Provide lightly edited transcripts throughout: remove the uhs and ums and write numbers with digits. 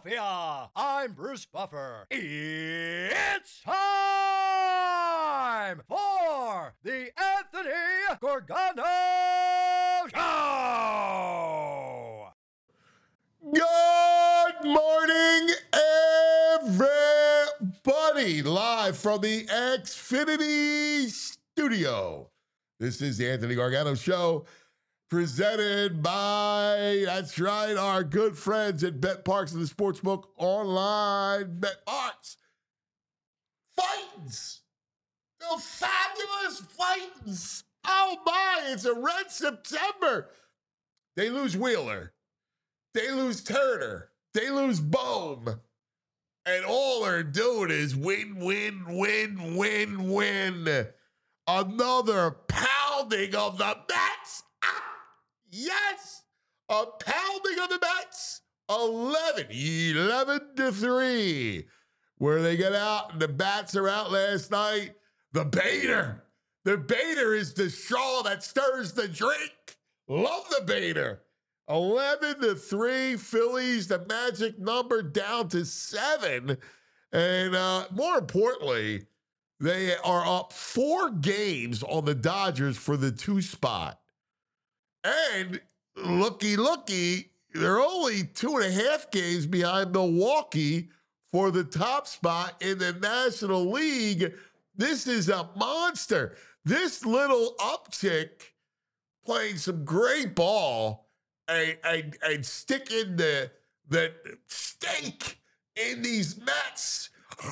Philadelphia. I'm Bruce Buffer. It's time for the Anthony Gorgano Show. Good morning, everybody. Live from the Xfinity studio. This is the Anthony Gargano Show, presented by, that's right, our good friends at Bet Parks and the Sportsbook Online. Bet Parks. Fightins. The fabulous Fightins. Oh, my, it's a red September. They lose Wheeler. They lose Turner. They lose Bohm. And all they're doing is win, win, win, win, win. Another pounding of the Mets. Yes. A pounding of the Mets. 11-3. Where they get out and the bats are out last night. The baiter. The baiter is the straw that stirs the drink. Love the baiter. 11-3 Phillies, the magic number down to 7. And more importantly, they are up 4 games on the Dodgers for the 2 spot. And looky, they're only 2.5 games behind Milwaukee for the top spot in the National League. This is a monster. This little uptick, playing some great ball, and sticking the stake in these Mets.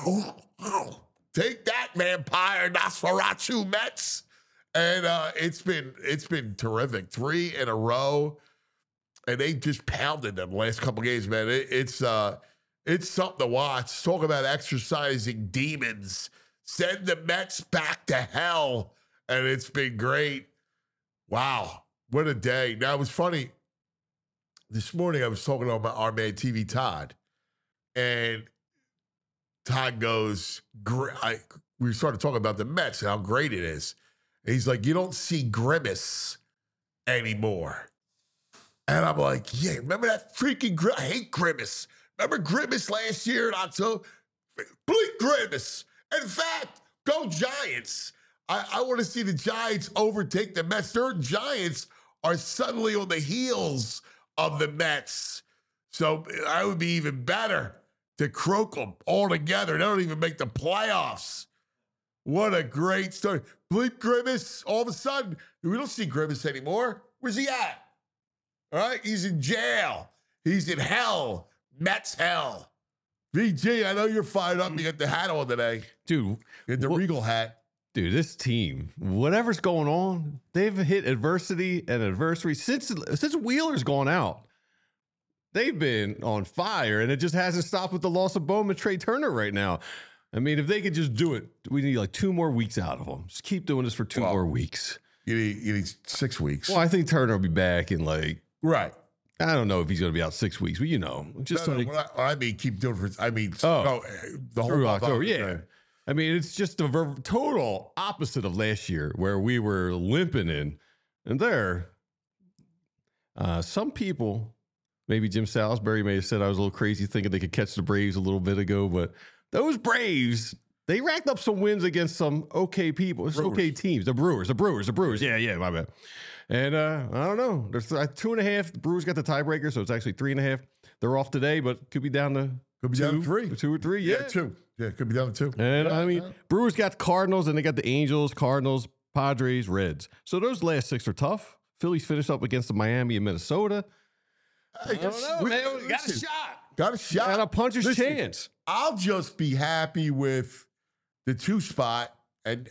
Take that, vampire Nosferatu Mets. And it's been terrific. 3 in a row. And they just pounded them last couple games, man. It's something to watch. Talk about exercising demons. Send the Mets back to hell. And it's been great. Wow. What a day. Now, it was funny. This morning, I was talking to our man, TV Todd, and Todd goes, we started talking about the Mets and how great it is. And he's like, you don't see Grimace anymore. And I'm like, yeah, remember that freaking I hate Grimace. Remember Grimace last year in October? Bleep Grimace. In fact, go Giants. I want to see the Giants overtake the Mets. Their Giants are suddenly on the heels of the Mets. So I would be even better to croak them all together. They don't even make the playoffs. What a great story. Bleep Grimace, all of a sudden, we don't see Grimace anymore. Where's he at? All right, he's in jail. He's in hell. Mets hell. VG, I know you're fired up. You got the hat on today. Dude. You got the Regal hat. Dude, this team, whatever's going on, they've hit adversity and adversary since Wheeler's gone out. They've been on fire, and it just hasn't stopped with the loss of Bowman, Trey Turner right now. I mean, if they could just do it, we need like 2 more weeks out of them. Just keep doing this for 2 more weeks. You need 6 weeks. Well, I think Turner will be back in right. I don't know if he's going to be out 6 weeks, but just I mean, keep doing it for. I mean, the whole October. Yeah. I mean, it's just the total opposite of last year where we were limping in. And there, some people, maybe Jim Salisbury may have said I was a little crazy thinking they could catch the Braves a little bit ago, but those Braves, they racked up some wins against some okay people, okay teams. The Brewers. Yeah, my bad. And I don't know. There's 2.5. The Brewers got the tiebreaker, so it's actually 3.5. They're off today, but could be down to 3. 2 or 3. Yeah, 2. Yeah, it could be down to 2. And I mean, Brewers got Cardinals, and they got the Angels, Cardinals, Padres, Reds. So those last 6 are tough. Phillies finished up against the Miami and Minnesota. I don't know, man. We got a shot. Got a shot. Got a puncher's chance. I'll just be happy with the 2 spot and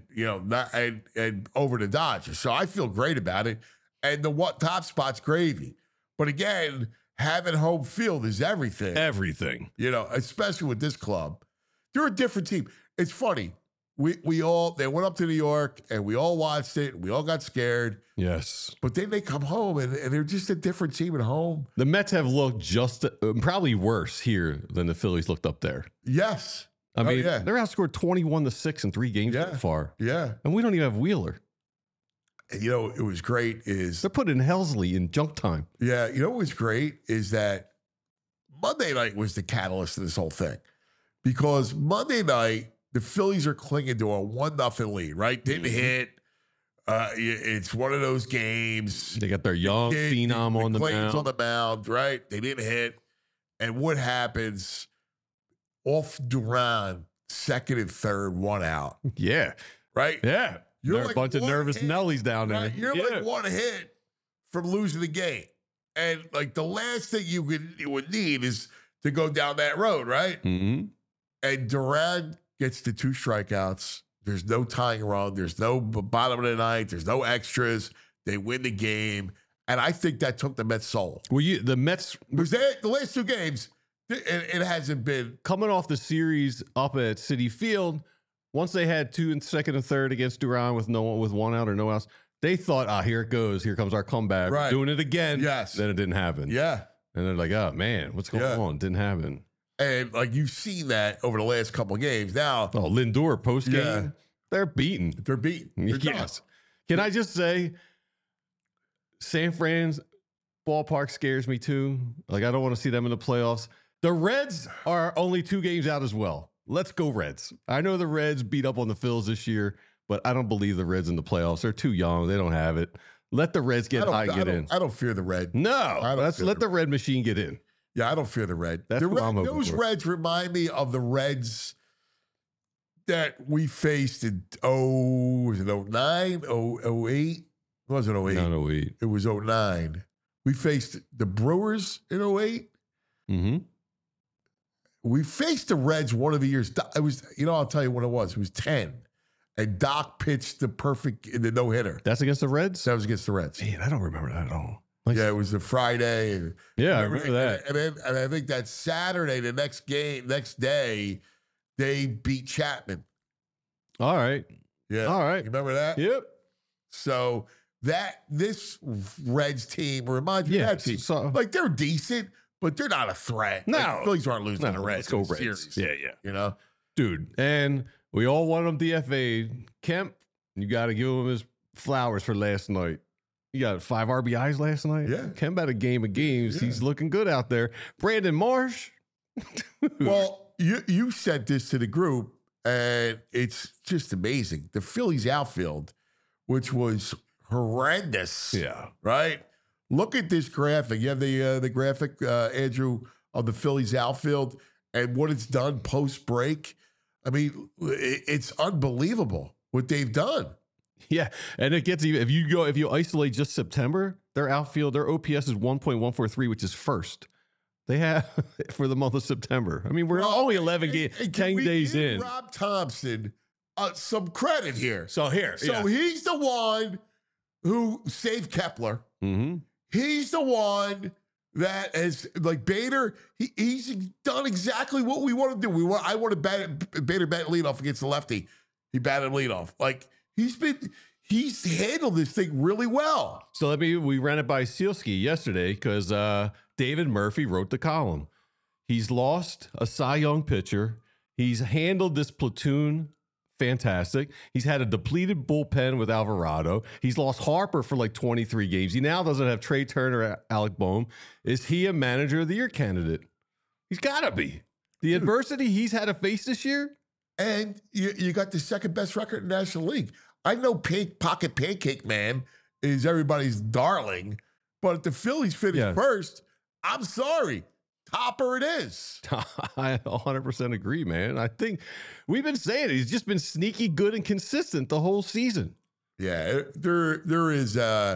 over the Dodgers. So I feel great about it. And the top spot's gravy. But again, having home field is everything. Everything. Especially with this club. They're a different team. It's funny. They went up to New York and we all watched it. We all got scared. Yes. But then they come home and they're just a different team at home. The Mets have looked probably worse here than the Phillies looked up there. Yes. I mean, they're outscored 21-6 in 3 games so far. Yeah. And we don't even have Wheeler. It was great is... They're putting Helsley in junk time. Yeah. What was great is that Monday night was the catalyst of this whole thing because Monday night the Phillies are clinging to a 1-0 lead. Right? Didn't hit. It's one of those games. They got their young phenom on the Clayton's mound. on the mound, right? They didn't hit. And what happens? Off Duran, second and third, 1 out. Yeah. Right? Yeah. You're There are like a bunch of one nervous hit, Nellies down there. Right? You're like 1 hit from losing the game. And like the last thing you would need is to go down that road, right? Mm-hmm. And Duran gets the 2 strikeouts. There's no tying run. There's no bottom of the ninth. There's no extras. They win the game. And I think that took the Mets' soul. Well, the Mets Because the last 2 games, it hasn't been. coming off the series up at Citi Field, once they had 2 in second and third against Duran with 1 out or no outs, they thought, here it goes. Here comes our comeback. Right. Doing it again. Yes. Then it didn't happen. Yeah. And they're like, oh, man, what's going on? Didn't happen. And like you've seen that over the last couple of games. Now, Oh, Lindor post game, Yeah. they're beaten. they're beaten. They're done. Yes. Can I just say, San Fran's ballpark scares me too. Like, I don't want to see them in the playoffs. The Reds are only 2 games out as well. Let's go Reds. I know the Reds beat up on the Phils this year, but I don't believe the Reds in the playoffs. They're too young. They don't have it. Let the Reds get high, get in. I don't fear the red. No, don't let's feel let the- the Red machine get in. Yeah, I don't fear the red. That's The what I'm hoping those for. Reds remind me of the Reds that we faced in was it 09, 08? It wasn't 08. No, wait. It was 09. We faced the Brewers in 08. Mm-hmm. We faced the Reds one of the years. It was, I'll tell you what it was. It was 10. And Doc pitched the no-hitter. That's against the Reds? That was against the Reds. Man, I don't remember that at all. Like, Yeah, it was a Friday. And yeah, I remember that. And I think that Saturday, the next day, they beat Chapman. All right. Yeah. All right. You remember that? Yep. So this Reds team reminds me of that team. So, Like they're decent, but they're not a threat. No. Like, Phillies aren't losing no, to the Reds. let's go in the Reds. series, Yeah. Dude, and we all want him DFA'd. Kemp, you got to give him his flowers for last night. You got 5 RBIs last night? Yeah. Kemp had a game of games. Yeah. He's looking good out there. Brandon Marsh. Well, you sent this to the group, and it's just amazing. The Phillies outfield, which was horrendous. Yeah. Right? Look at this graphic. You have the graphic, Andrew, of the Phillies outfield and what it's done post break. I mean, it's unbelievable what they've done. Yeah. And it gets even, if you isolate just September, their outfield, their OPS is 1.143, which is first. They have for the month of September. I mean, we're only 11 games, 10 days in. Rob Thompson some credit here. So here. So he's the one who saved Kepler. Mm-hmm. He's the one that has, like Bader, he's done exactly what we want to do. I want to Bader bat leadoff against the lefty. He batted leadoff. Like he's handled this thing really well. So we ran it by Sealski yesterday because David Murphy wrote the column. He's lost a Cy Young pitcher. He's handled this platoon fantastic. He's had a depleted bullpen with Alvarado. He's lost Harper for like 23 games. He now doesn't have Trey Turner or Alec Boehm. Is he a manager of the year candidate? He's got to be. The adversity he's had to face this year. And you got the second best record in the National League. I know Pocket Pancake Man is everybody's darling, but if the Phillies finish first, I'm sorry. Topper it is. I 100% agree, man. I think we've been saying it. He's just been sneaky good and consistent the whole season. Yeah, there is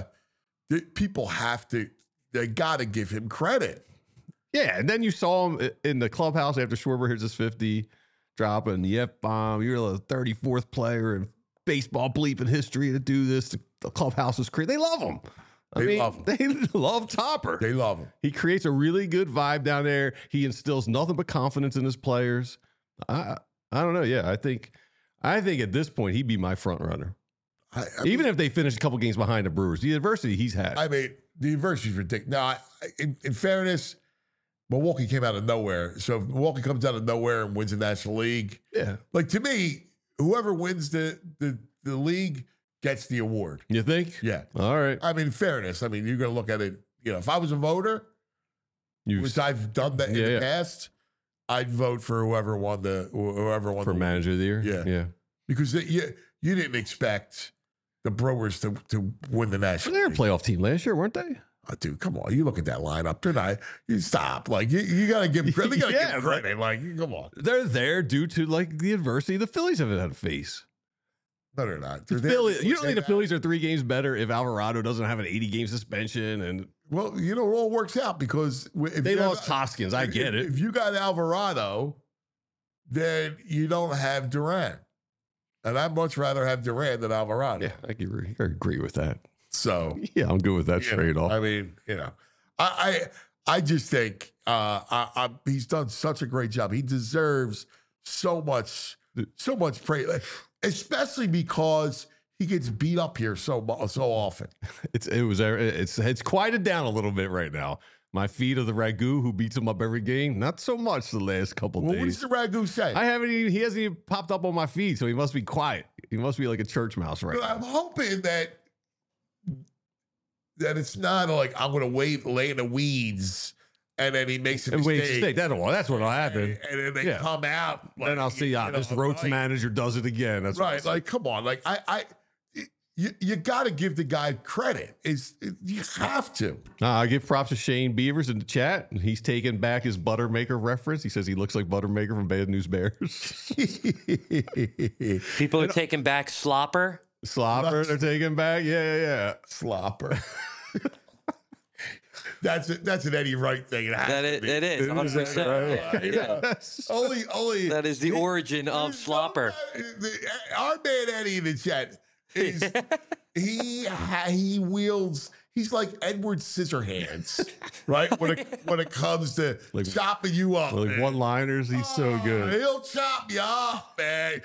people they got to give him credit. Yeah, and then you saw him in the clubhouse after Schwarber hits his 50, dropping the F-bomb. You're the 34th player in baseball bleeping history to do this. The clubhouse is crazy. They love him. They love Topper. They love him. He creates a really good vibe down there. He instills nothing but confidence in his players. I don't know. Yeah, I think at this point he'd be my front runner. Even if they finish a couple games behind the Brewers, the adversity he's had. I mean, the adversity is ridiculous. Now, in fairness, Milwaukee came out of nowhere. So if Milwaukee comes out of nowhere and wins the National League, yeah. Like to me, whoever wins the league gets the award. You think? Yeah. All right. I mean, fairness. I mean, you're going to look at it. If I was a voter, which I've done that in the past, I'd vote for whoever won for manager of the year. Yeah. Because you didn't expect the Brewers to win the national. Well, they were a playoff team last year, weren't they? Oh, dude, come on! You look at that lineup. They're not. You stop. Like you got to give credit. They got to give credit. Like, come on. They're there due to like the adversity the Phillies haven't had to face. No, they're not. You don't think the Phillies are 3 games better if Alvarado doesn't have an 80-game suspension? And well, it all works out because if they lost Hoskins. I get it. If you got Alvarado, then you don't have Durant, and I'd much rather have Durant than Alvarado. Yeah, I agree with that. So yeah, I'm good with that trade-off. I mean, I just think he's done such a great job. He deserves so much praise, especially because he gets beat up here so often. It's quieted down a little bit right now. My feed of the Ragu who beats him up every game, not so much the last couple days. What does the Ragu say? He hasn't even popped up on my feed, so he must be quiet. He must be like a church mouse right now. I'm hoping that it's not like I'm going to lay in the weeds and then he makes a mistake. That's what'll happen. And then they come out. Like, then I'll see this Roach manager does it again. That's right. Like, come on. Like, you got to give the guy credit. You have to. I give props to Shane Beavers in the chat. He's taking back his Buttermaker reference. He says he looks like Buttermaker from Bad News Bears. People are taking back Slopper. They're taking back. Yeah. Slopper. That's an Eddie Wright thing. It is. 100%. Right? Yeah. Only that is the origin of Slopper. Our man Eddie in the chat is he wields. He's like Edward Scissorhands, right? When it comes to chopping you up, like one-liners, he's so good. He'll chop you up, man.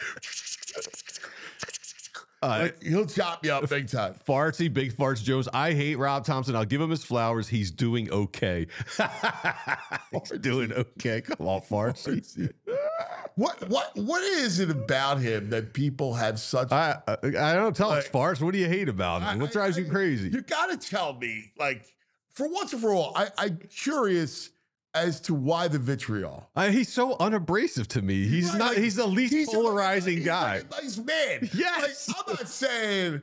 He'll chop you up big time. Fartsy, Big Farts Jones. I hate Rob Thompson. I'll give him his flowers. He's doing okay. He's doing okay. Come on, Fartsy. What is it about him that people have such? I don't tell us, Farts. What do you hate about him? What drives you crazy? You got to tell me, like, for once and for all. I'm curious as to why the vitriol. He's so unabrasive to me. He's not. He's the least polarizing guy. He's a nice man. Yes. Like, I'm not saying.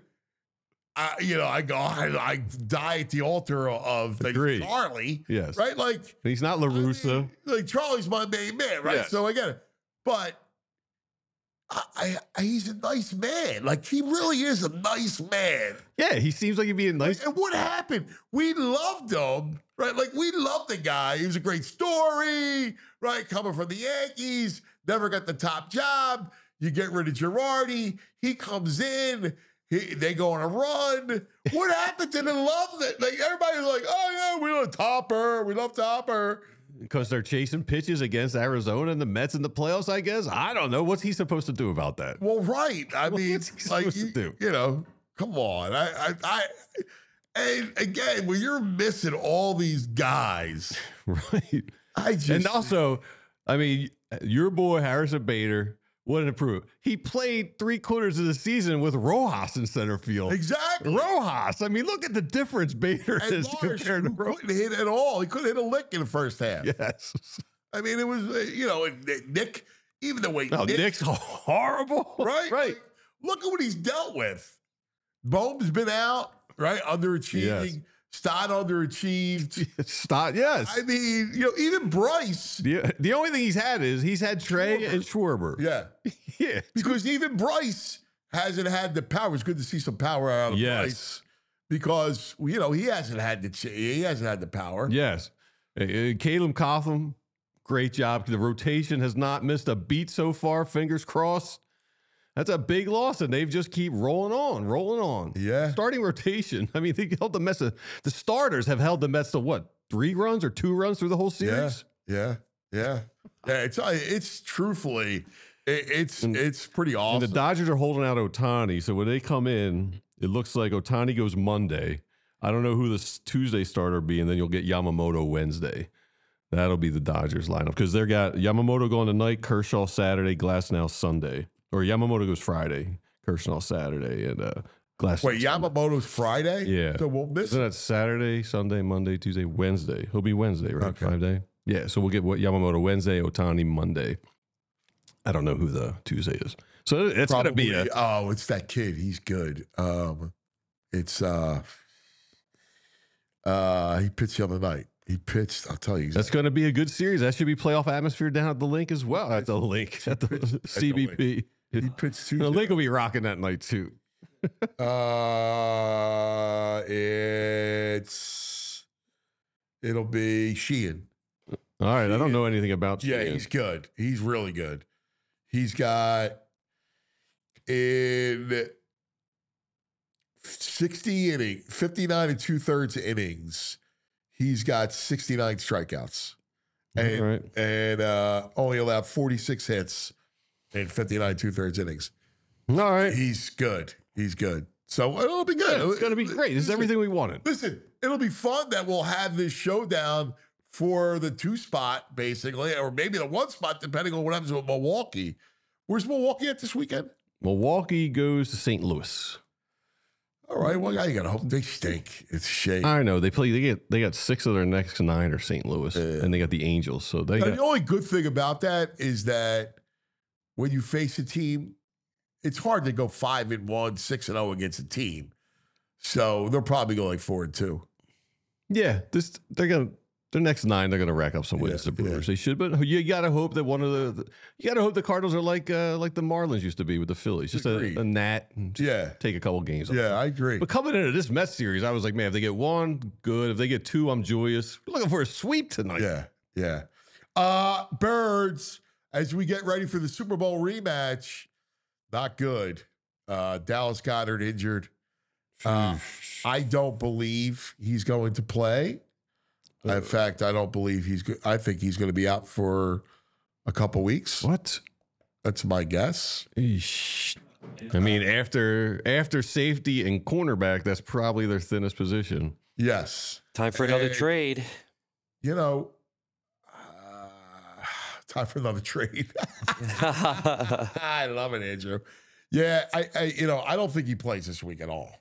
I die at the altar of Charlie. Yes. Right. Like he's not LaRussa. I mean, like Charlie's my main man. Right. Yes. So I get it. But he's a nice man. Like he really is a nice man. Yeah. He seems like he'd be a nice. And what happened? We loved him. Right, like we loved the guy. He was a great story, right? Coming from the Yankees, never got the top job. You get rid of Girardi, he comes in. They go on a run. What happened to the love that? Like everybody's like, oh yeah, we love Topper. We love Topper because they're chasing pitches against Arizona and the Mets in the playoffs. I guess I don't know. What's he supposed to do about that? Well, right. I mean, what's he supposed to do? You know, come on. And again, when you're missing all these guys, right? And also, I mean, your boy Harrison Bader wouldn't improve. He played 3/4 of the season with Rojas in center field. Exactly, Rojas. I mean, look at the difference Bader is compared to Rojas. Couldn't hit at all. He couldn't hit a lick in the first half. Yes, I mean, it was Nick. Even the way Nick's horrible, right? Right. Like, look at what he's dealt with. Bohm's been out. Right, underachieving. Yes. Stott underachieved. Stott, yes. I mean, even Bryce. The only thing he's had Trey and Schwarber. Yeah, yeah. Because even Bryce hasn't had the power. It's good to see some power out of Bryce because he hasn't had the power. Yes, Caleb Cotham, great job. The rotation has not missed a beat so far. Fingers crossed. That's a big loss, and they've just keep rolling on. Yeah. Starting rotation. I mean, they held the Mets. The starters have held the Mets to what, 3 runs or 2 runs through the whole series? Yeah. It's truthfully, it's pretty awesome. And the Dodgers are holding out Ohtani, so when they come in, it looks like Ohtani goes Monday. I don't know who the Tuesday starter will be, and then you'll get Yamamoto Wednesday. That'll be the Dodgers lineup because they got Yamamoto going tonight, Kershaw Saturday, Glasnow Sunday. Or Yamamoto goes Friday, Kershaw Saturday, and Glass. Wait, Yamamoto's Friday? Yeah. So we'll miss Isn't it. that Saturday, Sunday, Monday, Tuesday, Wednesday? He'll be Wednesday, right? Okay. 5 day. Yeah. So we'll get what Yamamoto Wednesday, Otani Monday. I don't know who the Tuesday is. So it's going to be a. Oh, it's that kid. He's good. It's he pitched the other night. He pitched. I'll tell you. That's going to be a good series. That should be playoff atmosphere down at the link as well. At the link, at the CBP. He pitched Tuesday. The link will be rocking that night too. It'll be Sheehan. All right. I don't know anything about Yeah, Sheehan. he's good. He's really good. He's got in 60 innings, 59 and 2/3 innings. He's got 69 strikeouts. And, All right. and only allowed 46 hits in 59 2/3 innings. All right. He's good. He's good. So it'll be good. Yeah, it's going to be great. This is everything we wanted. Listen, it'll be fun that we'll have this showdown for the 2 spot, basically, or maybe the 1 spot, depending on what happens with Milwaukee. Where's Milwaukee at this weekend? Milwaukee goes to St. Louis. All right. Well, you got to hope they stink. It's a shame. I know they got 6 of their next 9 are St. Louis, and they got the Angels. So they Now, got, the only good thing about that is that when you face a team, it's hard to go 5-1, 6-0 against a team. So they're probably going like 4-2. yeah. Their next 9 they're gonna rack up some wins. Yeah, The Brewers they should, but you gotta hope that you gotta hope the Cardinals are like the Marlins used to be with the Phillies, just Agreed. a gnat. And just Yeah. take a couple games. off. Yeah, I agree. But coming into this Mets series, I was like, man, if they get 1, good. If they get 2, I'm joyous. We're looking for a sweep tonight. Yeah. Birds, as we get ready for the Super Bowl rematch, not good. Dallas Goedert injured. I don't believe he's going to play. In fact, I don't believe he's good. I think he's going to be out for a couple weeks. What? That's my guess. Eesh. I mean, after safety and cornerback, that's probably their thinnest position. Yes. Time for another And, trade. You know, time for another trade. I love it, Andrew. Yeah, I don't think he plays this week at all.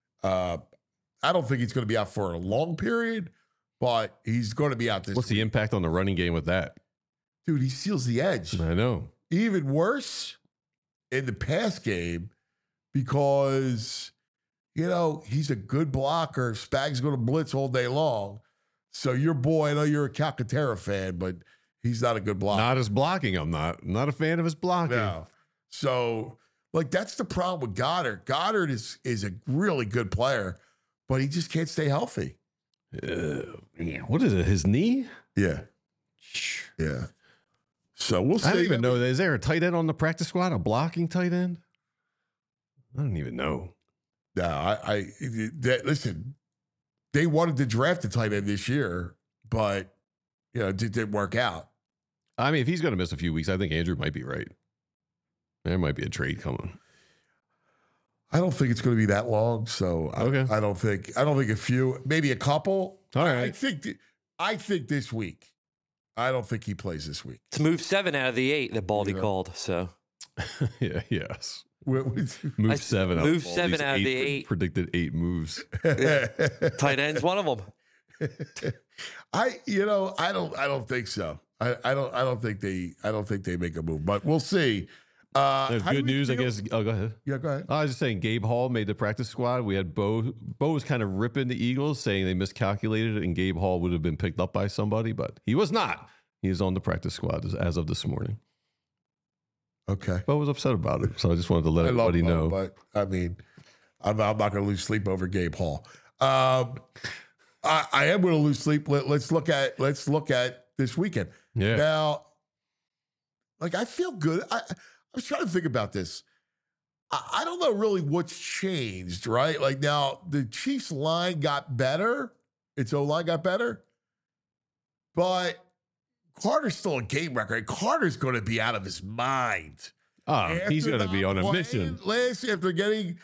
I don't think he's going to be out for a long period, but he's going to be out this What's the week. impact on the running game with that? Dude, he steals the edge. I know. Even worse in the pass game because, he's a good blocker. Spag's going to blitz all day long. So your boy, I know you're a Calcaterra fan, but he's not a good blocker. Not his blocking. I'm not a fan of his blocking. No. So, that's the problem with Goddard. Goddard is a really good player, but he just can't stay healthy. What is it? His knee? Yeah. Yeah. So we'll see. I don't even know. Is there a tight end on the practice squad? A blocking tight end? I don't even know. No, listen, they wanted to draft a tight end this year, but it didn't work out. I mean, if he's going to miss a few weeks, I think Andrew might be right. There might be a trade coming. I don't think it's going to be that long. So Okay. I don't think a few, maybe a couple. All I right. think this week. I don't think he plays this week. It's move 7 out of the 8 that Baldy called. So Yeah. Yes. With- Move 7. move of all 7 these out of the 8. Predicted 8 moves. Tight end's one of them. I don't think so. I don't think they make a move, but we'll see. There's how do good we news, I feel- guess. Oh, go ahead. Yeah, go ahead. I was just saying, Gabe Hall made the practice squad. We had Bo. Bo was kind of ripping the Eagles, saying they miscalculated it, and Gabe Hall would have been picked up by somebody, but he was not. He is on the practice squad as of this morning. Okay. Bo was upset about it, so I just wanted to let I love everybody Bo, know. but I mean, I'm not going to lose sleep over Gabe Hall. I am going to lose sleep. Let's look at this weekend. Yeah. Now, I feel good. I was trying to think about this. I don't know really what's changed, right? Now the Chiefs line got better. Its O-line got better, but Carter's still a game record. Carter's going to be out of his mind. He's After going to be not on a playing mission. Last after getting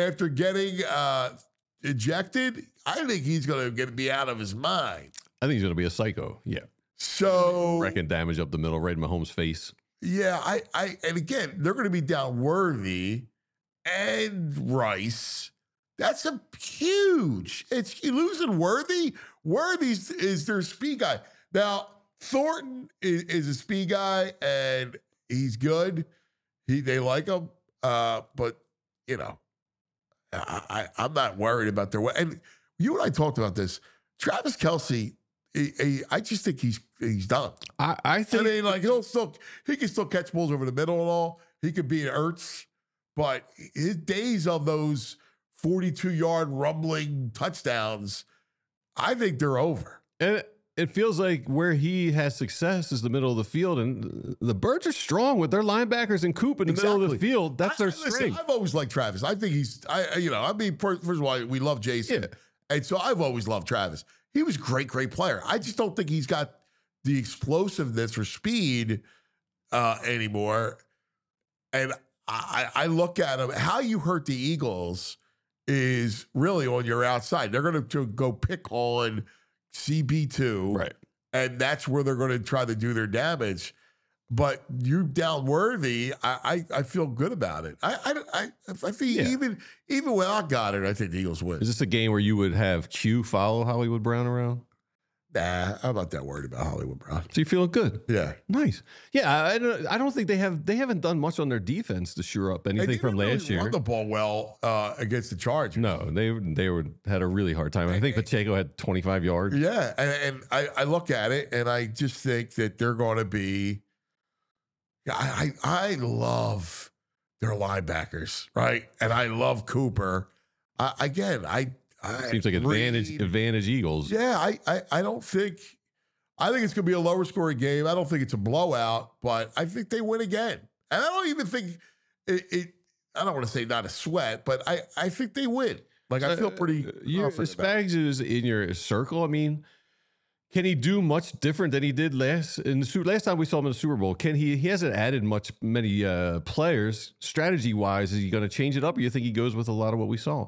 ejected, I think he's going to be out of his mind. I think he's going to be a psycho. Yeah. So Wrecking damage up the middle, right in Mahomes' face. yeah, and again, they're going to be down Worthy and Rice. That's a huge. It's you losing Worthy. Worthy's is their speed guy. Now, Thornton is a speed guy, and he's good. They like him. But, you know, I'm not worried about their way. And you and I talked about this. Travis Kelce, I just think he's done. I think I mean, like he can still catch balls over the middle and all. He could be an Ertz, but his days of those 42-yard rumbling touchdowns, I think they're over. and it feels like where he has success is the middle of the field, and the Birds are strong with their linebackers and Coop in the middle of the field. That's their Listen, strength. I've always liked Travis. I think first of all, we love Jason. Yeah. And so I've always loved Travis. He was a great player. I just don't think he's got the explosiveness or speed anymore. And I look at him, how you hurt the Eagles is really on your outside. They're going to go pick on CB2. Right. And that's where they're going to try to do their damage. But you down Worthy, I feel good about it. I think even without Goddard, I think the Eagles win. Is this a game where you would have Q follow Hollywood Brown around? Nah, I'm not that worried about Hollywood Brown. So you feeling good? Yeah. Nice. Yeah, I don't think they haven't done much on their defense to shore up anything from last year. Run the ball well against the Chargers. No, they had a really hard time. I think Pacheco had 25 yards. Yeah, and I look at it and I just think that they're going to be. I love their linebackers, right? And I love Cooper. Seems like advantage Eagles. Yeah, I don't think. I think it's going to be a lower scoring game. I don't think it's a blowout, but I think they win again. And I don't even think it I don't want to say not a sweat, but I think they win. Like I feel pretty. Spags is in your circle. I mean, can he do much different than he did last time we saw him in the Super Bowl? He hasn't added many players strategy wise. Is he going to change it up, or you think he goes with a lot of what we saw?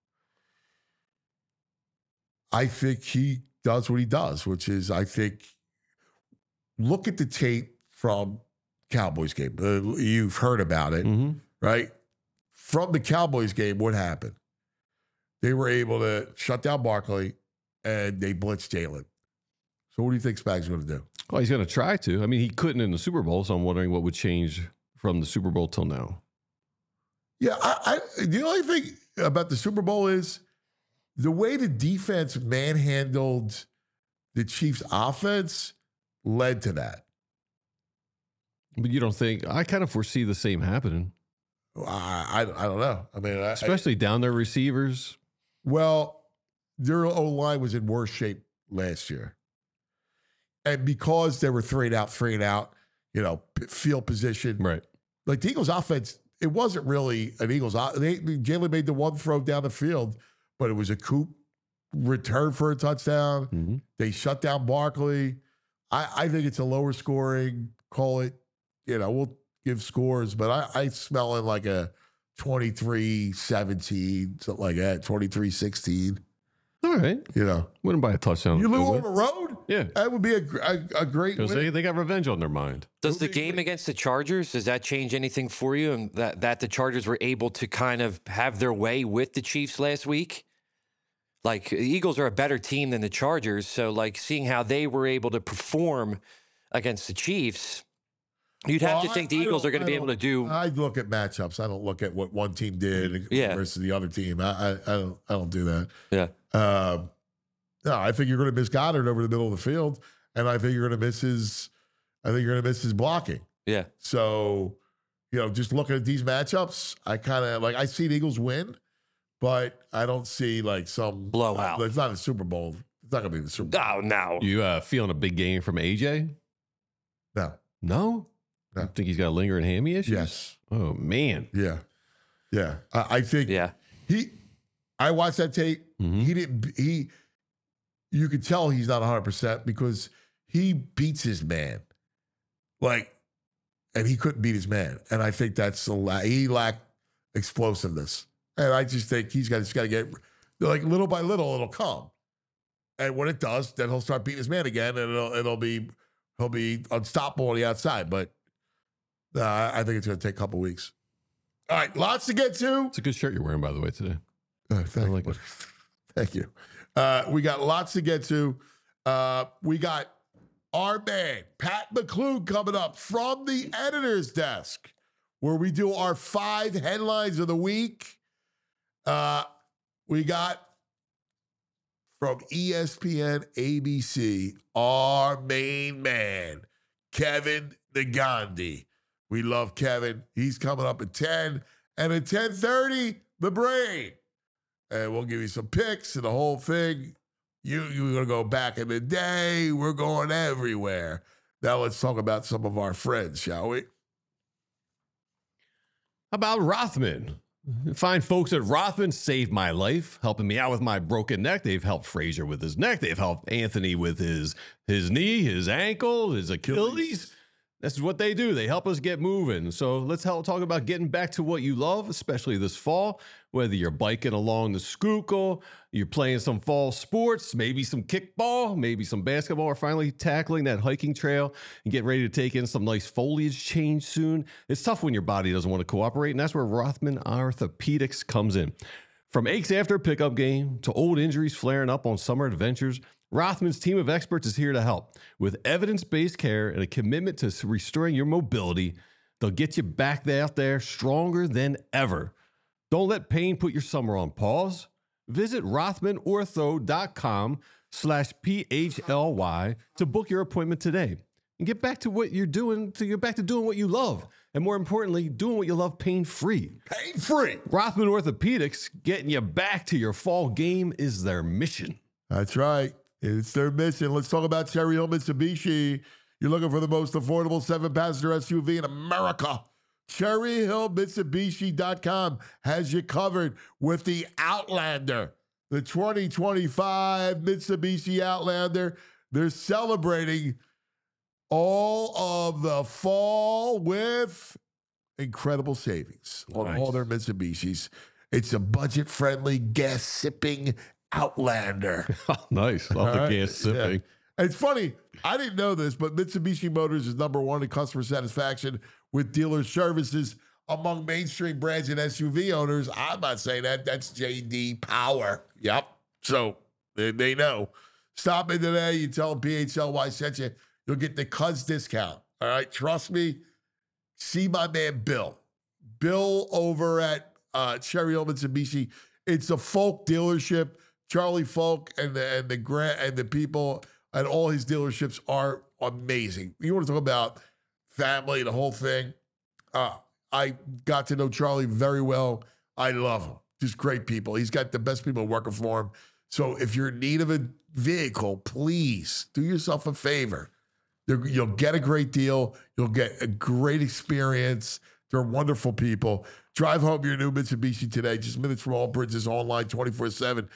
I think he does what he does, which is look at the tape from Cowboys game. You've heard about it, right? From the Cowboys game, what happened? They were able to shut down Barkley, and they blitzed Jalen. So what do you think Spags is going to do? Well, he's going to try to. I mean, he couldn't in the Super Bowl, so I'm wondering what would change from the Super Bowl till now. Yeah, the only thing about the Super Bowl is the way the defense manhandled the Chiefs' offense led to that. But you don't think? I kind of foresee the same happening. I don't know. I mean, especially down their receivers. Well, their O-line was in worse shape last year. And because they were three and out, field position. Right. Like the Eagles' offense, it wasn't really an Eagles. Jalen made the one throw down the field, but it was a Coop return for a touchdown. Mm-hmm. They shut down Barkley. I think it's a lower scoring, call it, we'll give scores, but I smell it like a 23-17, something like that, 23-16. All right. Wouldn't buy a touchdown. You lose on the road? Yeah. That would be a great win. Because they got revenge on their mind. Does the game against the Chargers, does that change anything for you? And that the Chargers were able to kind of have their way with the Chiefs last week? Like, the Eagles are a better team than the Chargers. So, like, seeing how they were able to perform against the Chiefs, you'd have to think the Eagles are going to be able to do. I look at matchups. I don't look at what one team did versus the other team. I don't do that. Yeah. No, I think you're going to miss Goddard over the middle of the field, and I think you're going to miss his blocking. Yeah. So, just looking at these matchups, I see the Eagles win, but I don't see like some blowout. It's not a Super Bowl. It's not going to be the Super Bowl. Oh, no. You feeling a big game from AJ? No. No? No. You think he's got lingering hammy issues? Yes. Oh, man. Yeah. I think I watched that tape. Mm-hmm. You could tell he's not 100% because he beats his man. And he couldn't beat his man. And I think he lacked explosiveness. And I just think he's just got to get, little by little, it'll come. And when it does, then he'll start beating his man again, and he'll be unstoppable on the outside. But I think it's going to take a couple weeks. All right, lots to get to. It's a good shirt you're wearing, by the way, today. Thank you. Thank you. We got lots to get to. We got our man, Pat McClune, coming up from the editor's desk, where we do our 5 headlines of the week. We got from ESPN ABC, our main man, Kevin Negandhi. We love Kevin. He's coming up at 10. And at 10:30, The Brain. And we'll give you some picks and the whole thing. You're going to go back in the day. We're going everywhere. Now let's talk about some of our friends, shall we? How about Rothman? Fine folks at Rothman saved my life, helping me out with my broken neck. They've helped Frazier with his neck. They've helped Anthony with his knee, his ankle, his Achilles. This is what they do. They help us get moving. So let's talk about getting back to what you love, especially this fall. Whether you're biking along the Schuylkill, you're playing some fall sports, maybe some kickball, maybe some basketball, or finally tackling that hiking trail and getting ready to take in some nice foliage change soon. It's tough when your body doesn't want to cooperate, and that's where Rothman Orthopedics comes in. From aches after a pickup game to old injuries flaring up on summer adventures, Rothman's team of experts is here to help. With evidence-based care and a commitment to restoring your mobility, they'll get you back out there stronger than ever. Don't let pain put your summer on pause. Visit rothmanortho.com/PHLY to book your appointment today and get back to what you're doing, to get back to doing what you love. And more importantly, doing what you love pain-free. Pain-free. Rothman Orthopedics, getting you back to your fall game is their mission. That's right. It's their mission. Let's talk about Cherry Hill Mitsubishi. You're looking for the most affordable 7-passenger SUV in America. CherryHillMitsubishi.com has you covered with the Outlander, the 2025 Mitsubishi Outlander. They're celebrating all of the fall with incredible savings on all their Mitsubishis. It's a budget-friendly, gas-sipping Outlander. Nice. Love the gas sipping. Yeah. It's funny. I didn't know this, but Mitsubishi Motors is #1 in customer satisfaction with dealer services among mainstream brands and SUV owners. I'm not saying that. That's J.D. Power. Yep. So they know. Stop in today. You tell them PHLY sent you. You'll get the Cuz discount. All right. Trust me. See my man Bill. Bill over at Cherry Hill Mitsubishi. It's a Folk dealership. Charlie Folk and the people at all his dealerships are amazing. You want to talk about family, the whole thing. I got to know Charlie very well. I love him. Just great people. He's got the best people working for him. So if you're in need of a vehicle, please do yourself a favor. You'll get a great deal. You'll get a great experience. They're wonderful people. Drive home your new Mitsubishi today. Just minutes from all bridges, online 24/7.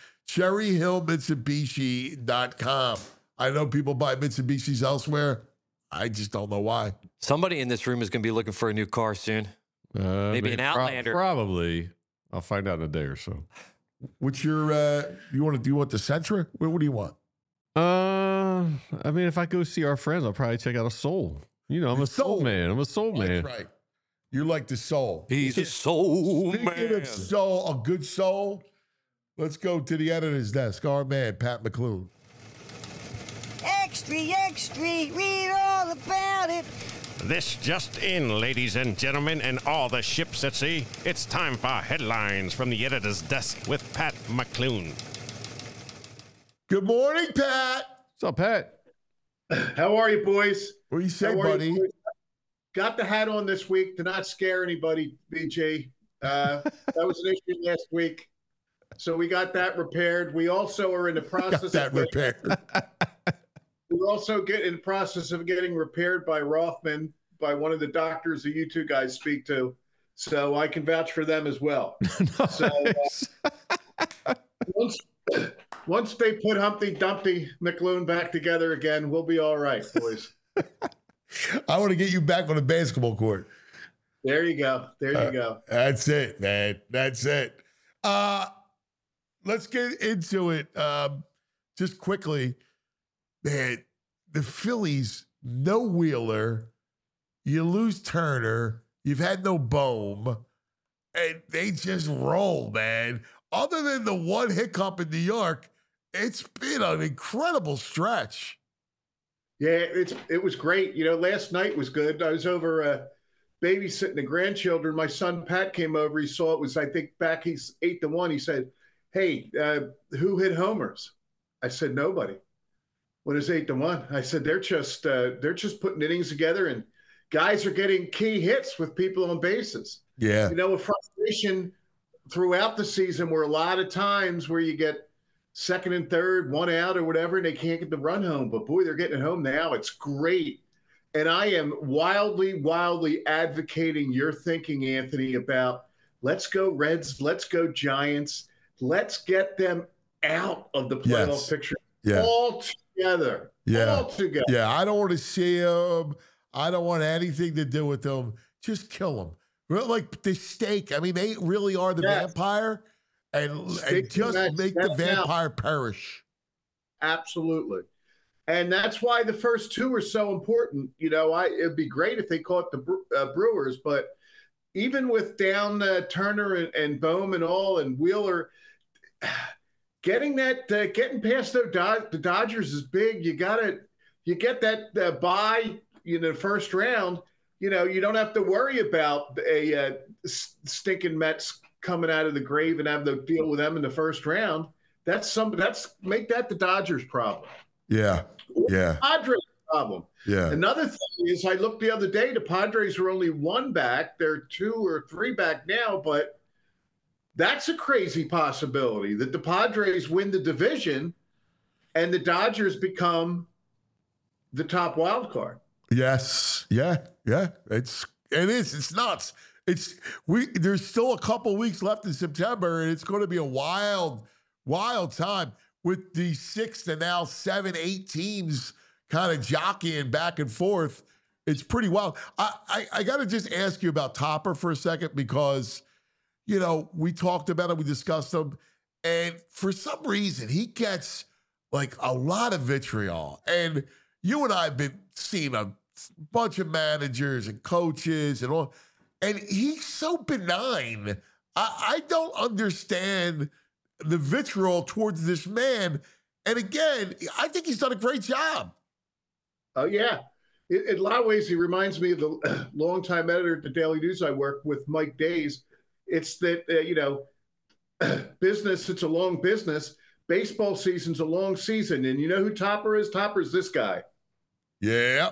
CherryHillMitsubishi.com. I know people buy Mitsubishis elsewhere. I just don't know why. Somebody in this room is going to be looking for a new car soon. Maybe an Outlander. Probably. I'll find out in a day or so. What's your? Do you want the Sentra? What do you want? I mean, if I go see our friends, I'll probably check out a Soul. You know, I'm a Soul man. I'm a Soul man. That's right. You like the Soul. He's a soul Speaking man. of soul, a good soul. Let's go to the editor's desk. Our man, Pat McClune. Extra, extra, read all about it. This just in, ladies and gentlemen, and all the ships at sea. It's time for headlines from the editor's desk with Pat McClune. Good morning, Pat. What's up, Pat? How are you, boys? What do you say, How are buddy? you, boys? Got the hat on this week to not scare anybody, BJ. That was an issue last week. So we got that repaired. We also are in the process Got that repaired. We're also in the process of getting repaired by Rothman, by one of the doctors that you two guys speak to. So I can vouch for them as well. So once they put Humpty Dumpty McClune back together again, we'll be all right, boys. I want to get you back on the basketball court. There you go. There you go. That's it, man. That's it. Let's get into it. Just quickly, man, the Phillies, no Wheeler. You lose Turner. You've had no Bohm. And they just roll, man. other than the one hiccup in New York, it's been an incredible stretch. Yeah, it was great. Last night was good. I was over babysitting the grandchildren. My son Pat came over. He saw it was, I think, back. He's 8-1. He said, "Hey, who hit homers?" I said, "Nobody." When it's 8-1, I said they're just putting innings together, and guys are getting key hits with people on bases. Yeah. A frustration throughout the season where a lot of times where you get second and third, one out or whatever, and they can't get the run home. But boy, they're getting it home now. It's great. And I am wildly, wildly advocating your thinking, Anthony, about let's go Reds, let's go Giants, let's get them out of the playoff picture all together. Yeah. All together. Yeah, I don't want to see them. I don't want anything to do with them. Just kill them. Like the steak. I mean, they really are the vampire. And just make the vampire perish. Absolutely. And that's why the first two are so important. It'd be great if they caught the Brewers, but even with down Turner and Bohm and all and Wheeler, getting past the Dodgers is big. You get that bye, the first round. You don't have to worry about a stinking Mets coming out of the grave and have to deal with them in the first round. Make that the Dodgers' problem. Yeah. Yeah. Padres' problem. Yeah. Another thing is, I looked the other day, the Padres are only 1 back. They're 2 or 3 back now, but that's a crazy possibility that the Padres win the division and the Dodgers become the top wild card. Yes. Yeah. Yeah. It is. It's nuts. There's still a couple weeks left in September, and it's going to be a wild time with the 6 and now 7, 8 teams kind of jockeying back and forth. It's pretty wild. I got to just ask you about Topper for a second because, we talked about him, we discussed him, and for some reason he gets like a lot of vitriol. And you and I have been seeing a bunch of managers and coaches and all, and he's so benign. I don't understand the vitriol towards this man. And again, I think he's done a great job. Oh, yeah. In a lot of ways, he reminds me of the longtime editor at the Daily News I work with, Mike Days. It's that, business, it's a long business. Baseball season's a long season. And you know who Topper is? Topper's this guy. Yeah.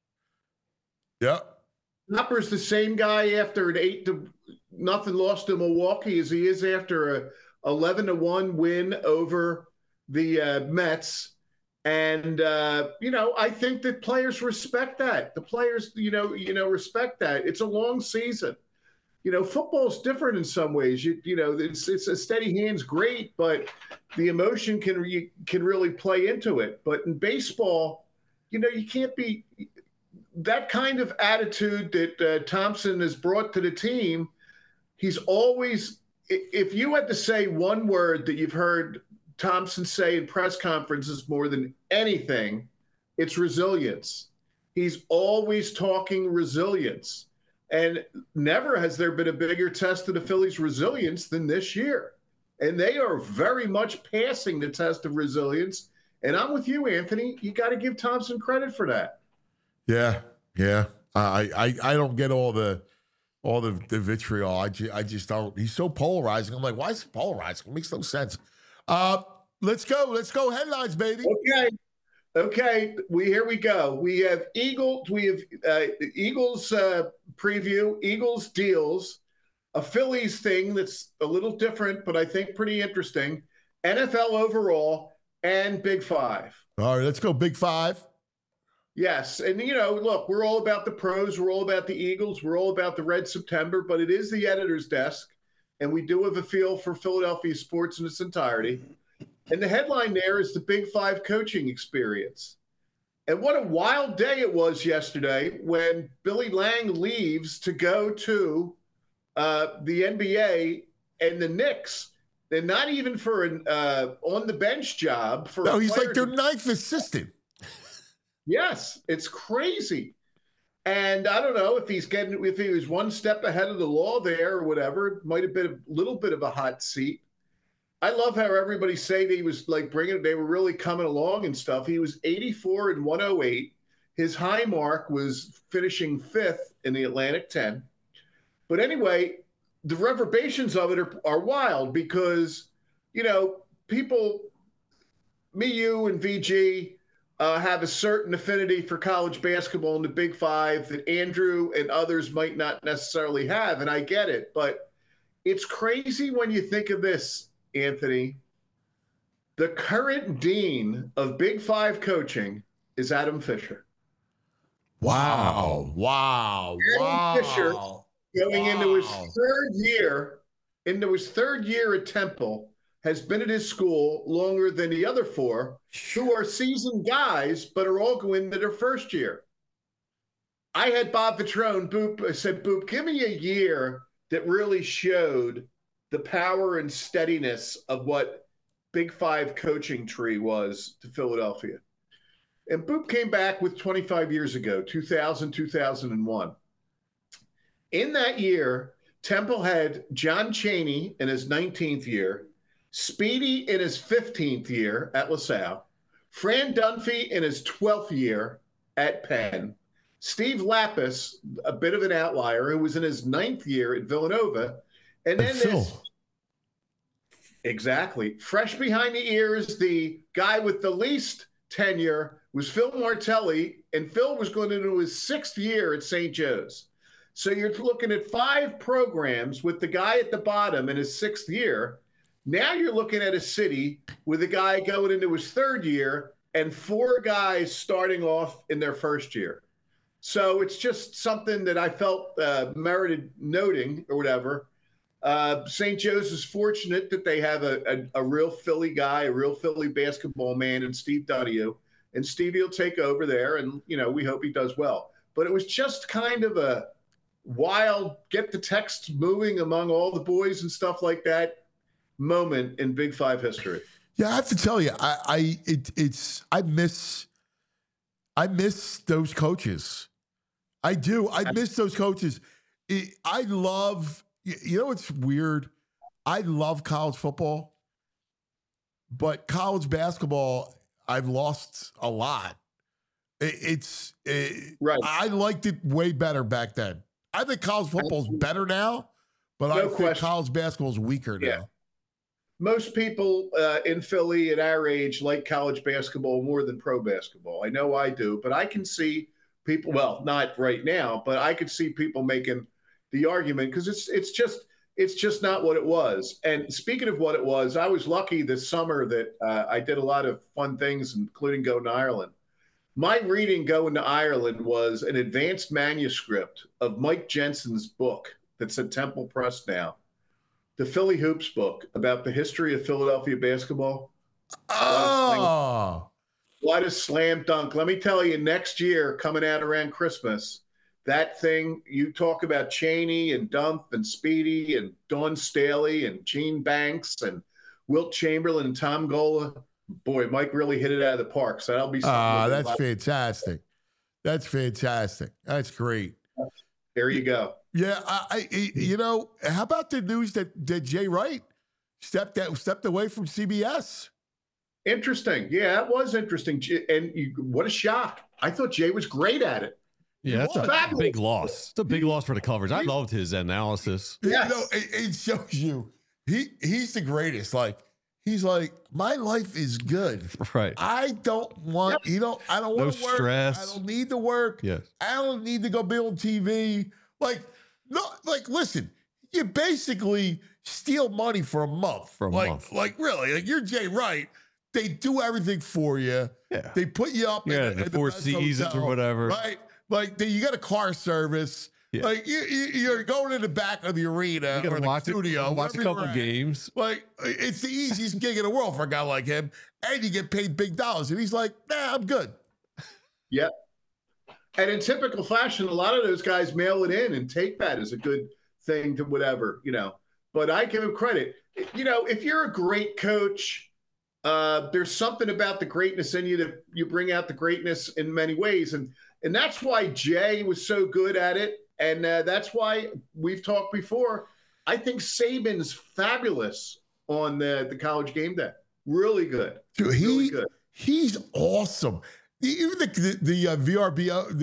Yep. Topper's the same guy after an 8-0 loss to Milwaukee as he is after a 11-1 win over the Mets. And, I think that players respect that. The players, respect that. It's a long season. Football's different in some ways. It's a steady hand's great, but the emotion can really play into it. But in baseball, you can't be that kind of attitude that Thompson has brought to the team. He's always, if you had to say one word that you've heard Thompson say in press conferences more than anything, it's resilience. He's always talking resilience. And never has there been a bigger test of the Phillies' resilience than this year. And they are very much passing the test of resilience. And I'm with you, Anthony. You got to give Thompson credit for that. Yeah, yeah. I don't get all the vitriol. I just don't. He's so polarizing. I'm like, why is it polarizing? It makes no sense. Let's go. Headlines, baby. Okay. Here we go. We have Eagles. We have Eagles preview. Eagles deals. A Phillies thing that's a little different, but I think pretty interesting. NFL overall and Big Five. All right, let's go Big Five. Yes. And, look, we're all about the pros. We're all about the Eagles. We're all about the Red September, but it is the editor's desk. And we do have a feel for Philadelphia sports in its entirety. And the headline there is the Big Five coaching experience. And what a wild day it was yesterday when Billy Lang leaves to go to the NBA and the Knicks. And not even for an on-the-bench job. No, he's like their ninth assistant. Yes, it's crazy. And I don't know if if he was one step ahead of the law there or whatever, it might have been a little bit of a hot seat. I love how everybody say that he was like they were really coming along and stuff. He was 84 and 108. His high mark was finishing 5th in the Atlantic 10. But anyway, the reverberations of it are wild because, people, me, you, and VG have a certain affinity for college basketball in the Big Five that Andrew and others might not necessarily have, and I get it. But it's crazy when you think of this, Anthony. The current dean of Big Five coaching is Adam Fisher. Wow. Adam Fisher, going into his third year at Temple, has been at his school longer than the other 4, who are seasoned guys, but are all going into their first year. I had Bob Vitrone, Boop, I said, Boop, give me a year that really showed the power and steadiness of what Big Five coaching tree was to Philadelphia. And Boop came back with 25 years ago, 2000, 2001. In that year, Temple had John Chaney in his 19th year, Speedy in his 15th year at LaSalle, Fran Dunphy in his 12th year at Penn, Steve Lapis, a bit of an outlier, who was in his 9th year at Villanova, and then exactly, fresh behind the ears, the guy with the least tenure was Phil Martelli, and Phil was going into his 6th year at St. Joe's. So you're looking at 5 programs with the guy at the bottom in his 6th year. Now you're looking at a city with a guy going into his 3rd year and 4 guys starting off in their 1st year. So it's just something that I felt merited noting or whatever. St. Joe's is fortunate that they have a real Philly guy, a real Philly basketball man in Steve Donahue. And Stevie will take over there, and, we hope he does well. But it was just kind of a wild, get the text moving among all the boys and stuff like that moment in Big Five history. Yeah, I have to tell you, I miss those coaches. I do. I miss those coaches. I love, what's weird? I love college football, but college basketball, I've lost a lot. Right. I liked it way better back then. I think college football is better now, but I think college basketball is weaker now. Most people in Philly at our age like college basketball more than pro basketball. I know I do, but I can see people, well, not right now, but I could see people making the argument because it's just not what it was. And speaking of what it was, I was lucky this summer that I did a lot of fun things, including going to Ireland. My reading going to Ireland was an advanced manuscript of Mike Jensen's book that's at Temple Press now, the Philly Hoops book about the history of Philadelphia basketball. Oh, what a slam dunk. Let me tell you, next year, coming out around Christmas, that thing, you talk about Chaney and Dump and Speedy and Dawn Staley and Gene Banks and Wilt Chamberlain and Tom Gola. Boy, Mike really hit it out of the park. So that'll be something. That's fantastic. That's fantastic. That's great. There you go. Yeah, how about the news that Jay Wright stepped away from CBS? Interesting. Yeah, it was interesting. And what a shock. I thought Jay was great at it. Yeah, that's a big loss. It's a big loss for the coverage. I loved his analysis. Yeah. It shows you he's the greatest. Like, he's like, my life is good. Right. I don't want, I don't want to work. Stress. I don't need to work. Yes. I don't need to go be on TV. Listen, you basically steal money for a month. Like, really, like, you're Jay Wright. They do everything for you. Yeah. They put you up in the Four Seasons or whatever. Right. Like, you got a car service. Yeah. Like, you're going in the back of the arena or the studio. Watch a couple games. Like, it's the easiest gig in the world for a guy like him. And you get paid big dollars. And he's like, nah, I'm good. Yep. And in typical fashion, a lot of those guys mail it in and take that as a good thing to whatever, But I give him credit. If you're a great coach, there's something about the greatness in you that you bring out the greatness in many ways. And that's why Jay was so good at it. And that's why we've talked before. I think Saban's fabulous on the College Game Day. Really good. Dude, Really good. He's awesome. Even the VRBO,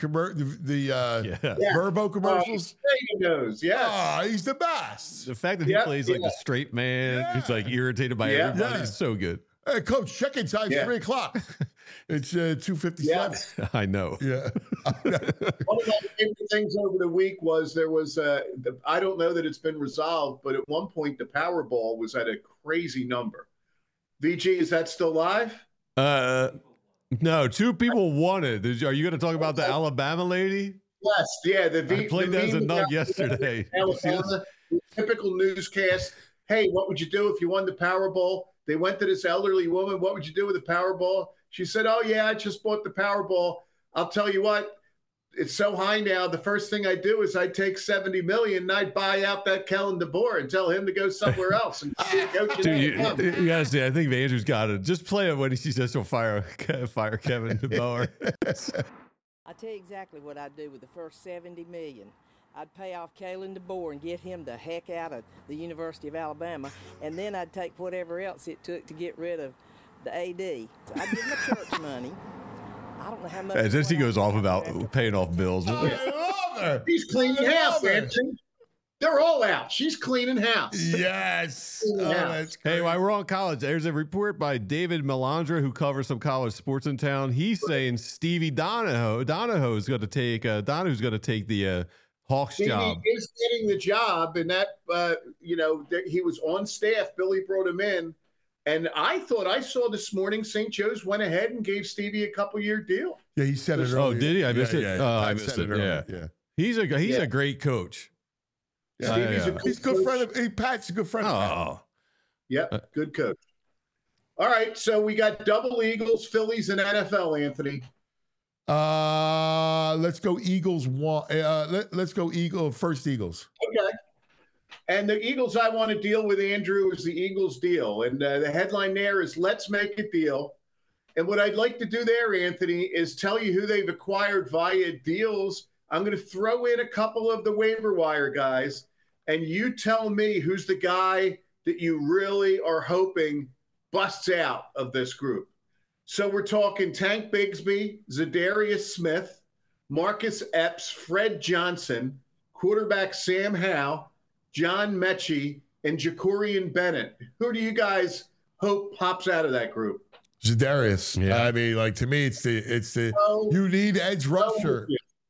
Verbo commercials. He knows, yes. Ah, he's the best. The fact that he plays like the straight man, he's like irritated by everybody, is so good. Hey, Coach, check-in time 3:00. It's 2:57. I know. Yeah. One of my favorite things over the week was there was I don't know that it's been resolved, but at one point the Powerball was at a crazy number. VG, is that still live? No, 2 people won it. Are you going to talk about the Alabama lady? Yes, yeah. I played that as a nug yesterday. Alabama, typical newscast. Hey, what would you do if you won the Powerball? They went to this elderly woman. What would you do with the Powerball? She said, oh, yeah, I just bought the Powerball. I'll tell you what, it's so high now. The first thing I do is I take $70 million and I buy out that Kellen DeBoer and tell him to go somewhere else. And Dude, you gotta see. I think Andrew's got it. Just play it when he says he'll fire Kevin DeBoer. I tell you exactly what I'd do with the first $70 million. I'd pay off Kalen DeBoer and get him the heck out of the University of Alabama, and then I'd take whatever else it took to get rid of the AD. So I'd give him the church money. I don't know how much. As he goes off about paying off bills. I love her. She's cleaning house, Anthony. They're all out. She's cleaning house. Yes. That's great. Hey, while we're on college, there's a report by David Melandra, who covers some college sports in town. He's saying Stevie Donahue's going to take the Hawks job. He is getting the job, and that he was on staff. Billy brought him in, and I thought I saw this morning St. Joe's went ahead and gave Stevie a couple-year deal. Yeah, he said it earlier. Oh, did he? I missed it. Yeah. Oh, I missed it. Yeah. He's a great coach. Yeah. He's a good friend. Pat's a good friend. Oh, yep, good coach. All right, so we got double Eagles, Phillies, and NFL. Anthony. Let's go Eagles. Let's go first Eagles. Okay. And the Eagles I want to deal with, Andrew, is the Eagles deal. And the headline there is let's make a deal. And what I'd like to do there, Anthony, is tell you who they've acquired via deals. I'm going to throw in a couple of the waiver wire guys, and you tell me who's the guy that you really are hoping busts out of this group. So we're talking Tank Bigsby, Zadarius Smith, Marcus Epps, Fred Johnson, quarterback Sam Howell, John Mechie, and Jacorian Bennett. Who do you guys hope pops out of that group? Zadarius. Yeah. I mean, like, to me, it's the you need edge rusher.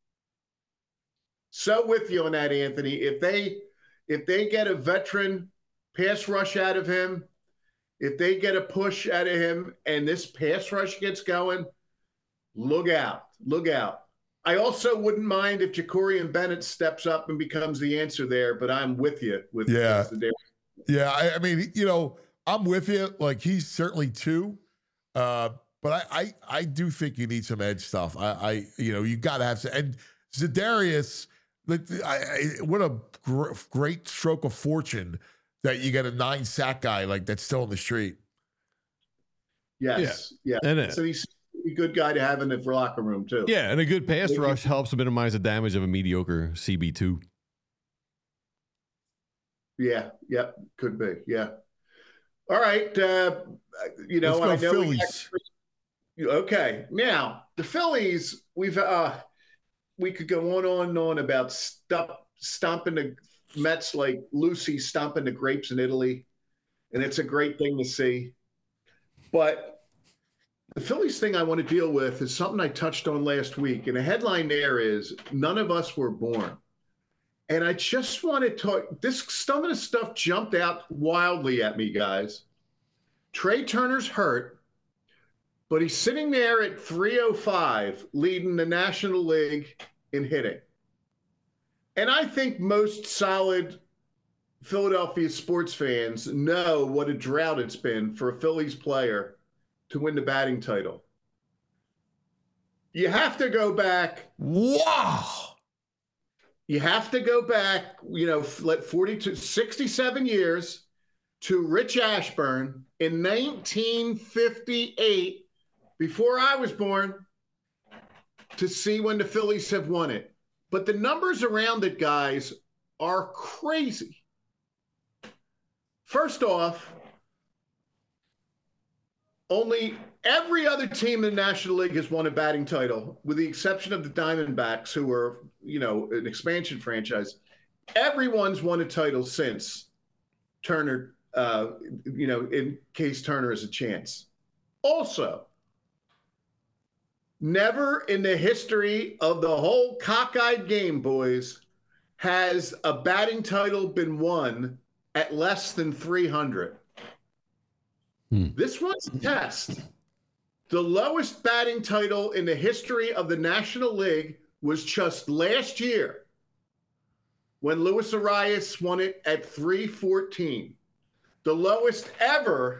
So with you on that, Anthony. If they get a veteran pass rush out of him, if they get a push out of him and this pass rush gets going, look out. Look out. I also wouldn't mind if Jacorian Bennett steps up and becomes the answer there, but I'm with you. Yeah, I mean, I'm with you. Like, he's certainly two. But I do think you need some edge stuff. You got to have some. And Zadarius, what a great stroke of fortune that you get a 9-sack guy like that's still in the street. Yes. Yeah. So he's a good guy to have in the locker room too. Yeah, and a good pass rush helps to minimize the damage of a mediocre CB2. Yeah. Yep. Could be. Yeah. All right. Let's go I know Phillies. Okay. Now the Phillies, we could go on and on about stomping the Mets like Lucy stomping the grapes in Italy, and it's a great thing to see. But the Phillies thing I want to deal with is something I touched on last week, and the headline there is none of us were born. And I just want to talk. Some of the stuff jumped out wildly at me, guys. Trey Turner's hurt, but he's sitting there at 305, leading the National League in hitting. And I think most solid Philadelphia sports fans know what a drought it's been for a Phillies player to win the batting title. You have to go back. Wow. You have to go back, 67 years to Rich Ashburn in 1958, before I was born, to see when the Phillies have won it. But the numbers around it, guys, are crazy. First off, only every other team in the National League has won a batting title, with the exception of the Diamondbacks, who are, an expansion franchise. Everyone's won a title since Turner, in case Turner has a chance. Also, never in the history of the whole cockeyed game, boys, has a batting title been won at less than 300. This one's a test. The lowest batting title in the history of the National League was just last year when Luis Arias won it at 314. The lowest ever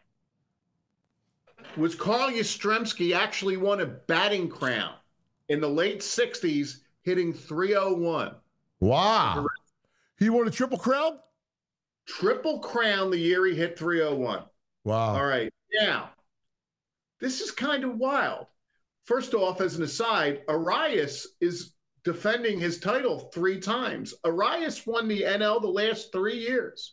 was Carl Yastrzemski, actually won a batting crown in the late 60s, hitting 301. Wow. He won a Triple Crown? Triple Crown the year he hit 301. Wow. All right. Now, this is kind of wild. First off, as an aside, Arias is defending his title 3 times. Arias won the NL the last 3 years.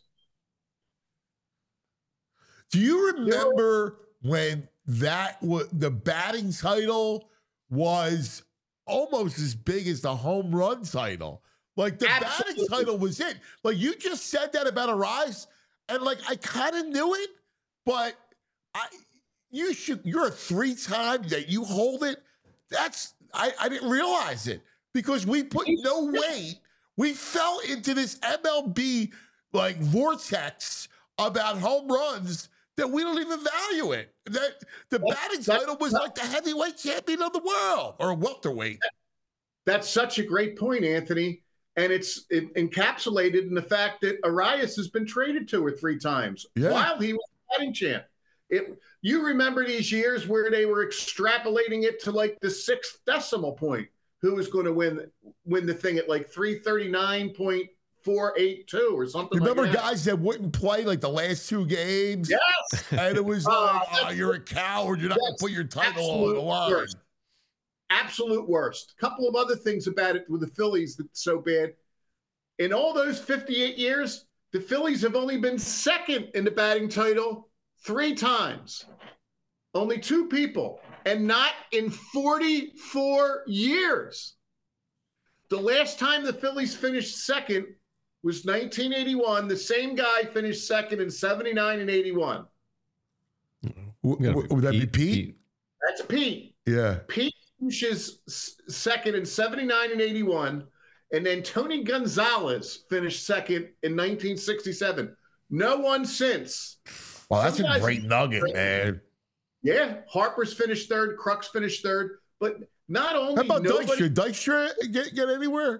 Do you remember when the batting title was almost as big as the home run title? Like the batting title was it. Like you just said that about Arias, and like I kind of knew it, but you're a 3-time that you hold it. I didn't realize it because we put no weight. We fell into this MLB like vortex about home runs that we don't even value it. That the batting title was like the heavyweight champion of the world or welterweight. That's such a great point, Anthony. And it's encapsulated in the fact that Arias has been traded 2 or 3 times while he was batting champ. You remember these years where they were extrapolating it to like the 6th decimal point. Who was going to win the thing at like 339.482 or something like that? Remember guys that wouldn't play like the last 2 games? Yes. And it was you're a coward. You're not going to put your title on the line. Worst. Absolute worst. A couple of other things about it with the Phillies that's so bad. In all those 58 years, the Phillies have only been second in the batting title 3 times. Only 2 people, and not in 44 years. The last time the Phillies finished second was 1981. The same guy finished second in 79 and 81. Would that be Pete? That's Pete. Yeah. Pete finishes second in 79 and 81. And then Tony Gonzalez finished second in 1967. No one since. Well, that's a great nugget, man. Yeah. Harper's finished 3rd. Crux finished 3rd. But not only how about nobody, Dykstra get anywhere?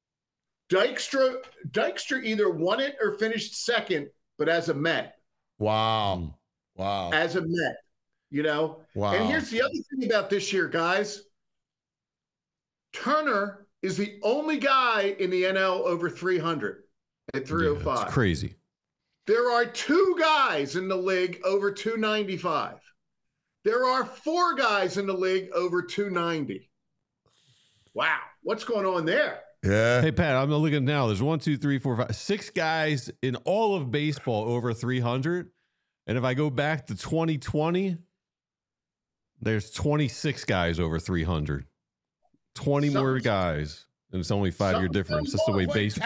Dykstra either won it or finished 2nd, but as a Met. Wow. As a Met, Wow. And here's the other thing about this year, guys. Turner is the only guy in the NL over 300 at 305. Yeah, it's crazy. There are 2 guys in the league over 295. There are 4 guys in the league over 290. Wow. What's going on there? Yeah. Hey, Pat, I'm looking now. There's 1, 2, 3, 4, 5, 6 guys in all of baseball over 300. And if I go back to 2020, there's 26 guys over 300. 20 more guys. And it's only 5-year difference. That's the way baseball.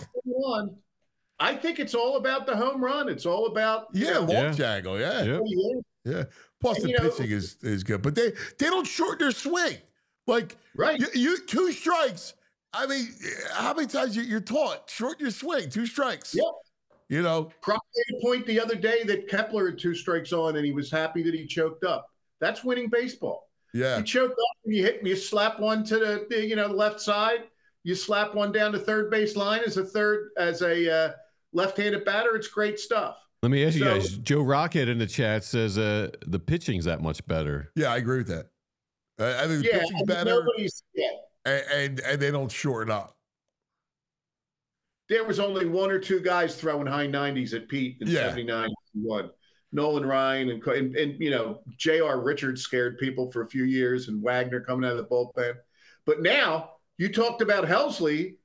I think it's all about the home run. It's all about launch angle. Yeah. Plus the pitching is good, but they don't shorten their swing. Like you 2 strikes. I mean, how many times you're taught shorten your swing? 2 strikes. Yeah. Croc made a point the other day that Kepler had 2 strikes on, and he was happy that he choked up. That's winning baseball. Yeah. You choke up and you slap one to the left side. You slap one down to third base line as a left-handed batter. It's great stuff. Let me ask you guys. Joe Rocket in the chat says the pitching's that much better. Yeah, I agree with that. I think the pitching's better, and they don't shorten up. There was only 1 or 2 guys throwing high 90s at Pete in 79 and 1. Nolan Ryan and J.R. Richards scared people for a few years, and Wagner coming out of the bullpen. But now you talked about Helsley.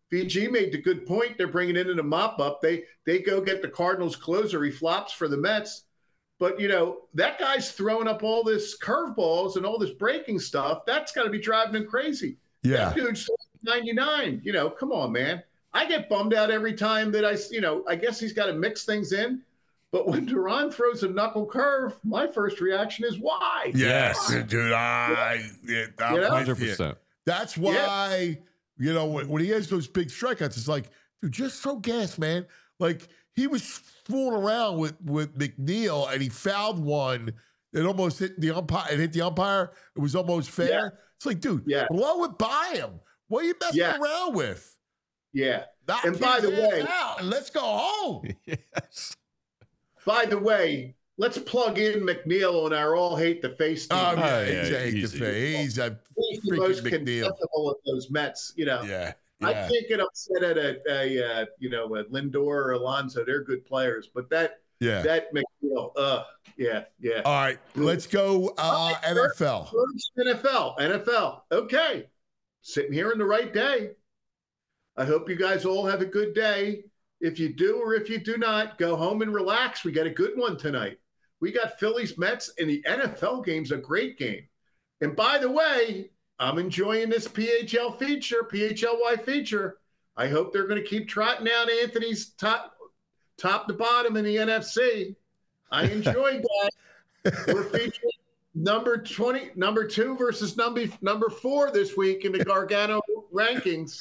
VG made the good point. They're bringing in a mop up. They go get the Cardinals closer. He flops for the Mets. But, that guy's throwing up all this curveballs and all this breaking stuff. That's got to be driving him crazy. Yeah. That dude's 99. Come on, man. I get bummed out every time that I guess he's got to mix things in. But when Duran throws a knuckle curve, my first reaction is why? Yes, dude. I'm with you. 100%. That's why, when he has those big strikeouts, it's like, dude, just throw gas, man. Like, he was fooling around with McNeil, and he fouled one. It almost hit the umpire. It hit the umpire. It was almost fair. Yeah. It's like, dude, blow it by him. What are you messing around with? Yeah. Knock And by the his way, ass out and let's go home. Yes. by the way, let's plug in McNeil on our all hate the face team. He's yeah, a hate to easy. face. He's a He's the freaking most McNeil. contemptible of those Mets. Yeah. I can't get upset at a Lindor or Alonso. They're good players, but that McNeil, yeah. All right, let's go NFL. NFL. Okay, sitting here in the right day. I hope you guys all have a good day. If you do or if you do not, go home and relax. We got a good one tonight. We got Phillies Mets, and the NFL game's a great game. And by the way, I'm enjoying this PHLY feature. I hope they're going to keep trotting out Anthony's top to bottom in the NFC. I enjoyed that. We're featuring number 2 versus number 4 this week in the Gargano rankings.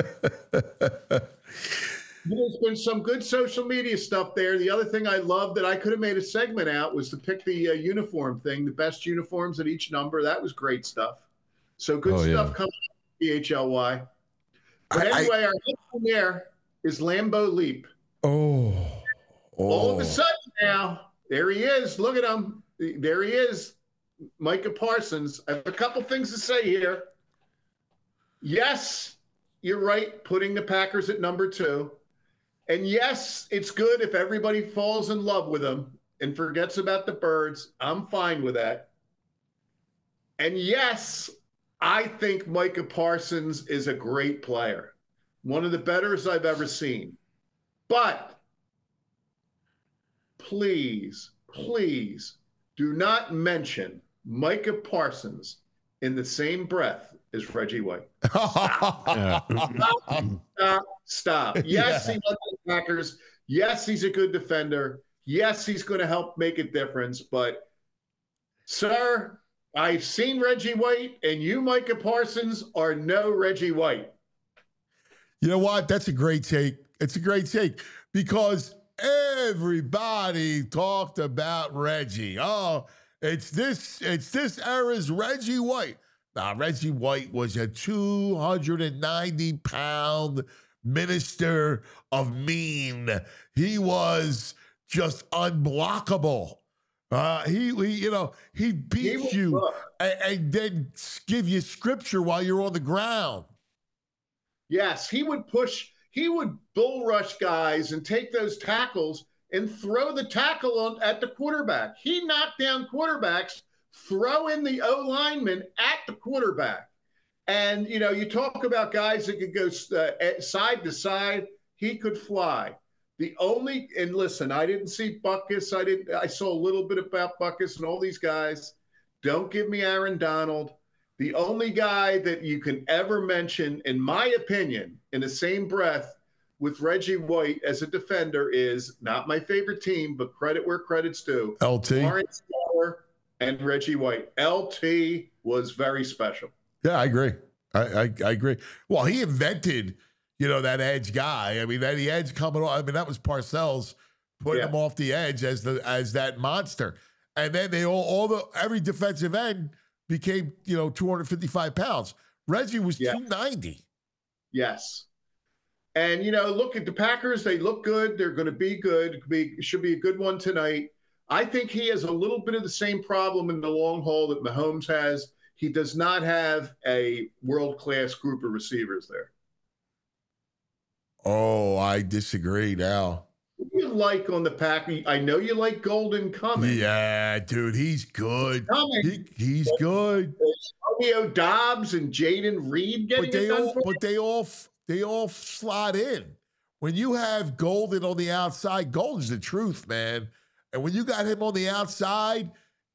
There's been some good social media stuff there. The other thing I love that I could have made a segment out was to pick the uniform thing, the best uniforms at each number. That was great stuff. So good stuff coming from PHLY. But anyway, our next one there is Lambeau Leap. Oh. All of a sudden now, there he is. Look at him. There he is, Micah Parsons. I have a couple things to say here. Yes, you're right, putting the Packers at number 2. And yes, it's good if everybody falls in love with him and forgets about the birds. I'm fine with that. And yes, I think Micah Parsons is a great player, one of the betters I've ever seen. But please do not mention Micah Parsons in the same breath as Reggie White. Stop. Yes, he loves the Packers. Yes, he's a good defender. Yes, he's going to help make a difference. But, sir, I've seen Reggie White, and you, Micah Parsons, are no Reggie White. You know what? That's a great take. It's a great take because everybody talked about Reggie. Oh, it's this era's Reggie White. Now, Reggie White was a 290-pound minister of mean. He was just unblockable. He beat you and then give you scripture while you're on the ground. Yes, he would bull rush guys and take those tackles and throw the tackle at the quarterback. He knocked down quarterbacks, throw in the O-lineman at the quarterback. And, you talk about guys that could go side to side. He could fly. And listen, I didn't see Butkus. I saw a little bit about Butkus and all these guys. Don't give me Aaron Donald. The only guy that you can ever mention, in my opinion, in the same breath with Reggie White as a defender is not my favorite team, but credit where credit's due. LT. Lawrence Taylor and Reggie White. LT was very special. Yeah, I agree. I agree. Well, he invented, that edge guy. I mean, that the edge coming off. I mean, that was Parcells putting him off the edge as that monster. And then every defensive end became, 255 pounds. Reggie was 290. Yes. And, look at the Packers. They look good. They're going to be good. Should be a good one tonight. I think he has a little bit of the same problem in the long haul that Mahomes has. He does not have a world-class group of receivers there. Oh, I disagree now. What do you like on the Packers? I know you like Golden Cummings. Yeah, dude, he's good. He's good. Romeo Dobbs and Jaden Reed getting it done for But they all they all slot in. When you have Golden on the outside, Golden's the truth, man. And when you got him on the outside,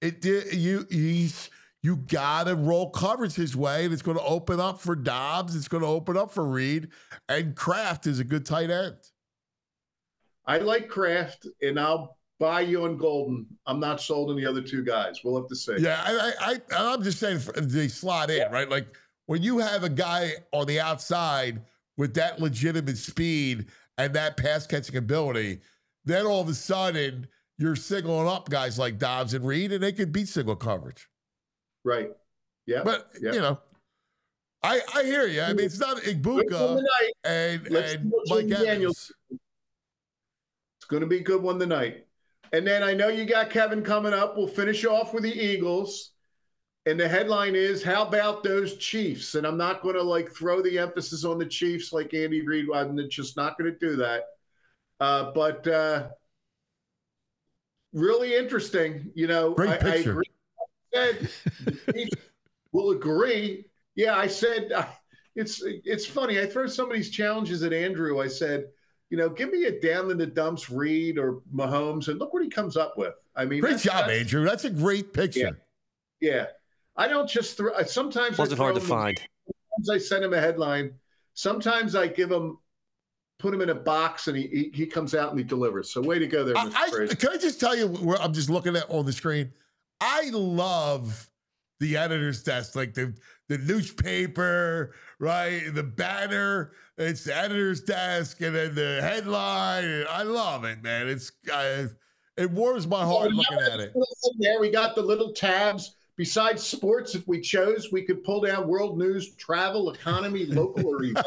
you gotta roll coverage his way, and it's going to open up for Dobbs. It's going to open up for Reed, and Kraft is a good tight end. I like Kraft, and I'll buy you on Golden. I'm not sold on the other two guys. We'll have to see. Yeah, I'm just saying they slot in, right? Like when you have a guy on the outside with that legitimate speed and that pass catching ability, then all of a sudden you're singling up guys like Dobbs and Reed, and they could beat single coverage. Right. Yeah. But I hear you. I mean, it's not Igbuka and Mike Evans. It's going to be a good one tonight. And then I know you got Kevin coming up. We'll finish off with the Eagles. And the headline is, how about those Chiefs? And I'm not going to throw the emphasis on the Chiefs like Andy Reid. I'm just not going to do that. But really interesting. Great picture. I agree. The Chiefs will agree. Yeah, I said it's funny. I throw some of these challenges at Andrew. I said, give me a down in the dumps Reed or Mahomes, and look what he comes up with. I mean, great job, Andrew. That's a great picture. Yeah. I don't just throw. Sometimes wasn't hard to find. Sometimes I send him a headline. Sometimes I put him in a box, and he comes out and he delivers. So way to go there, Mr. Fraser. Can I just tell you where I'm just looking at on the screen? I love the editor's desk, like the newspaper, right? The banner, it's the editor's desk, and then the headline. And I love it, man. It warms my heart looking at it. There, we got the little tabs. Besides sports, if we chose, we could pull down world news, travel, economy, local, or regional.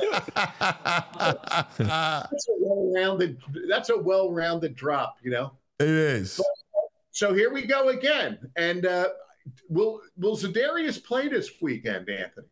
That's a well-rounded drop, It is. So here we go again. And will Za'Darius play this weekend, Anthony?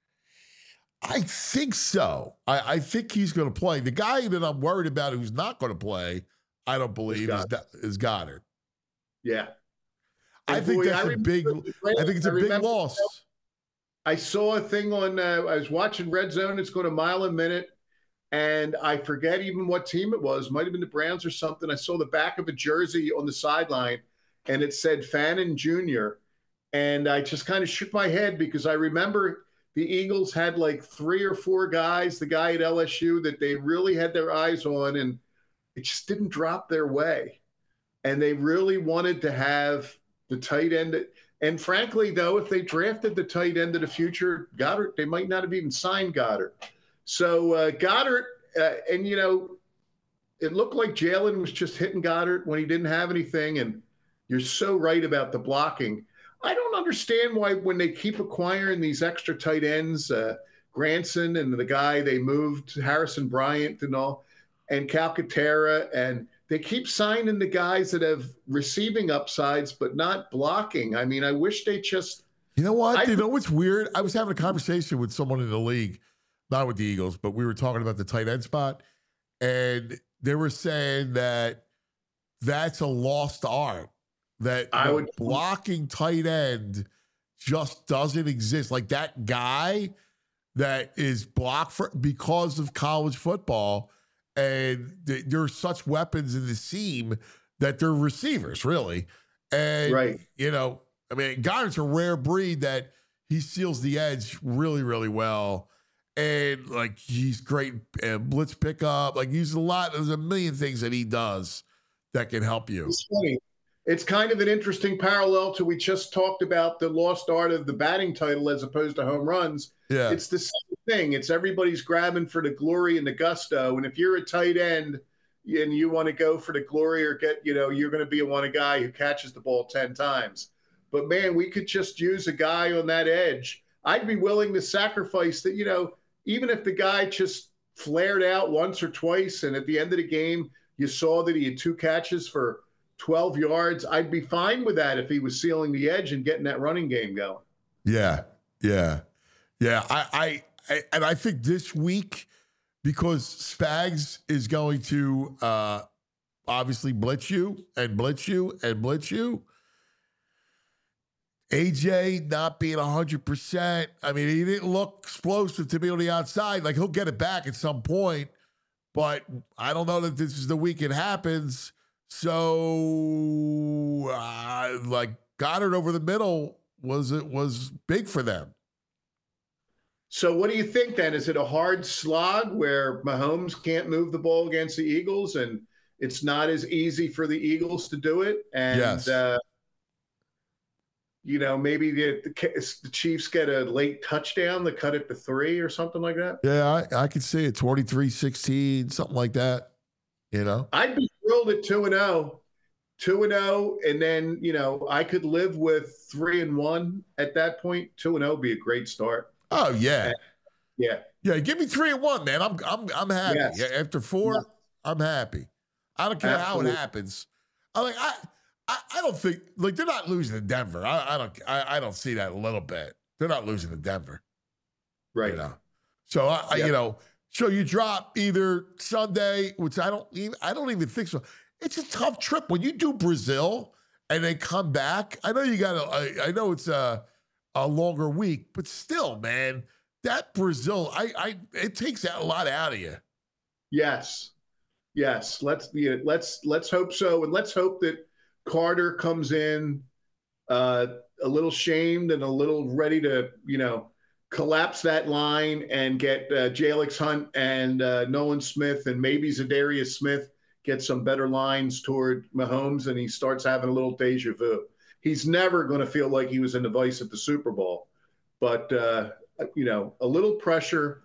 I think so. I think he's going to play. The guy that I'm worried about who's not going to play, I don't believe, is Goddard. Yeah. I think that's a big loss. I saw a thing on, I was watching Red Zone. It's going a mile a minute. And I forget even what team it was. Might have been the Browns or something. I saw the back of a jersey on the sideline, and it said Fannin Jr. And I just kind of shook my head because I remember the Eagles had 3 or 4 guys, the guy at LSU, that they really had their eyes on, and it just didn't drop their way. And they really wanted to have the tight end. And frankly, though, if they drafted the tight end of the future, Goddard, they might not have even signed Goddard. So Goddard, and it looked like Jalen was just hitting Goddard when he didn't have anything. And you're so right about the blocking. I don't understand why when they keep acquiring these extra tight ends, Granson and the guy they moved, Harrison Bryant and all, and Calcaterra, and they keep signing the guys that have receiving upsides but not blocking. I mean, I wish they just – You know what? You know what's weird? I was having a conversation with someone in the league, not with the Eagles, but we were talking about the tight end spot, and they were saying that that's a lost art, that blocking tight end just doesn't exist. Like that guy that is blocked because of college football, and there are such weapons in the seam that they're receivers, really. And, I mean, Goddard's a rare breed that he seals the edge really, really well. And, he's great at blitz pickup. There's a million things that he does that can help you. It's funny. It's kind of an interesting parallel to we just talked about the lost art of the batting title as opposed to home runs. Yeah. It's the same thing. It's everybody's grabbing for the glory and the gusto. And if you're a tight end and you want to go for the glory or you're going to be a guy who catches the ball 10 times. But, man, we could just use a guy on that edge. I'd be willing to sacrifice that, even if the guy just flared out once or twice and at the end of the game you saw that he had 2 catches for 12 yards, I'd be fine with that if he was sealing the edge and getting that running game going. Yeah. I think this week, because Spags is going to obviously blitz you, AJ not being 100%. I mean, he didn't look explosive to me on the outside. Like, he'll get it back at some point, but I don't know that this is the week it happens. So, like, Goddard over the middle was big for them. So what do you think then? Is it a hard slog where Mahomes can't move the ball against the Eagles and it's not as easy for the Eagles to do it? And, Yes. Maybe the Chiefs get a late touchdown to cut it to 3 or something like that? Yeah, I could see it, 23-16, something like that, I'd be thrilled at 2-0. 2-0, and then, I could live with 3-1 at that point. 2-0 would be a great start. Oh, yeah. Yeah. Yeah, give me 3-1, man. I'm happy. Yes. Yeah, after 4, Yeah. I'm happy. I don't care how it happens. I don't think they're not losing to Denver. I don't see that a little bit. They're not losing to Denver. Right. So so you drop either Sunday, which I don't even think so. It's a tough trip when you do Brazil and then come back. I know I know it's a longer week, but still, man, that Brazil, it takes a lot out of you. Yes. Let's hope so, and let's hope that Carter comes in a little shamed and a little ready to, collapse that line and get Jalix Hunt and Nolan Smith and maybe Zadarius Smith get some better lines toward Mahomes, and he starts having a little deja vu. He's never going to feel like he was in the vice at the Super Bowl, but a little pressure.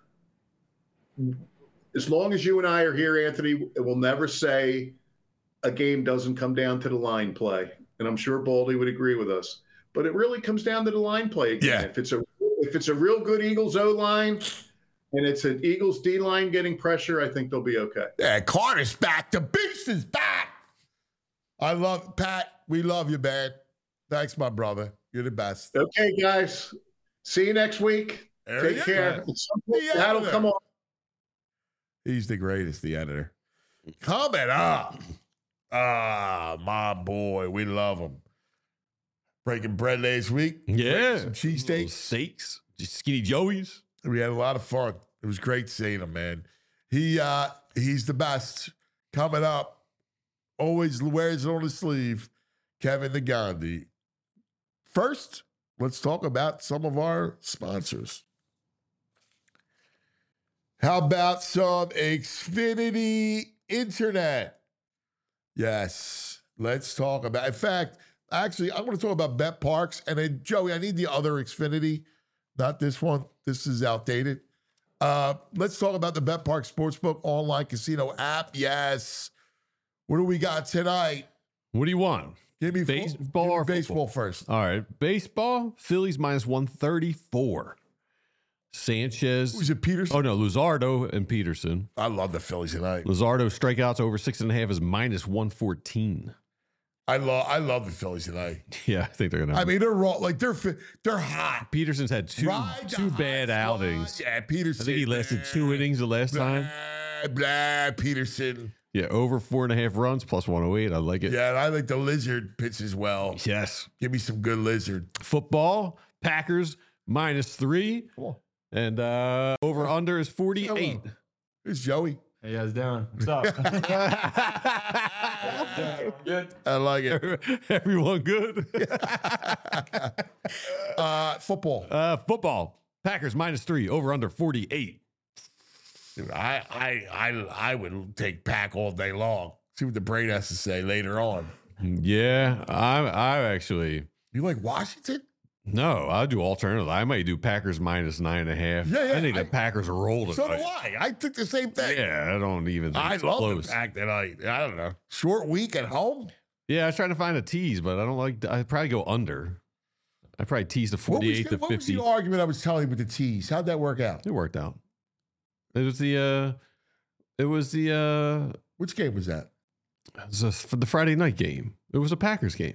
As long as you and I are here, Anthony, it will never say a game doesn't come down to the line play. And I'm sure Baldy would agree with us. But it really comes down to the line play again. Yeah. If it's a real good Eagles O-line and it's an Eagles D-line getting pressure, I think they'll be okay. Yeah, Carter's back. The beast is back. Pat, we love you, man. Thanks, my brother. You're the best. Okay, guys. See you next week. Take care. That'll come on. He's the greatest, the editor. Coming up. My boy. We love him. Breaking bread last week. Yeah. Some cheesesteaks. Steaks. Just Skinny Joey's. We had a lot of fun. It was great seeing him, man. He's the best. Coming up. Always wears it on his sleeve. Kevin the Gandhi. First, let's talk about some of our sponsors. How about some Xfinity Internet? Yes, let's talk about. In fact, actually, I'm going to talk about Bet Parks. And then, Joey, I need the other Xfinity, not this one. This is outdated. Let's talk about the Bet Parks Sportsbook online casino app. Yes. What do we got tonight? What do you want? Give me baseball or baseball football? first. All right. Baseball, Phillies minus 134. Sanchez. Who's it, Peterson? Oh, no, Luzardo and Peterson. I love the Phillies tonight. Luzardo strikeouts over 6.5 is minus 114. I love the Phillies tonight. Yeah, I think they're going to. I mean, they're raw. Like, they're hot. Peterson's had two bad outings. Yeah, Peterson. I think he lasted 2 innings the last time. Peterson. Yeah, over 4.5 runs, plus 108. I like it. Yeah, and I like the lizard pitch as well. Yes. Give me some good lizard. Football, Packers minus 3. Cool. And over under is 48. Hello. Here's Joey. How you guys doing? What's up? Good. I like it. Everyone good? Football. Football, Packers minus 3, over under 48. Dude, I would take Pack all day long. See what the brain has to say later on. Yeah, I actually. You like Washington? No, I'll do alternative. I might do Packers minus 9.5. Yeah, I think the Packers are rolling. So do I. I think the same thing. Yeah, I don't even think it's love close. the Pack tonight. I don't know. Short week at home? Yeah, I was trying to find a tease, but I don't like. I'd probably go under. I'd probably tease the 48 to 50. What was the argument I was telling you with the tease? How'd that work out? It worked out. It was the. Which game was that? It was for the Friday night game. It was a Packers game.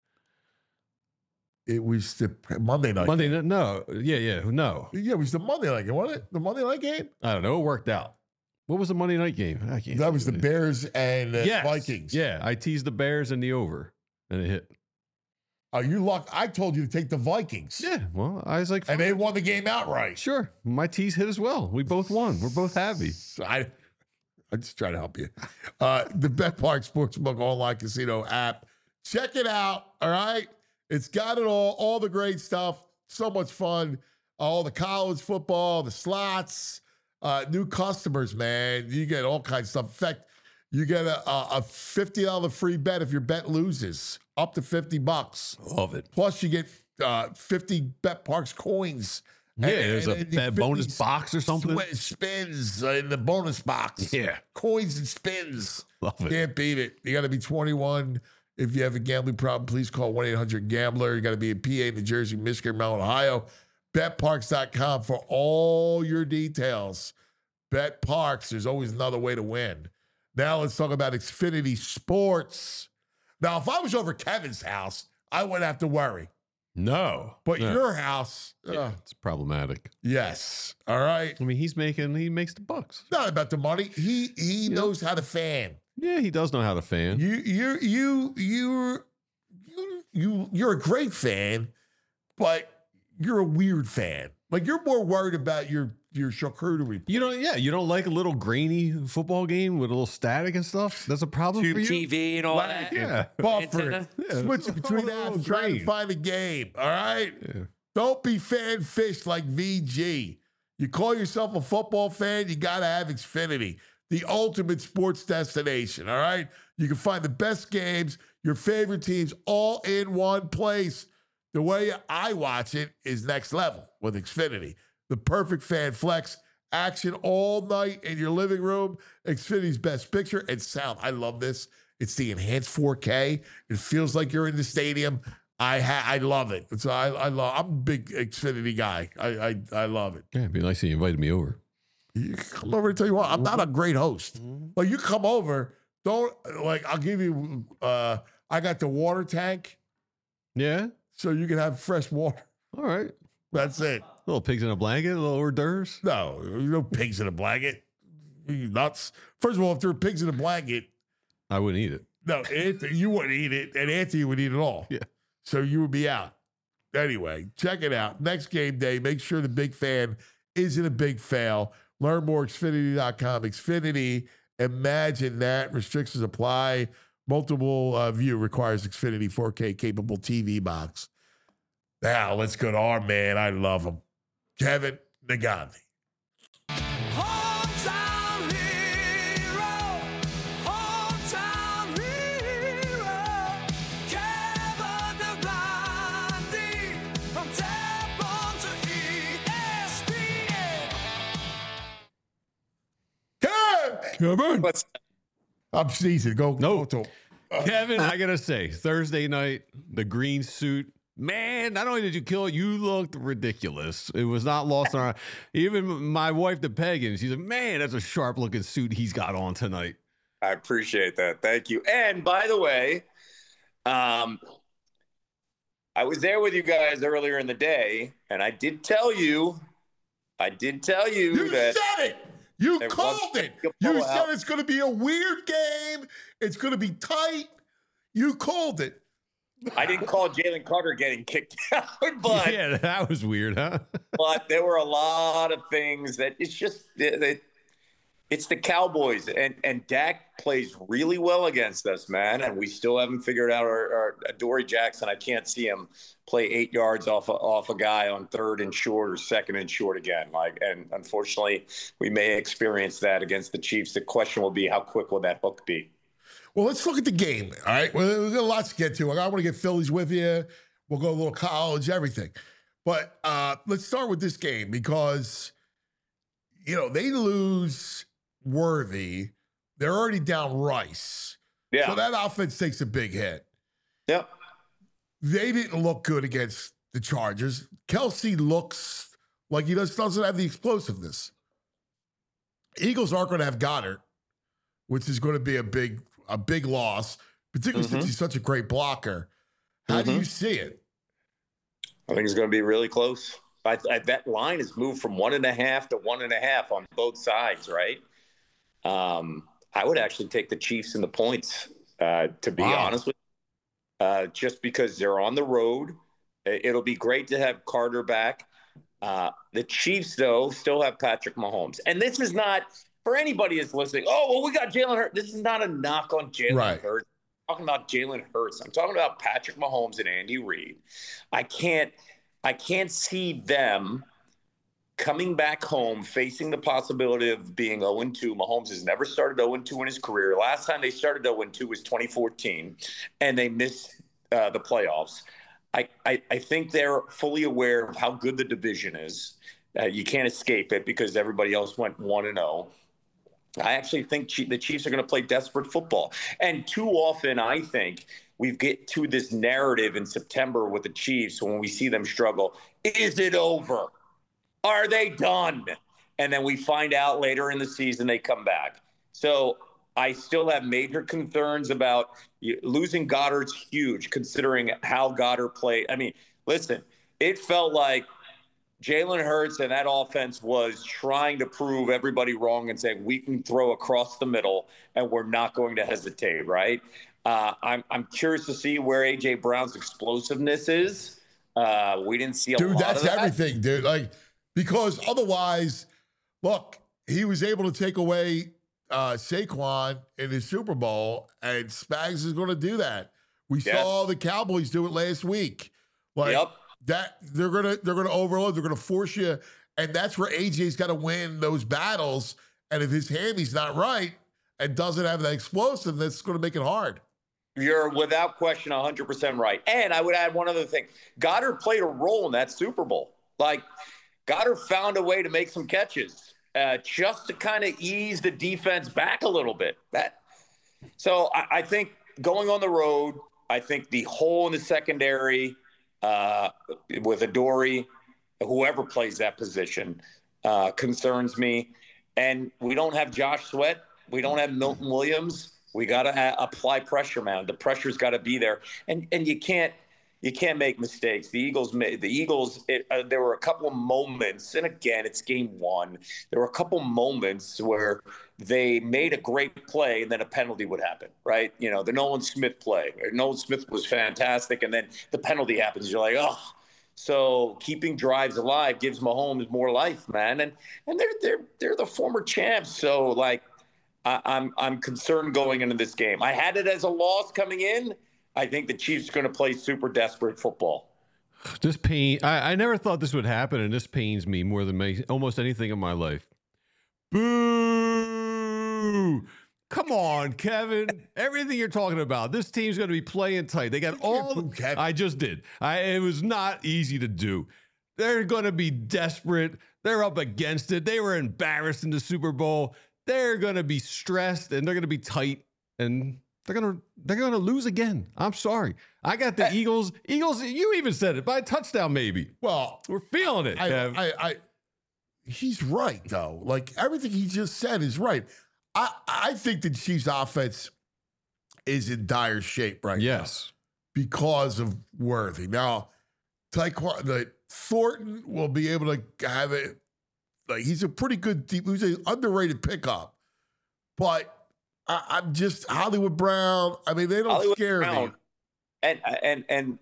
It was the Monday night. Monday night? No. Yeah. No. Yeah, it was the Monday night game, wasn't it? The Monday night game? I don't know. It worked out. What was the Monday night game? I can't. That was the Bears and Yes. Vikings. Yeah, I teased the Bears and the over, and it hit. Oh, you luck. I told you to take the Vikings. Yeah, well, I was like, And they won the game outright. sure. My T's hit as well. We both won. We're both happy. I'm just trying to help you. The BetPark Sportsbook online casino app. Check it out, all right? It's got it all the great stuff. So much fun. All the college football, the slots, new customers, man. You get all kinds of stuff. In fact, you get a $50 free bet if your bet loses, up to $50. Love it. Plus, you get 50 BetParks coins. Yeah, there's a 50 bonus box or something. Spins in the bonus box. Yeah. Coins and spins. Love it. Can't beat it. You got to be 21. If you have a gambling problem, please call 1-800-GAMBLER. You got to be in PA, New Jersey, Michigan, Maryland, Ohio. BetParks.com for all your details. BetParks, there's always another way to win. Now let's talk about Xfinity Sports. Now, if I was over Kevin's house, I wouldn't have to worry. No. But no. your house, It's problematic. yes. All right. I mean, he makes the bucks. Not about the money. He knows how to fan. Yeah, he does know how to fan. You're a great fan, but you're a weird fan. Like, you're more worried about your charcuterie. You don't like a little grainy football game with a little static and stuff? That's a problem Tube for you? TV and all that. Yeah. Buffer. Antenna? Switch between apps, trying to find a game. All right? Yeah. Don't be fan fished like VG. You call yourself a football fan, you got to have Xfinity, the ultimate sports destination. All right? You can find the best games, your favorite teams, all in one place. The way I watch it is next level with Xfinity. The perfect fan flex, action all night in your living room. Xfinity's best picture and sound. I love this. It's the enhanced 4K. It feels like you're in the stadium. I love it. So I'm a big Xfinity guy. I love it. Yeah, it'd be nice if you invited me over. You come over and tell you what, I'm not a great host. Like, you come over, I'll give you, I got the water tank Yeah? so you can have fresh water. All right. That's it. Little pigs in a blanket, little hors d'oeuvres. No pigs in a blanket. You nuts. First of all, if there were pigs in a blanket, I wouldn't eat it. no, Anthony, you wouldn't eat it, and Anthony would eat it all. Yeah. So you would be out. Anyway, check it out. Next game day, make sure the big fan isn't a big fail. Learn more, Xfinity.com. Xfinity, imagine that. Restrictions apply. Multiple view requires Xfinity 4K capable TV box. Now, let's go to our man. I love him. Kevin Nagandi. Hometown hero, hometown hero, Kevin Nagandi, from Tap on to ESPN. Kevin! What's I'm sneezing. Go. No. Go to Kevin, I got to say, Thursday night, the green suit. Man, not only did you kill it, you looked ridiculous. It was not lost on our. Even my wife, the pagan, she's like, man, that's a sharp looking suit he's got on tonight. I appreciate that. Thank you. And by the way, I was there with you guys earlier in the day, and I did tell you You that said it. You there called was it. a You blowout. said it's going to be a weird game. It's going to be tight. You called it. I didn't call Jalen Carter getting kicked out, but Yeah, that was weird, huh? but there were a lot of things that it's just it's the Cowboys, and Dak plays really well against us, man. And we still haven't figured out our Dory Jackson. I can't see him play 8 yards off a guy on 3rd and short or 2nd and short again. And unfortunately, we may experience that against the Chiefs. The question will be, how quick will that hook be? Well, let's look at the game. All right. Well, we've got lots to get to. I want to get Phillies with you. We'll go a little college, everything. But let's start with this game because, they lose Worthy. They're already down Rice. Yeah. So that offense takes a big hit. Yep. They didn't look good against the Chargers. Kelsey looks like he doesn't have the explosiveness. Eagles aren't going to have Goddard, which is going to be a big loss, particularly since he's such a great blocker. How do you see it? I think it's going to be really close. That line has moved from 1.5 to 1.5 on both sides, right? I would actually take the Chiefs in the points, to be honest with you. just because they're on the road. It'll be great to have Carter back. The Chiefs, though, still have Patrick Mahomes. And this is not, for anybody that's listening, oh, well, we got Jalen Hurts. This is not a knock on Jalen Hurts. I'm talking about Jalen Hurts. I'm talking about Patrick Mahomes and Andy Reid. I can't see them coming back home, facing the possibility of being 0-2. Mahomes has never started 0-2 in his career. Last time they started 0-2 was 2014, and they missed the playoffs. I think they're fully aware of how good the division is. You can't escape it because everybody else went 1-0. I actually think the Chiefs are going to play desperate football. And too often, I think, we get to this narrative in September with the Chiefs when we see them struggle. Is it over? Are they done? And then we find out later in the season they come back. So I still have major concerns about losing Goddard's huge, considering how Goddard played. I mean, listen, it felt like Jalen Hurts and that offense was trying to prove everybody wrong and saying we can throw across the middle and we're not going to hesitate, right? I'm curious to see where A.J. Brown's explosiveness is. We didn't see a lot of that. Dude, that's everything, dude. Like, because otherwise, look, he was able to take away Saquon in his Super Bowl, and Spags is going to do that. We saw the Cowboys do it last week. Like that, they're gonna overload. They're gonna force you, and that's where AJ's got to win those battles. And if his hammy's not right and doesn't have that explosive, that's going to make it hard. You're without question 100% right. And I would add one other thing. Goddard played a role in that Super Bowl. Like, Goddard found a way to make some catches just to kind of ease the defense back a little bit. So I think going on the road, I think the hole in the secondary with Adoree', whoever plays that position, concerns me. And we don't have Josh Sweat. We don't have Milton Williams. We got to apply pressure, man. The pressure's got to be there. And you can't make mistakes. The Eagles, there were a couple of moments, and again, it's game one. There were a couple moments where they made a great play, and then a penalty would happen, right? You know, the Nolan Smith play. Nolan Smith was fantastic, and then the penalty happens. You're like, oh. So keeping drives alive gives Mahomes more life, man. And they're the former champs. So, like, I'm concerned going into this game. I had it as a loss coming in. I think the Chiefs are going to play super desperate football. This pain, I never thought this would happen, and this pains me more than almost anything in my life. Boo! Come on, Kevin. Everything you're talking about, this team's going to be playing tight. They got all. I just did. It was not easy to do. They're going to be desperate. They're up against it. They were embarrassed in the Super Bowl. They're going to be stressed, and they're going to be tight, and they're going to lose again. I'm sorry. I got the Eagles. Eagles, you even said it, by a touchdown maybe. Well, we're feeling it. He's right, though. Like, everything he just said is right. I think the Chiefs' offense is in dire shape right now because of Worthy. Now, Thornton will be able to have it. Like, he's a pretty good deep. He's an underrated pickup, but I'm just Hollywood Brown. I mean, they don't scare me. And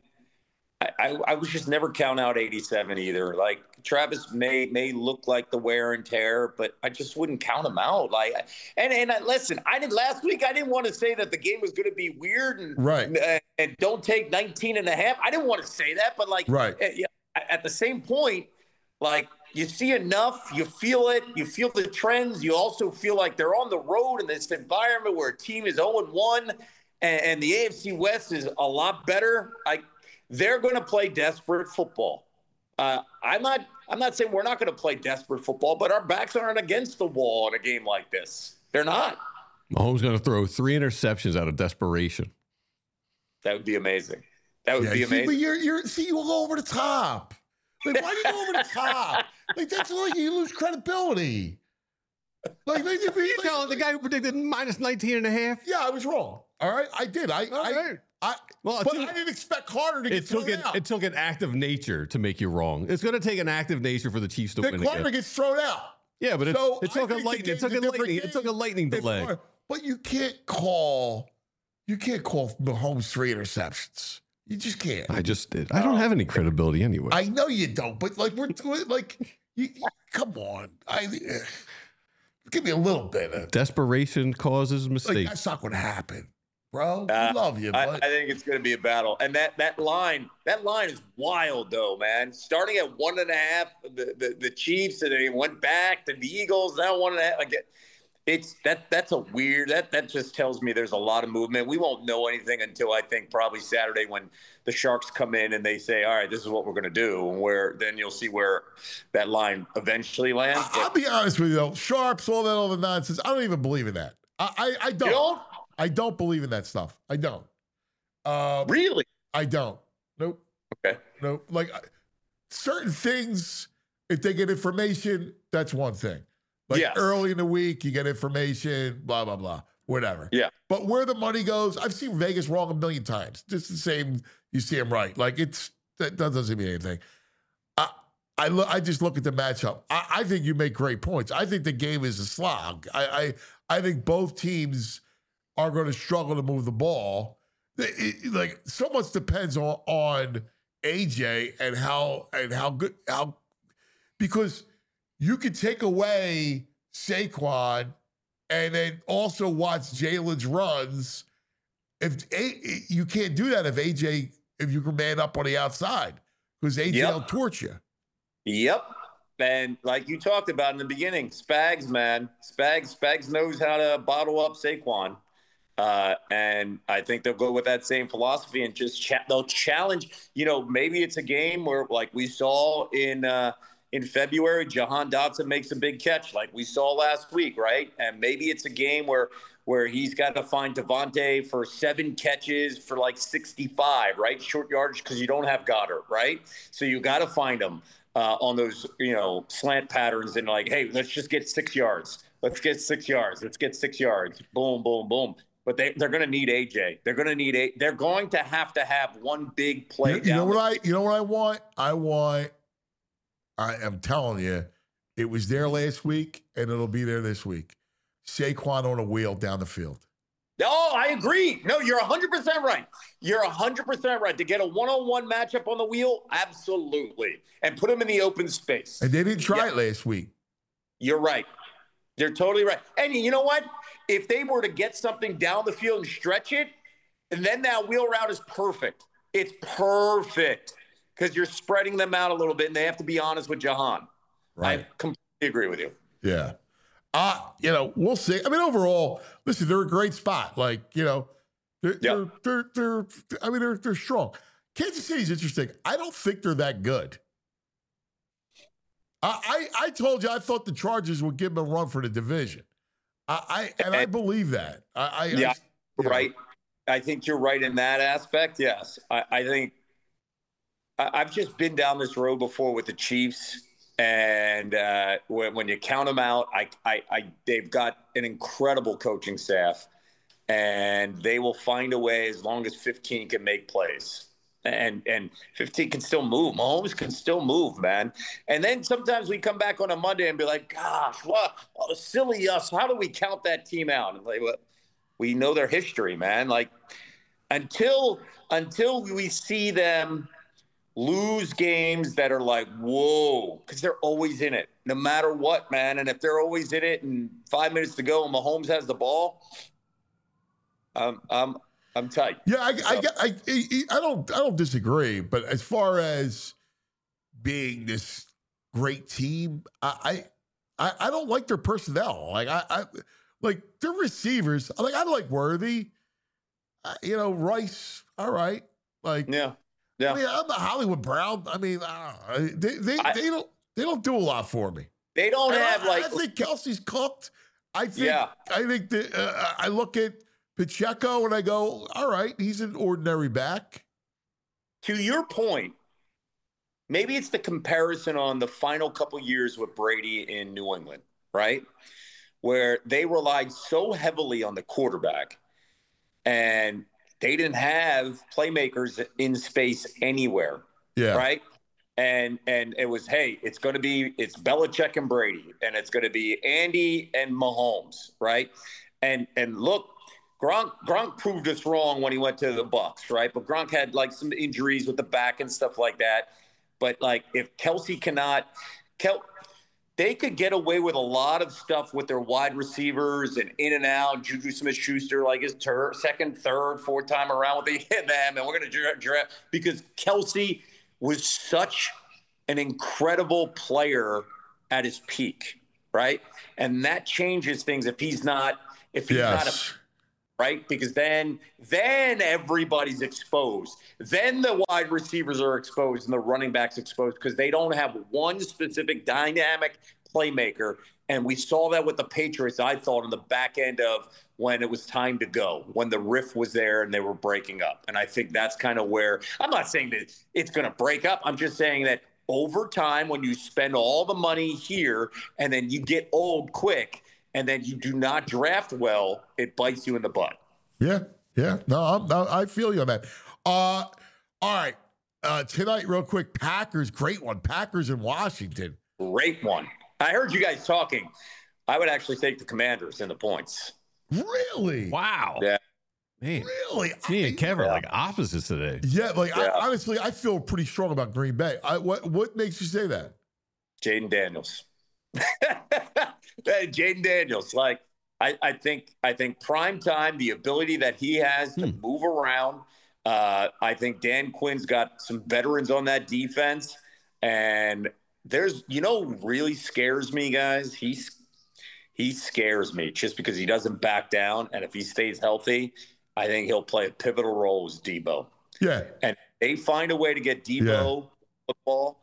I was just never count out 87 either. Like, Travis may look like the wear and tear, but I just wouldn't count him out. Like, listen, last week I didn't want to say that the game was going to be weird and don't take 19 and a half. I didn't want to say that, but at the same point, like, you see enough, you feel it, you feel the trends. You also feel like they're on the road in this environment where a team is 0-1 and the AFC West is a lot better. They're going to play desperate football. I'm not saying we're not going to play desperate football, but our backs aren't against the wall in a game like this. They're not. Mahomes going to throw 3 interceptions out of desperation. That would be amazing. That would be amazing. But you go over the top. Like, why do you go over the top? Like, that's like you lose credibility. Like, you telling the guy who predicted minus 19 and a half? Yeah, I was wrong. All right, I did. But I didn't expect Carter to get thrown out. It took an act of nature to make you wrong. It's going to take an act of nature for the Chiefs to win again. Carter gets thrown out. Yeah, but it took a lightning delay. But you can't call You can't call Mahomes 3 interceptions. You just can't. I just did. I don't have any credibility anyway. I know you don't, but like come on. Give me a little bit of Desperation causes like mistakes. that's not going to happen, bro. I love you, I but think it's going to be a battle, and that line is wild, though, man. Starting at 1.5, the Chiefs, and they went back to the Eagles. Now 1.5. Like it's that's a weird. That just tells me there's a lot of movement. We won't know anything until I think probably Saturday when the Sharks come in and they say, "All right, this is what we're going to do," and then you'll see where that line eventually lands. I'll be honest with you, though. Sharps, all that other nonsense. I don't even believe in that. I don't. You don't? I don't believe in that stuff. I don't. Really? I don't. Nope. Okay. Nope. Like certain things, if they get information, that's one thing. Like Yes. early in the week, you get information, blah, blah, blah, whatever. Yeah. But where the money goes, I've seen Vegas wrong a million times. Just the same, you see them right. Like that doesn't mean anything. I just look at the matchup. I think you make great points. I think the game is a slog. I think both teams are going to struggle to move the ball. Like so much depends on AJ and how good because you could take away Saquon and then also watch Jalen's runs. If you can't do that if you can man up on the outside because AJ will torch you. Yep. And like you talked about in the beginning, Spags, man. Spags knows how to bottle up Saquon. And I think they'll go with that same philosophy and just they'll challenge. Maybe it's a game where, like we saw in February, Jahan Dotson makes a big catch, like we saw last week, right? And maybe it's a game where he's got to find Devontae for 7 catches for like 65, right? Short yardage because you don't have Goddard, right? So you got to find him on those, slant patterns and like, hey, let's just get 6 yards. Let's get 6 yards. Let's get 6 yards. Boom, boom, boom. But they're going to need AJ. They're going to have one big play. You know what I want? I am telling you, it was there last week and it'll be there this week. Saquon on a wheel down the field. Oh, I agree. No, you're 100% right. You're 100% right. To get a one-on-one matchup on the wheel, absolutely. And put him in the open space. And they didn't try it last week. You're right. You're totally right. And you know what? If they were to get something down the field and stretch it, and then that wheel route is perfect. It's perfect because you're spreading them out a little bit, and they have to be honest with Jahan. Right. I completely agree with you. Yeah. We'll see. I mean, overall, listen, they're a great spot. Like, they're strong. Kansas City's interesting. I don't think they're that good. I told you I thought the Chargers would give them a run for the division. I believe that. Right. I think you're right in that aspect. Yes. I think I've just been down this road before with the Chiefs. And when you count them out, they've got an incredible coaching staff, and they will find a way as long as 15 can make plays. And 15 can still move. Mahomes can still move, man. And then sometimes we come back on a Monday and be like, gosh, what? Oh, silly us. How do we count that team out? And like, well, we know their history, man. Like until we see them lose games that are like, whoa, because they're always in it, no matter what, man. And if they're always in it and 5 minutes to go and Mahomes has the ball, I'm tight. Yeah, I don't disagree. But as far as being this great team, I don't like their personnel. Like I like their receivers. I like Worthy. Rice. All right. Like yeah. I mean, I'm a Hollywood Brown. I mean, they don't do a lot for me. They don't have I think Kelsey's cooked. I think that I look at Pacheco and I go, all right, he's an ordinary back. To your point, maybe it's the comparison on the final couple years with Brady in New England, right? Where they relied so heavily on the quarterback and they didn't have playmakers in space anywhere. Yeah. Right. And it was, hey, it's Belichick and Brady, and it's going to be Andy and Mahomes. Right. And look, Gronk proved us wrong when he went to the Bucs, right? But Gronk had like some injuries with the back and stuff like that. But like if Kelsey they could get away with a lot of stuff with their wide receivers and in and out. Juju Smith-Schuster, like his second, third, fourth time around with the hit them, and we're going to draft because Kelsey was such an incredible player at his peak, right? And that changes things if he's not right? Because then everybody's exposed. Then the wide receivers are exposed and the running backs exposed because they don't have one specific dynamic playmaker. And we saw that with the Patriots, I thought, on the back end of when it was time to go, when the riff was there and they were breaking up. And I think that's kind of where – I'm not saying that it's going to break up. I'm just saying that over time, when you spend all the money here and then you get old quick and then you do not draft well, it bites you in the butt. Yeah. No, I feel you on that. All right. Tonight, real quick, Packers, great one. Packers in Washington. Great one. I heard you guys talking. I would actually take the Commanders in the points. Really? Wow. Yeah. Man, really? Me and Kevin are like opposites today. Yeah, honestly, I feel pretty strong about Green Bay. What makes you say that? Jaden Daniels. Jaden Daniels. Like, I think prime time, the ability that he has to move around. I think Dan Quinn's got some veterans on that defense. And there's, really scares me, guys. He scares me just because he doesn't back down. And if he stays healthy, I think he'll play a pivotal role as Debo. Yeah. And they find a way to get Debo football.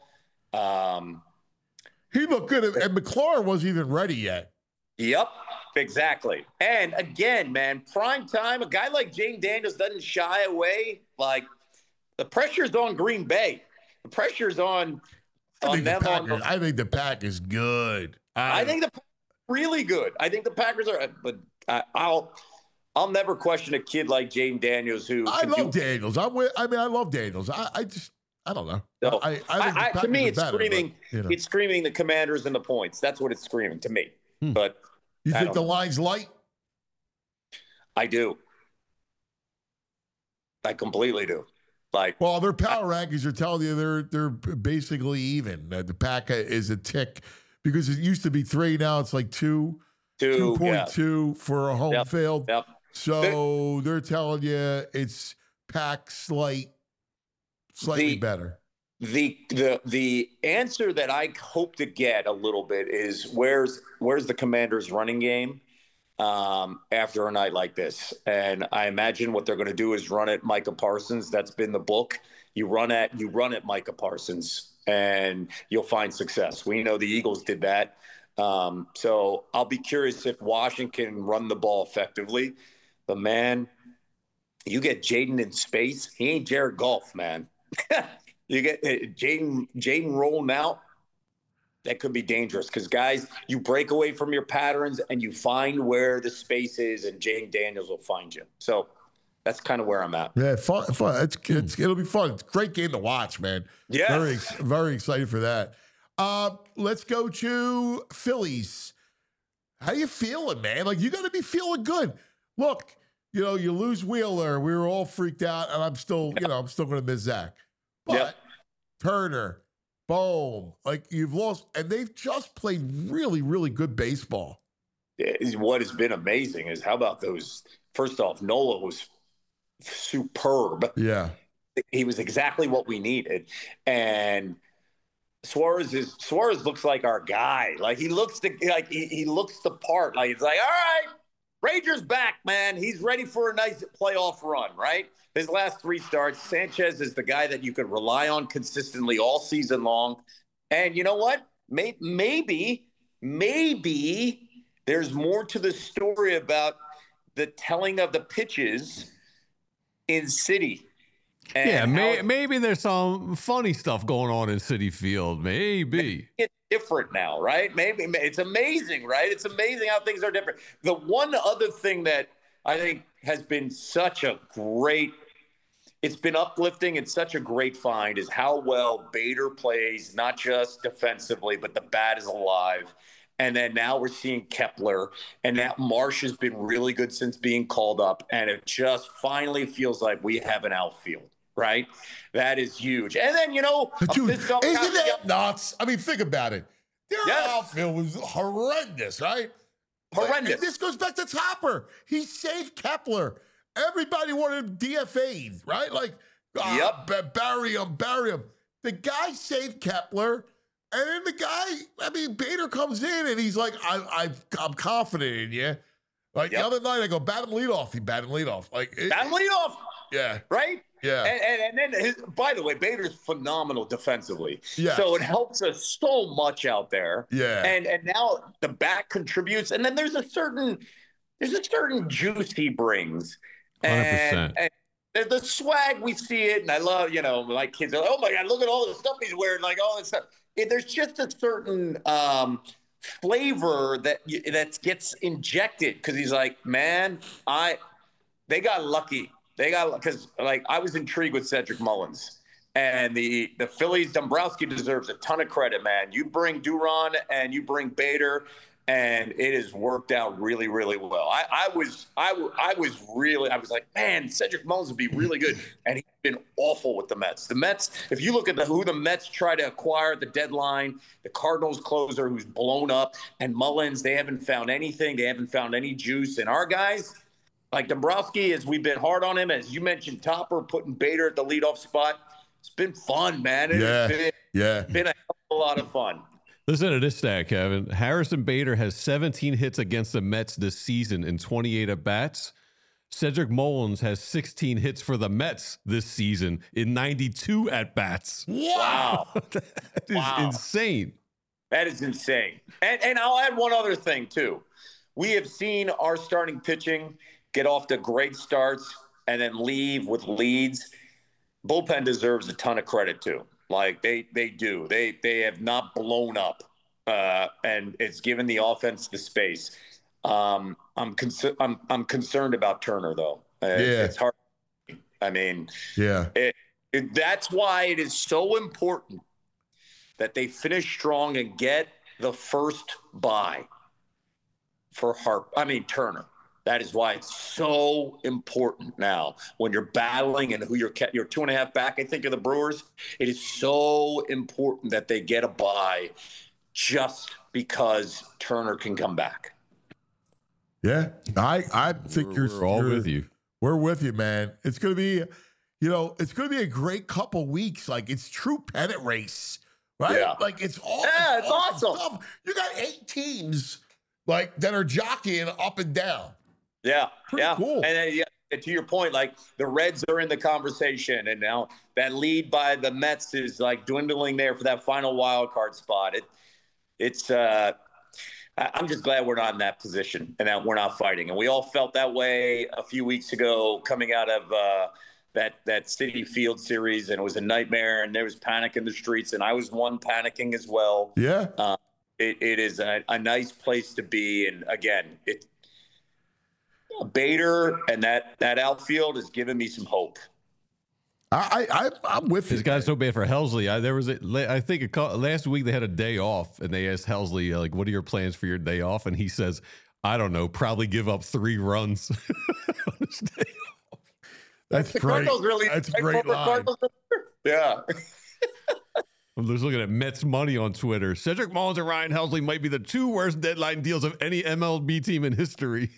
He looked good, and McLaurin wasn't even ready yet. Yep, exactly. And again, man, prime time, a guy like Jaden Daniels doesn't shy away. Like, the pressure's on Green Bay. The pressure's on them. I think the Pack is good. I think the really good. I think the Packers are, but I'll never question a kid like Jaden Daniels who. I love Daniels. I love Daniels. I don't know. No, I think to me, it's better, screaming. But, It's screaming the Commanders and the points. That's what it's screaming to me. But you think the line's light? I do. I completely do. Well, their power rankings are telling you they're basically even. The Pack is a tick because it used to be 3. Now it's like 2.2 for a home field. Yep. So they're telling you it's Pack slightly better. The answer that I hope to get a little bit is where's the Commanders' running game after a night like this? And I imagine what they're going to do is run at Micah Parsons. That's been the book. You run at Micah Parsons, and you'll find success. We know the Eagles did that. So I'll be curious if Washington can run the ball effectively. But man, you get Jaden in space. He ain't Jared Goff, man. You get Jaden rolling out. That could be dangerous because, guys, you break away from your patterns and you find where the space is, and Jaden Daniels will find you. So that's kind of where I'm at. Yeah, fun. It'll be fun. It's a great game to watch, man. Yes. Very, very excited for that. Let's go to Phillies. How you feeling, man? Like, you got to be feeling good. Look, you lose Wheeler. We were all freaked out, and I'm still going to miss Zach. But Turner, Bohm, you've lost, and they've just played really, really good baseball. What has been amazing is how about those? First off, Nola was superb. Yeah, he was exactly what we needed, and Suarez looks like our guy. Like he looks he looks the part. Like it's like, all right, Rangers back, man. He's ready for a nice playoff run, right? His last 3 starts, Sanchez is the guy that you can rely on consistently all season long. And you know what? Maybe there's more to the story about the telling of the pitches in City. And maybe there's some funny stuff going on in City Field. Maybe. It's different now, right? Maybe it's amazing, right? It's amazing how things are different. The one other thing that I think has been it's been uplifting and such a great find is how well Bader plays, not just defensively, but the bat is alive. And then now we're seeing Kepler, and that Marsh has been really good since being called up. And it just finally feels like we have an outfield, right? That is huge. And then, Dude, isn't that nuts? I mean, think about it. Their outfield was horrendous, right? Horrendous. And this goes back to Topper. He saved Kepler. Everybody wanted him DFA'd, right? Like, bury him. The guy saved Kepler. And then the guy, Bader comes in and he's like, I'm confident in you. Like the other night, I go, bat him leadoff. He bat him leadoff. Bat him leadoff. Yeah. Right? Yeah. And then, by the way, Bader's phenomenal defensively. Yeah. So it helps us so much out there. Yeah. And now the bat contributes. And then there's a certain juice he brings. 100%. And the swag, we see it. And I love, like kids are like, oh my God, look at all the stuff he's wearing, like all this stuff. There's just a certain flavor that gets injected because he's like, man, they got lucky. Because I was intrigued with Cedric Mullins, and the Phillies. Dombrowski deserves a ton of credit, man. You bring Duran and you bring Bader, and it has worked out really, really well. I was like, man, Cedric Mullins would be really good, and he's been awful with the Mets. The Mets, if you look at who the Mets try to acquire at the deadline, the Cardinals closer who's blown up, and Mullins, they haven't found anything. They haven't found any juice. And our guys, like Dombrowski, as we've been hard on him, as you mentioned, Topper putting Bader at the leadoff spot. It's been fun, man. It's been a hell of a lot of fun. Listen to this stat, Kevin. Harrison Bader has 17 hits against the Mets this season in 28 at-bats. Cedric Mullins has 16 hits for the Mets this season in 92 at-bats. Wow. That is insane. That is insane. And I'll add one other thing, too. We have seen our starting pitching get off to great starts and then leave with leads. Bullpen deserves a ton of credit, too. Like they do. They have not blown up, and it's given the offense the space. I'm concerned about Turner though. It's hard. I mean, that's why it is so important that they finish strong and get the first bye for Turner. That is why it's so important now when you're battling and who you're 2.5 back, I think, of the Brewers. It is so important that they get a bye just because Turner can come back. Yeah, I think we're all with you. We're with you, man. It's going to be, it's going to be a great couple weeks. Like it's true pennant race, right? Yeah. Like it's all. Yeah, it's awesome. Stuff. You got 8 teams that are jockeying up and down. Yeah, Pretty cool. And to your point, like the Reds are in the conversation, and now that lead by the Mets is like dwindling there for that final wild card spot. I'm just glad we're not in that position and that we're not fighting. And we all felt that way a few weeks ago coming out of that Citi Field series, and it was a nightmare, and there was panic in the streets, and I was panicking as well. Yeah. It is a nice place to be, and again, Bader and that outfield has given me some hope. I'm with you. This guy's so bad for Helsley. I think last week they had a day off, and they asked Helsley, like, what are your plans for your day off? And he says, I don't know, probably give up 3 runs on his day off. That's great. That's a great line. Yeah. I'm just looking at Mets money on Twitter. Cedric Mullins and Ryan Helsley might be the 2 worst deadline deals of any MLB team in history.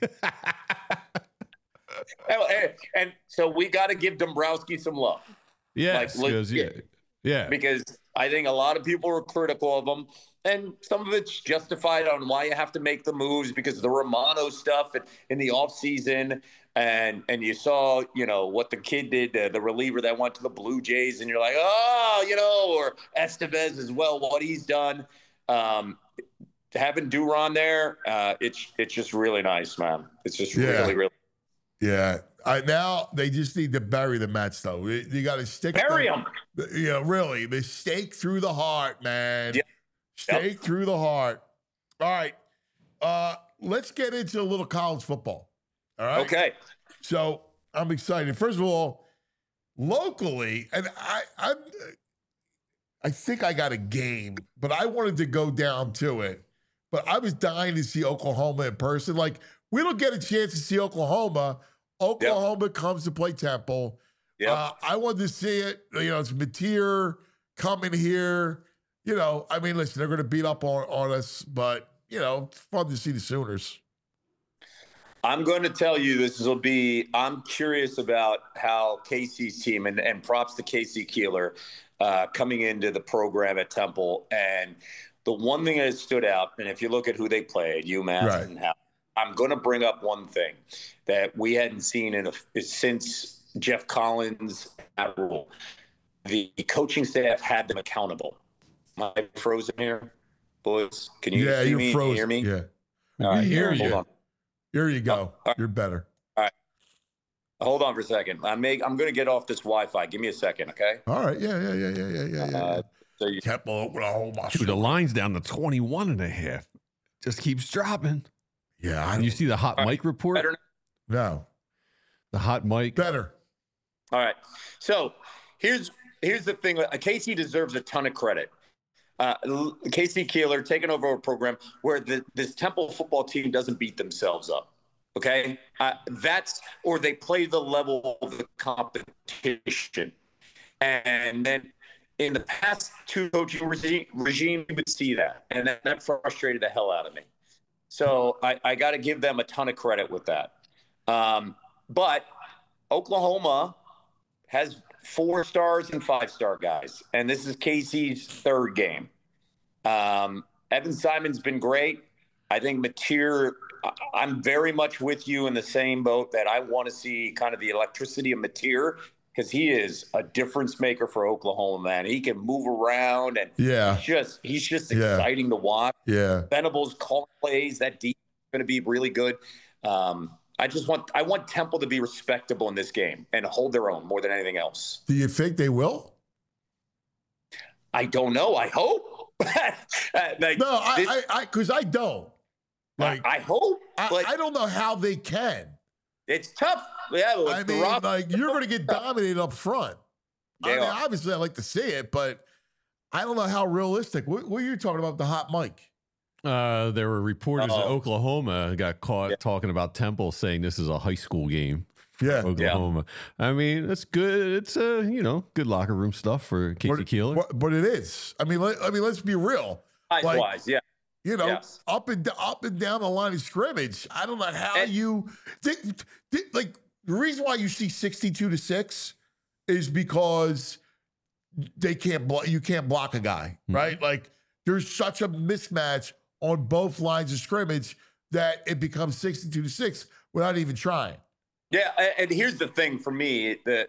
And so we got to give Dombrowski some love. Yes, yeah. Because I think a lot of people were critical of him, and some of it's justified on why you have to make the moves because of the Romano stuff in the offseason. And you saw, what the kid did, the reliever that went to the Blue Jays, and you're like, or Estevez as well, what he's done. Having Duran there, it's just really nice, man. It's just really, really. Yeah. Now they just need to bury the Mets, though. You got to stick. Bury them. Really. The stake through the heart, man. Yep. Stake through the heart. All right. Let's get into a little college football. All right. Okay. So I'm excited. First of all, locally, and I think I got a game, but I wanted to go down to it. but I was dying to see Oklahoma in person. Like, we don't get a chance to see Oklahoma. Oklahoma comes to play Temple. I wanted to see it. You know, it's Mateer coming here. You know, I mean, listen, they're going to beat up on us, but, you know, it's fun to see the Sooners. I'm going to tell you I'm curious about how Casey's team, and props to Casey Keeler, coming into the program at Temple. And the one thing that stood out, and if you look at who they played, UMass and how, I'm going to bring up one thing that we hadn't seen since Jeff Collins at Rule. The coaching staff had them accountable. Am I frozen here, boys? Can you see me? Frozen. Hear me? Yeah. All right, hear you. Hold on. Here you go. Right. You're better. All right. Hold on for a second. I'm going to get off this Wi-Fi. Give me a second, okay? All right. Yeah. So you Temple, Oklahoma. Dude, the line's down to 21.5. Just keeps dropping. Yeah. And you see the hot mic report? better? No. The hot mic. Better. All right. So here's the thing. Casey deserves a ton of credit. Casey Keeler taking over a program where this Temple football team doesn't beat themselves up. Okay, or they play the level of the competition. And then in the past two coaching regime, you would see that, and that frustrated the hell out of me. So I got to give them a ton of credit with that. But Oklahoma has 4-stars and 5-star guys, and this is Casey's third game. Evan Simon's been great. I think Mateer, I'm very much with you in the same boat that I want to see kind of the electricity of Mateer, because he is a difference maker for Oklahoma, man. He can move around, and he's just exciting to watch. Yeah. Venables calling plays. That defense is going to be really good. I want Temple to be respectable in this game and hold their own more than anything else. Do you think they will? I don't know. I hope. Because I don't. Like, I hope. I don't know how they can. It's tough. Yeah, I mean, you're going to get dominated up front. They are. Obviously, I like to see it, but I don't know how realistic. What are you talking about, the hot mic? There were reporters that Oklahoma got caught talking about Temple, saying this is a high school game. Yeah, Oklahoma. Yeah. I mean, it's good. It's good locker room stuff for Casey Keeler. But it is. I mean, let's be real. Size-wise, yeah. You know, up and down the line of scrimmage. I don't know how you like. The reason why you see 62-6 is because they can't block. You can't block a guy, right? Like, there's such a mismatch on both lines of scrimmage that it becomes 62-6 without even trying. Yeah, and here's the thing for me: that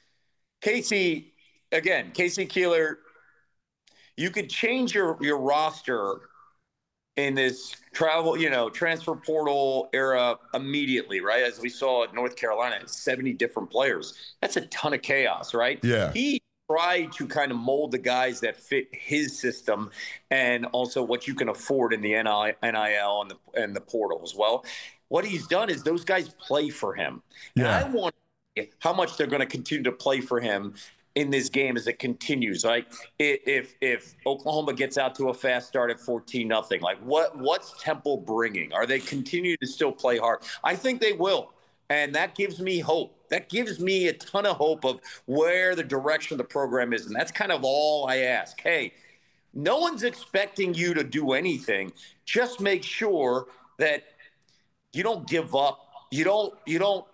Casey Keeler, you could change your roster in this transfer portal era immediately, right? As we saw at North Carolina, 70 different players. That's a ton of chaos, right? Yeah. He tried to kind of mold the guys that fit his system and also what you can afford in the NIL and the portal as well. What he's done is those guys play for him. Yeah. And I want to see how much they're going to continue to play for him in this game as it continues. Like, if Oklahoma gets out to a fast start at 14-0, like what's Temple bringing? Are they continue to still play hard? I think they will. And that gives me hope. That gives me a ton of hope of where the direction of the program is. And that's kind of all I ask. Hey, no one's expecting you to do anything. Just make sure that you don't give up. You don't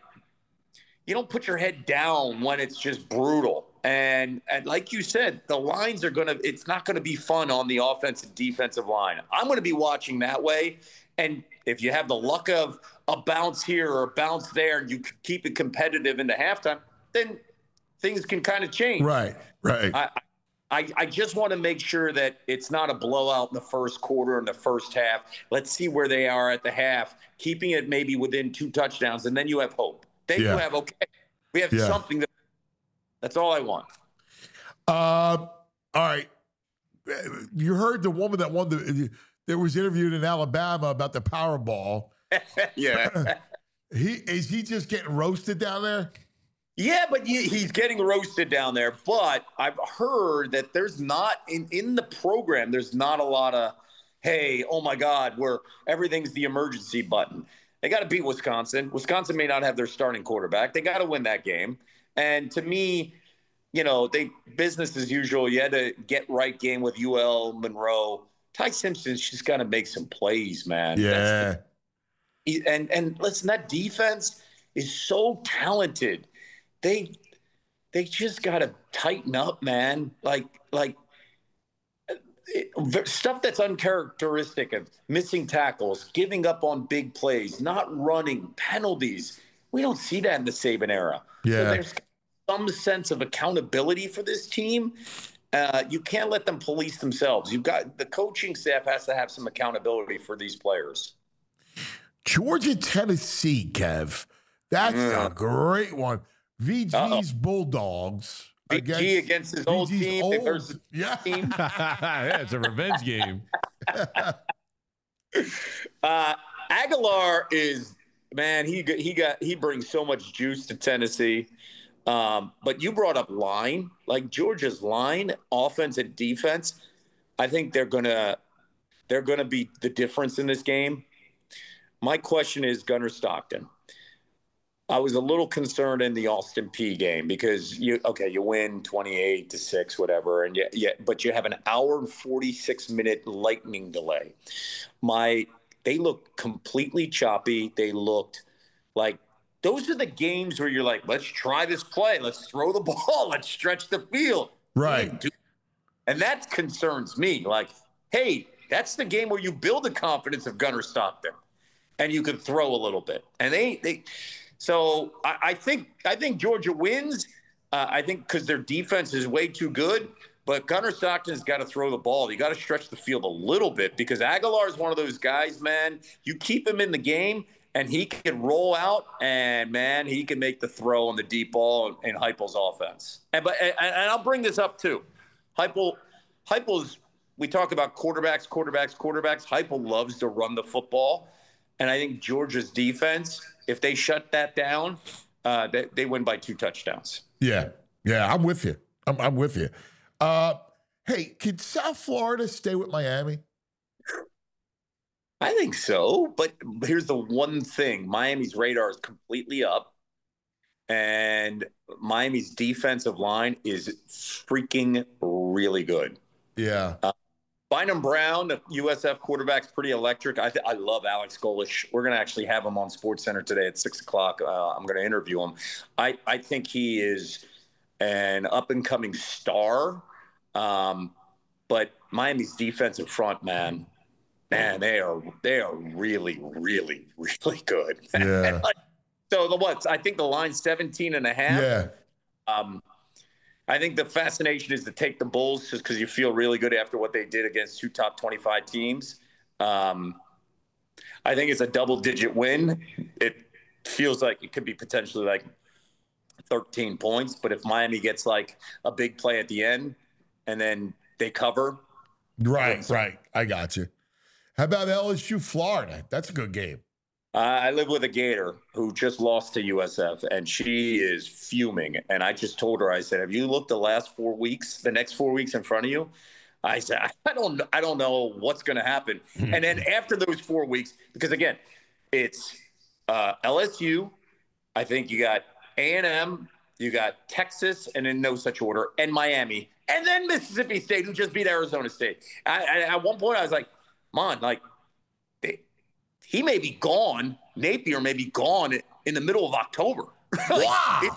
put your head down when it's just brutal. And like you said, the lines it's not going to be fun on the offensive defensive line. I'm going to be watching that way. And if you have the luck of a bounce here or a bounce there, and you keep it competitive into halftime, then things can kind of change. Right. I just want to make sure that it's not a blowout in the first quarter and the first half. Let's see where they are at the half, keeping it maybe within 2 touchdowns, and then you have hope. Then you have, we have something. That's all I want. All right. You heard the woman that that was interviewed in Alabama about the Powerball. Yeah. Is he just getting roasted down there? Yeah, but he's getting roasted down there. But I've heard that there's not in the program. There's not a lot of hey, oh my God, everything's the emergency button. They got to beat Wisconsin. Wisconsin may not have their starting quarterback. They got to win that game. And to me, business as usual. You had to get right game with UL Monroe. Ty Simpson's just got to make some plays, man. Yeah. And listen, that defense is so talented. They just got to tighten up, man. Stuff that's uncharacteristic of missing tackles, giving up on big plays, not running, penalties. We don't see that in the Saban era. Yeah. So there's some sense of accountability for this team. You can't let them police themselves. The coaching staff has to have some accountability for these players. Georgia, Tennessee, Kev. That's a great one. VG's Bulldogs. VG against his old VG's team. old- Versus yeah. team. Yeah, it's a revenge game. Aguilar is, man, he brings so much juice to Tennessee. But you brought up line, like Georgia's line, offense and defense. I think they're gonna be the difference in this game. My question is Gunnar Stockton. I was a little concerned in the Austin Peay game because you win 28-6, whatever, but you have an hour and 46-minute lightning delay. They looked completely choppy. They looked like those are the games where you're like, let's try this play, let's throw the ball, let's stretch the field. Right. And that concerns me. Like, hey, that's the game where you build the confidence of Gunnar Stockton and you can throw a little bit. And So I think Georgia wins. I think because their defense is way too good. But Gunnar Stockton's got to throw the ball. You got to stretch the field a little bit because Aguilar is one of those guys, man. You keep him in the game, and he can roll out, and, man, he can make the throw on the deep ball in Heupel's offense. And I'll bring this up, too. Heupel's – we talk about quarterbacks. Heupel loves to run the football. And I think Georgia's defense, if they shut that down, they win by 2 touchdowns. Yeah, I'm with you. I'm with you. Hey, can South Florida stay with Miami? I think so, but here's the one thing. Miami's radar is completely up, and Miami's defensive line is freaking really good. Yeah. Bynum Brown, the USF quarterback's pretty electric. I love Alex Golish. We're going to actually have him on SportsCenter today at 6 o'clock. I'm going to interview him. I think he is an up-and-coming star. But Miami's defensive front, man, they are really, really, really good. Yeah. I think the line's 17.5. Yeah. I think the fascination is to take the Bulls just because you feel really good after what they did against 2 top 25 teams. I think it's a double-digit win. It feels like it could be potentially like 13 points, but if Miami gets like a big play at the end and then they cover. Right. I got you. How about LSU, Florida? That's a good game. I live with a Gator who just lost to USF, and she is fuming. And I just told her, I said, have you looked the next 4 weeks in front of you? I said, I don't know what's going to happen. And then after those 4 weeks, because again, it's LSU. I think you got A&M, you got Texas, and in no such order, and Miami, and then Mississippi State, who just beat Arizona State. At one point, I was like, man, like, he may be gone. Napier may be gone in the middle of October. Wow.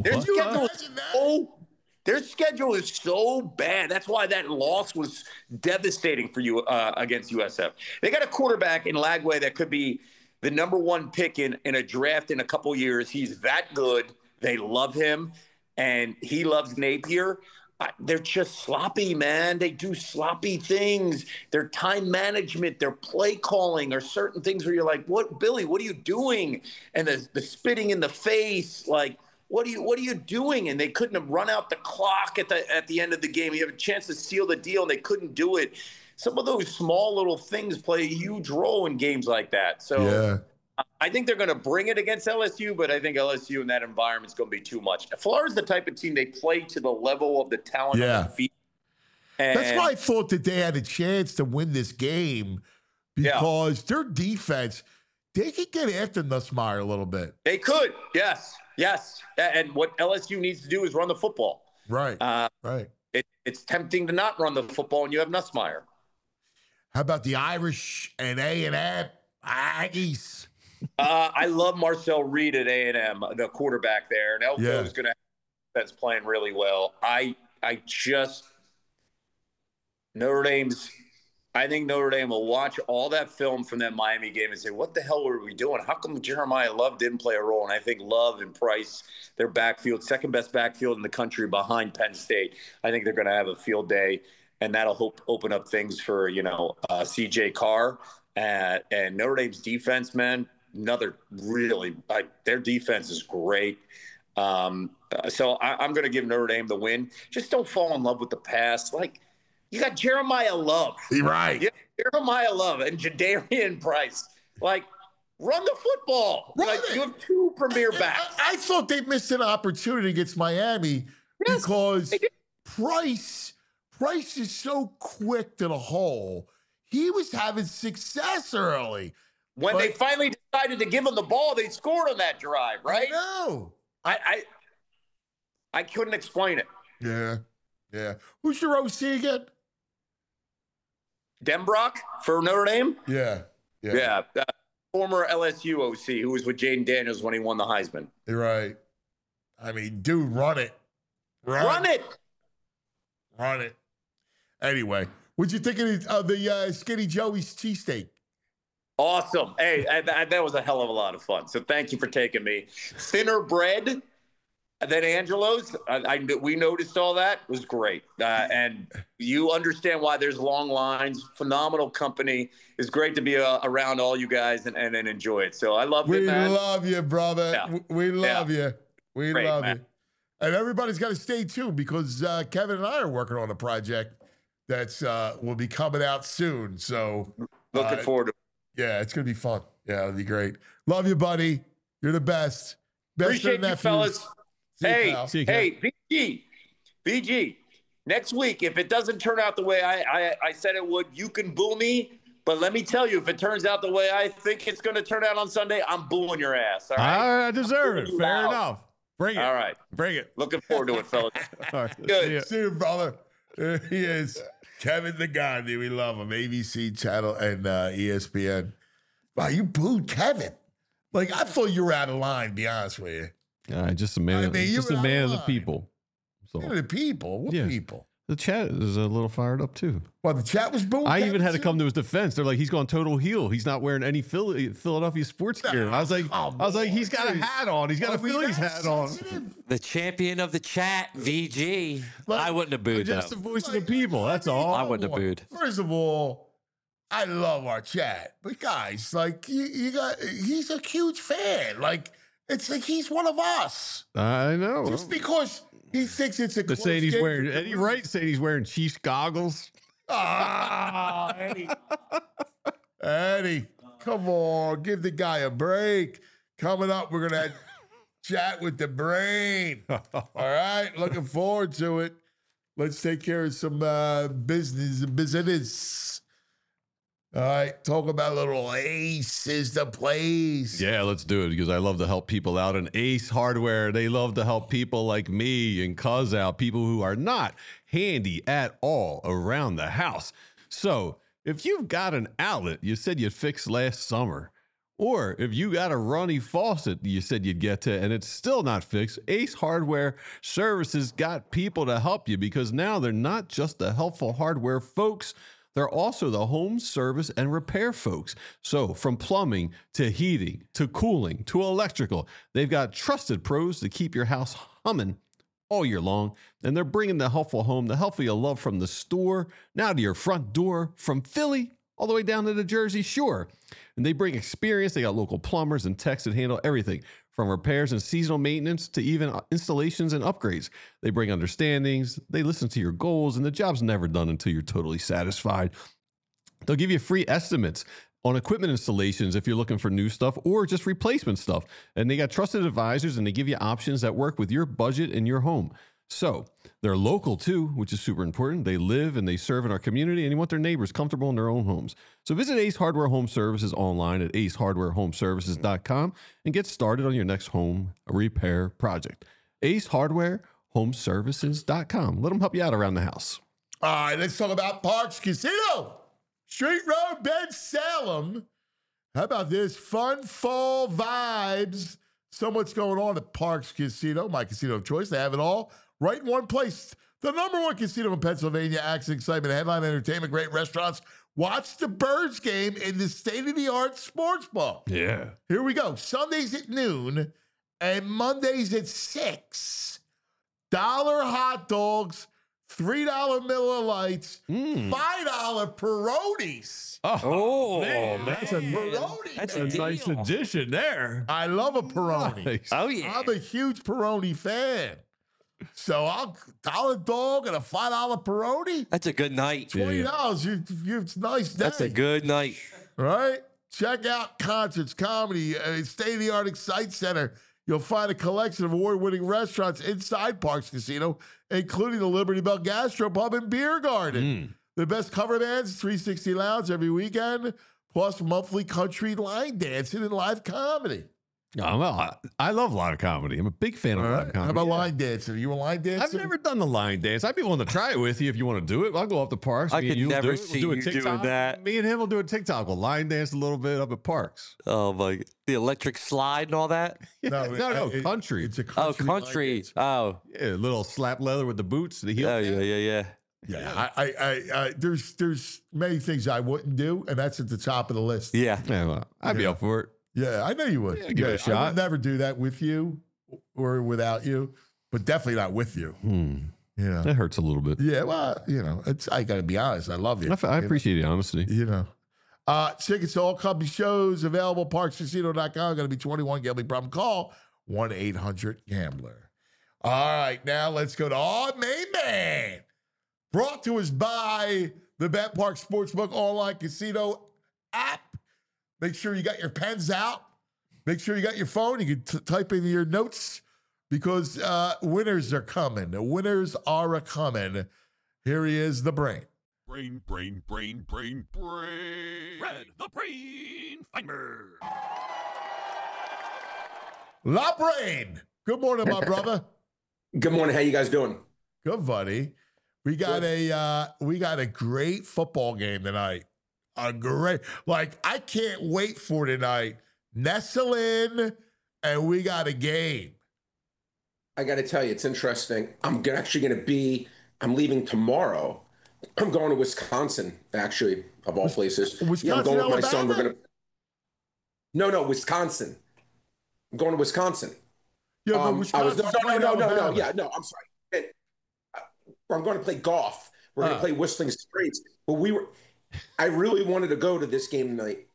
Their schedule is so bad. That's why that loss was devastating for you against USF. They got a quarterback in Lagway that could be the number 1 pick in a draft in a couple years. He's that good. They love him, and he loves Napier. They're just sloppy, man. They do sloppy things. Their time management, their play calling are certain things where you're like, "What, Billy? What are you doing?" And the spitting in the face, like, "What are you doing?" And they couldn't have run out the clock at the end of the game. You have a chance to seal the deal, and they couldn't do it. Some of those small little things play a huge role in games like that. So. Yeah. I think they're going to bring it against LSU, but I think LSU in that environment is going to be too much. Florida's the type of team they play to the level of the talent on the field. And That's why I thought that they had a chance to win this game because their defense, they could get after Nussmeier a little bit. they could. Yes. And what LSU needs to do is run the football. Right. Right. It's tempting to not run the football when you have Nussmeier. How about the Irish and A&M Aggies? I love Marcel Reed at A&M, the quarterback there. And Elko is going to have that's playing really well. I think Notre Dame will watch all that film from that Miami game and say, what the hell were we doing? How come Jeremiah Love didn't play a role? And I think Love and Price, their backfield, second best backfield in the country behind Penn State. I think they're going to have a field day, and that'll open up things for, CJ Carr. And Notre Dame's defense, man, their defense is great. So I'm going to give Notre Dame the win. Just don't fall in love with the pass. Like, you got Jeremiah Love. Right. Jeremiah Love and Jadarian Price. Like, run the football. Like, you have two premier backs. I thought they missed an opportunity against Miami because Price is so quick to the hole. He was having success early. When they finally decided to give him the ball, they scored on that drive, right? No. I couldn't explain it. Yeah. Who's your OC again? Denbrock for Notre Dame? Yeah. Former LSU OC who was with Jaden Daniels when he won the Heisman. You're right. I mean, dude, run it. Run it. Anyway, what'd you think of the Skinny Joey's cheesesteak? Awesome. Hey, that was a hell of a lot of fun. So thank you for taking me. Thinner bread than Angelo's. We noticed all that. It was great. And you understand why there's long lines. Phenomenal company. It's great to be around all you guys and enjoy it. So I love it, man. We love you, brother. Yeah. We love you. We Great, love man. you. And everybody's got to stay tuned because Kevin and I are working on a project that's will be coming out soon. So looking forward to it. Yeah, it's going to be fun. Yeah, it'll be great. Love you, buddy. You're the best. Appreciate you, fellas. Hey, VG. VG. Next week, if it doesn't turn out the way I said it would, you can boo me. But let me tell you, if it turns out the way I think it's going to turn out on Sunday, I'm booing your ass. All right? I deserve it. Fair enough. Bring it. All right. Bring it. Looking forward to it, fellas. All right. Good. See you, brother. There he is. Kevin the Gandhi. We love him. ABC channel and ESPN. Wow, you booed Kevin. Like, I thought you were out of line, to be honest with you. Just a man. Just a man of the people. So Man of the people? What people? the chat is a little fired up too. Well, the chat was booing. I even Kevin had to too? come to his defense. They're like, he's gone total heel. He's not wearing any Philadelphia sports gear. I was like, he's got a hat on. He's got a Phillies hat on. The champion of the chat, VG. I wouldn't have booed Just though. the voice of the people. That's all. I wouldn't have booed. First of all, I love our chat, but guys, like he's a huge fan. Like it's like he's one of us. I know. Just because he thinks it's a They're close saying he's game wearing for the Eddie Wright saying he's wearing Chiefs goggles. Ah, Eddie, come on, give the guy a break. Coming up, we're gonna chat with the brain. All right, looking forward to it. Let's take care of some business. All right, talk about a little Ace is the place. Yeah, let's do it because I love to help people out. And Ace Hardware, they love to help people like me and Cuz out, people who are not handy at all around the house. So if you've got an outlet you said you'd fix last summer, or if you got a runny faucet you said you'd get to and it's still not fixed, Ace Hardware Services got people to help you because now they're not just the helpful hardware folks. They're also the home service and repair folks. So from plumbing to heating to cooling to electrical, they've got trusted pros to keep your house humming all year long. And they're bringing the helpful home, the helpful you love from the store, now to your front door, from Philly all the way down to the Jersey Shore. And they bring experience. They got local plumbers and techs that handle everything from repairs and seasonal maintenance to even installations and upgrades. They bring understandings, they listen to your goals, and the job's never done until you're totally satisfied. They'll give you free estimates on equipment installations if you're looking for new stuff or just replacement stuff. And they got trusted advisors, and they give you options that work with your budget and your home. So they're local too, which is super important. They live and they serve in our community, and you want their neighbors comfortable in their own homes. So visit Ace Hardware Home Services online at acehardwarehomeservices.com and get started on your next home repair project. Ace Hardware Homeservices.com. Let them help you out around the house. All right, let's talk about Parks Casino. Street Road, Ben Salem. How about this? Fun fall vibes. So much going on at Parks Casino, my casino of choice. They have it all right in one place. The number one casino in Pennsylvania. Action, excitement, headline entertainment, great restaurants. Watch the Birds game in the state-of-the-art sports bar. Yeah. Here we go. Sundays at noon and Mondays at 6. $1 hot dogs, $3 Miller Lights, $5 Peronis. Oh, man. That's a That's a nice deal. addition there. I love a Peroni. Nice. Oh, yeah. I'm a huge Peroni fan. So I'll $1 dog and a $5 Peroni. That's a good night. $20. It's a nice day. That's a good night. Right? Check out concerts, comedy, state-of-the-art Excite Center. You'll find a collection of award-winning restaurants inside Parks Casino, including the Liberty Bell Gastropub and Beer Garden. The best cover bands, 360 Lounge every weekend, plus monthly country line dancing and live comedy. I love live comedy. I'm a big fan of All live right. comedy. How about line dancing? Are you a line dancer? I've never done the line dance. I'd be willing to try it with you if you want to do it. I'll go up to Parks. I Me and could you'll never do it. see do a you TikTok. doing that. Me and him will do a TikTok. We'll line dance a little bit up at Parks. Oh, my. The electric slide and all that? No, country. It's a Oh, country. line country. dance. Oh. Yeah, yeah, slap leather with the boots, the heel. Oh, yeah. Yeah, I there's many things I wouldn't do, and that's at the top of the list. Yeah. Yeah, well, I'd be up for it. Yeah, I know you would. Yeah, give it a shot. I would never do that with you or without you, but definitely not with you. You know. That hurts a little bit. Yeah, well, I got to be honest. I love you. I appreciate the honesty. Tickets to all company shows available parkscasino.com. Going to be 21. Gambling problem? Call 1-800-GAMBLER. All right, now let's go to our main man. Brought to us by the BetPark Sportsbook online casino app. Make sure you got your pens out. Make sure you got your phone. You can type in your notes because winners are coming. The winners are a-coming. Here he is, the Brain. Brain. Red, the Brain Finder. La Brain. Good morning, my brother. Good morning. How you guys doing? Good, buddy. We got a great football game tonight. I can't wait for tonight. Nestle in, and we got a game. I got to tell you, it's interesting. I'm leaving tomorrow. I'm going to Wisconsin, actually, of all places. Wisconsin, I'm going with my son. Alabama? No, Wisconsin. I'm going to Wisconsin. Yeah, but Wisconsin's playing Alabama. Yeah, no, I'm sorry. I'm going to play golf. We're going to play Whistling Straits. But I really wanted to go to this game tonight.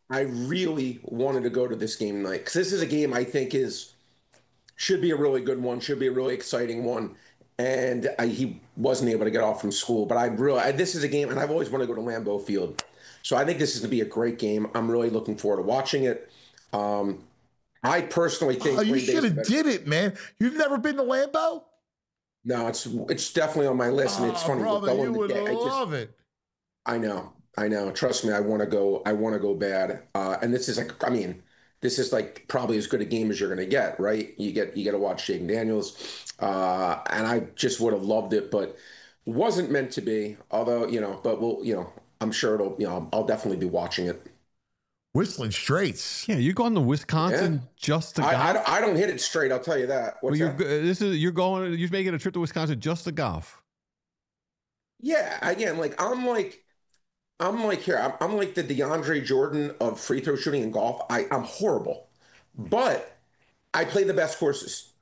Because this is a game I think should be a really good one, should be a really exciting one. And he wasn't able to get off from school. But this is a game, and I've always wanted to go to Lambeau Field. So I think this is going to be a great game. I'm really looking forward to watching it. I personally think you should have did it, man. You've never been to Lambeau? No, it's definitely on my list, and it's funny. Brother, you would love it. I know. Trust me, I want to go bad. And this is like probably as good a game as you're going to get, right? You get to watch Jaden Daniels, and I just would have loved it, but wasn't meant to be. Although I'm sure I'll definitely be watching it. Whistling Straits. Yeah, you're going to Wisconsin just to golf? I don't hit it straight. I'll tell you that. You're making a trip to Wisconsin just to golf. Yeah, again, I'm like the DeAndre Jordan of free throw shooting in golf. I'm horrible, but I play the best courses.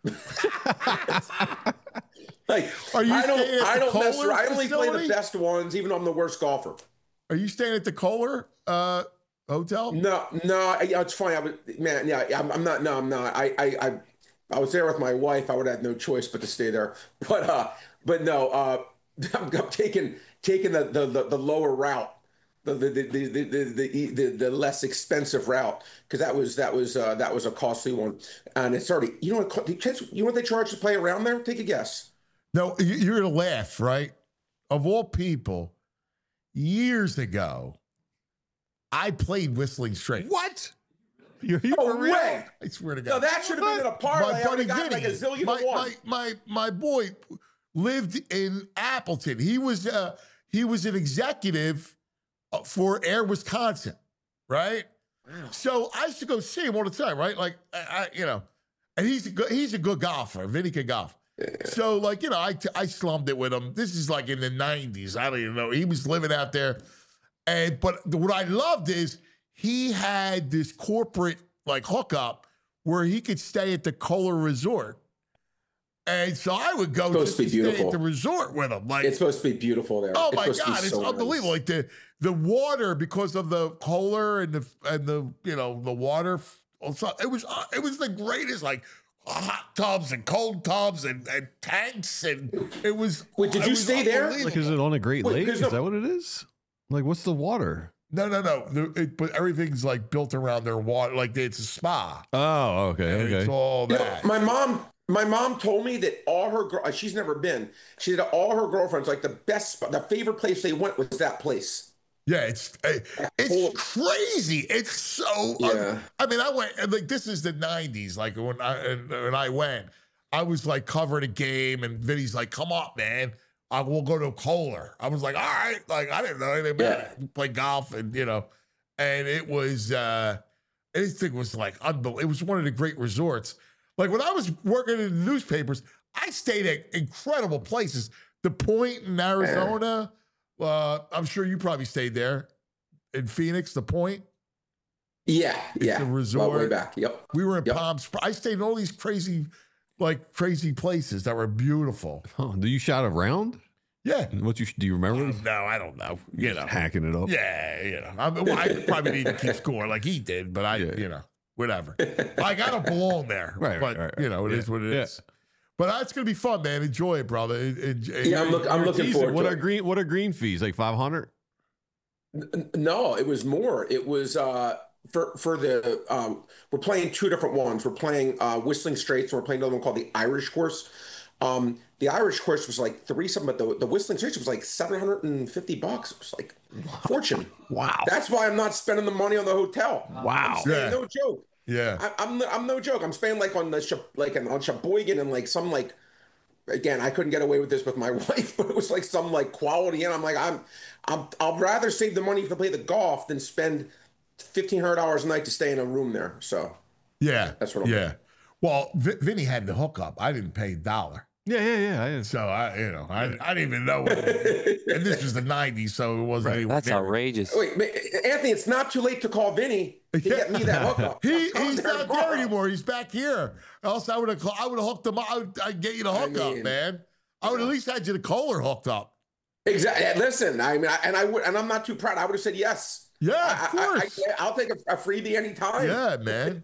Are you I don't mess around. I only play facility? the best ones, even though I'm the worst golfer. Are you staying at the Kohler hotel? No, it's funny. I'm not. No, I'm not. I was there with my wife. I would have no choice but to stay there. But no. I'm taking the lower route, the less expensive route, because that was a costly one, and it's already. You know what they charge to play around there? Take a guess. No, you're going to laugh, right? Of all people, years ago, I played Whistling Straits. What? No way. I swear to God. No, that should have been in a parlay. I would have got like a zillion to one. My boy lived in Appleton. He was an executive for Air Wisconsin, right? Wow. So I used to go see him all the time, right? Like and he's a good golfer. Vinny can golf. So I slummed it with him. This is like in the 90s. I don't even know. He was living out there. But what I loved is he had this corporate hookup where he could stay at the Kohler Resort. And so I would go to stay at the resort with him. It's supposed to be beautiful there. Oh my God, it's unbelievable. Nice. Like the water, because of the Kohler and the water. It was the greatest, like hot tubs and cold tubs and tanks, and it was. Wait, did you stay there? Like, is it on a Great Lake? Is that what it is? Like, what's the water? No. But everything's like built around their water. Like it's a spa. Oh, okay. It's all that. My mom told me that all her she's never been. She said all her girlfriends, like the favorite place they went was that place. Yeah, it's crazy. It's so. Yeah. I mean, I went like this is the 90s. Like when I went, I was like covering a game, and Vinny's like, "Come on, man, we'll go to Kohler." I was like, "All right." Like I didn't know anything about it. Play golf, and and it was anything was like unbelievable. It was one of the great resorts. Like when I was working in the newspapers, I stayed at incredible places. The Point in Arizona. I'm sure you probably stayed there in Phoenix. The Point. Yeah. It's a resort. Way back. Yep. We were in Palm Springs. I stayed in all these crazy places that were beautiful. Oh, do you shot around? Yeah. Do you remember? No, I don't know. Hacking it up. Yeah. I probably didn't keep score like he did, but whatever. Like I don't belong there. Right. It is what it is. But that's gonna be fun, man. Enjoy it, brother. I'm looking forward to it. What are green fees? Like 500? No, it was more. It was for the we're playing two different ones. We're playing Whistling Straits, and we're playing another one called the Irish Course. The Irish Course was like $3-something, but the Whistling Straits was like $750. It was like fortune. Wow. That's why I'm not spending the money on the hotel. Wow. I'm staying, no joke. Yeah. I'm no joke. I'm spending like on on Sheboygan and like some like, again, I couldn't get away with this with my wife, but it was like some like quality. And I'm like, I'll rather save the money to play the golf than spend $1,500 a night to stay in a room there. So yeah, that's what I'm doing. Well, Vinny had the hookup. I didn't pay $1. Yeah. So I didn't even know. And this was the 90s, so it wasn't. Right. That's outrageous. Wait, Anthony, it's not too late to call Vinny to get me that hookup. He's not there anymore. He's back here. Else I would have hooked him up. I'd get you the hookup, man. I would at least had you the Kohler hooked up. Exactly. Listen, I mean, and I'm not too proud. I would have said yes. Yeah, of course. I'll take a freebie anytime. Yeah, man.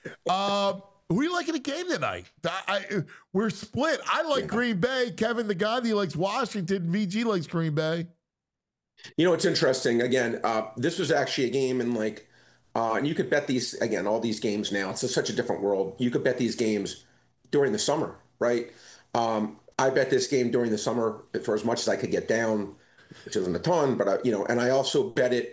Who you like in the game tonight? We're split. I like Green Bay. Kevin, the Gandhi, likes Washington. VG likes Green Bay. It's interesting. Again, this was actually a game in like, and you could bet these, again, all these games now. It's such a different world. You could bet these games during the summer, right? I bet this game during the summer for as much as I could get down, which isn't a ton, but, and I also bet it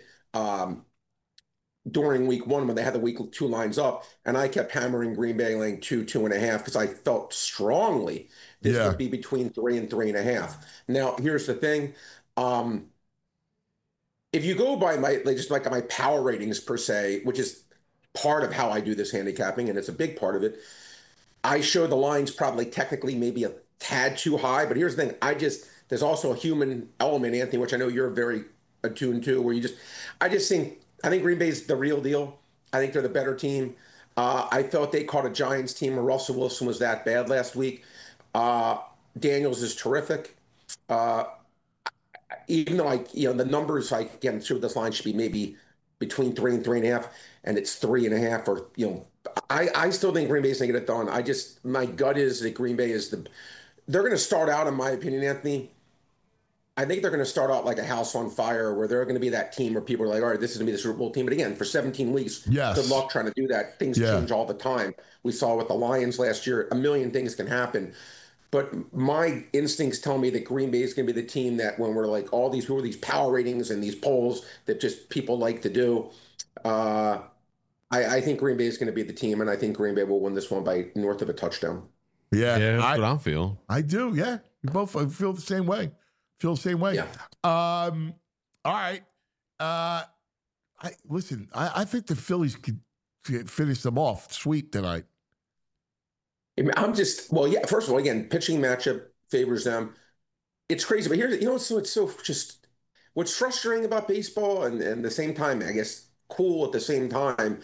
during week one when they had the week two lines up, and I kept hammering Green Bay laying 2.5 because I felt strongly this would be between 3 and 3.5. Now, here's the thing. If you go by my power ratings per se, which is part of how I do this handicapping, and it's a big part of it, I show the lines probably technically maybe a tad too high, but here's the thing. There's also a human element, Anthony, which I know you're very attuned to, where I think Green Bay's the real deal. I think they're the better team. I thought they caught a Giants team where Russell Wilson was that bad last week. Daniels is terrific. Even though the numbers, again, sure this line should be maybe between 3 and 3.5, and it's 3.5, or I still think Green Bay's gonna get it done. My gut is that Green Bay they're going to start out, in my opinion, Anthony. I think they're going to start out like a house on fire, where they're going to be that team where people are like, all right, this is going to be the Super Bowl team. But again, for 17 weeks, good luck trying to do that. Things change all the time. We saw with the Lions last year, a million things can happen. But my instincts tell me that Green Bay is going to be the team that when we're like all these, who are these power ratings and these polls that just people like to do. I think Green Bay is going to be the team, and I think Green Bay will win this one by north of a touchdown. Yeah, that's what I'm feeling. I do. Yeah, we both feel the same way. Feel the same way. Yeah. All right. I think the Phillies could finish them off sweet tonight. First of all, again, pitching matchup favors them. It's crazy, but here's, what's frustrating about baseball and at the same time, I guess, cool at the same time.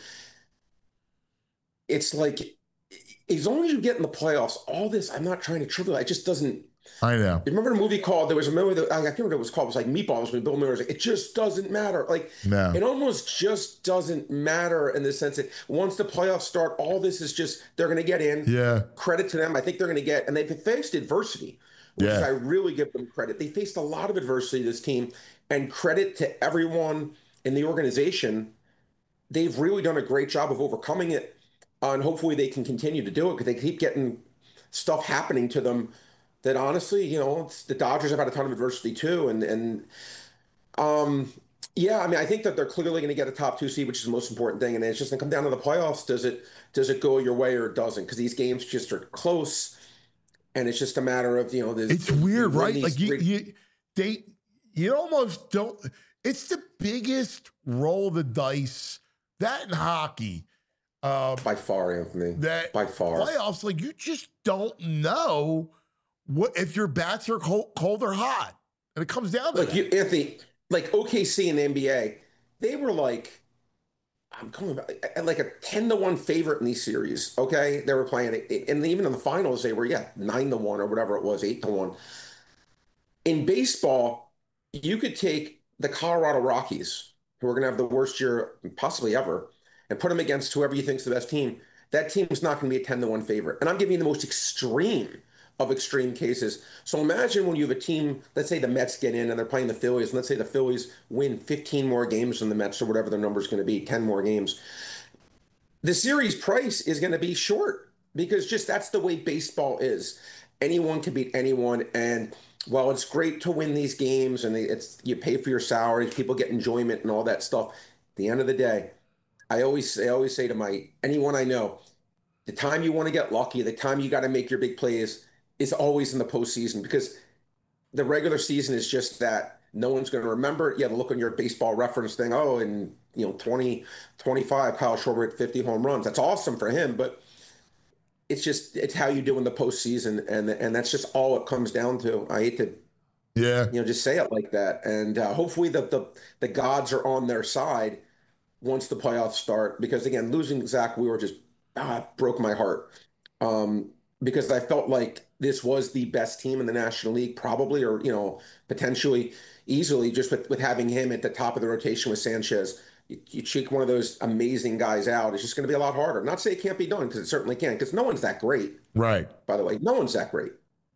It's like, as long as you get in the playoffs, all this, I'm not trying to trivialize, it just doesn't. I know. Remember the movie there was a movie that, I can't remember what it was called. It was like Meatballs when Bill Murray was like, it just doesn't matter. Like, no. It almost just doesn't matter in the sense that once the playoffs start, all this is just, they're going to get in. Yeah. Credit to them. I think they're going to get, and they've faced adversity, which I really give them credit. They faced a lot of adversity, this team, and credit to everyone in the organization. They've really done a great job of overcoming it, and hopefully they can continue to do it because they keep getting stuff happening to them that honestly, the Dodgers have had a ton of adversity too. I think that they're clearly going to get a top 2 seed, which is the most important thing. And it's just going to come down to the playoffs. Does it go your way or it doesn't? Because these games just are close. And it's just a matter of, it's weird, right? Like you almost don't, it's the biggest roll of the dice, that in hockey. By far, Anthony. By far. Playoffs, like you just don't know what if your bats are cold or hot. And it comes down to that. Anthony, like OKC in the NBA, they were like, like a 10-1 favorite in these series. Okay. They were playing it. And even in the finals, they were, 9-1 or whatever it was, 8-1. In baseball, you could take the Colorado Rockies, who are going to have the worst year possibly ever, and put them against whoever you think's the best team. That team is not going to be a 10-1 favorite. And I'm giving you the most extreme of extreme cases. So imagine when you have a team, let's say the Mets get in and they're playing the Phillies, and let's say the Phillies win 15 more games than the Mets or whatever their number is going to be, 10 more games. The series price is going to be short because just that's the way baseball is. Anyone can beat anyone. And while it's great to win these games and you pay for your salaries, people get enjoyment and all that stuff, at the end of the day, I always say to anyone I know, the time you want to get lucky, the time you got to make your big plays is always in the postseason because the regular season is just that. No one's going to remember it. You have to look on your baseball reference thing. Oh, and 2025, Kyle Schwarber hit 50 home runs. That's awesome for him, but it's how you do in the postseason, and that's just all it comes down to. I hate to, just say it like that. And hopefully the gods are on their side once the playoffs start. Because again, losing Zach Wheeler just broke my heart. Because I felt like this was the best team in the National League, probably, or, potentially easily, just with having him at the top of the rotation with Sanchez. You check one of those amazing guys out, it's just going to be a lot harder. Not to say it can't be done, because it certainly can, because no one's that great. Right. By the way, no one's that great.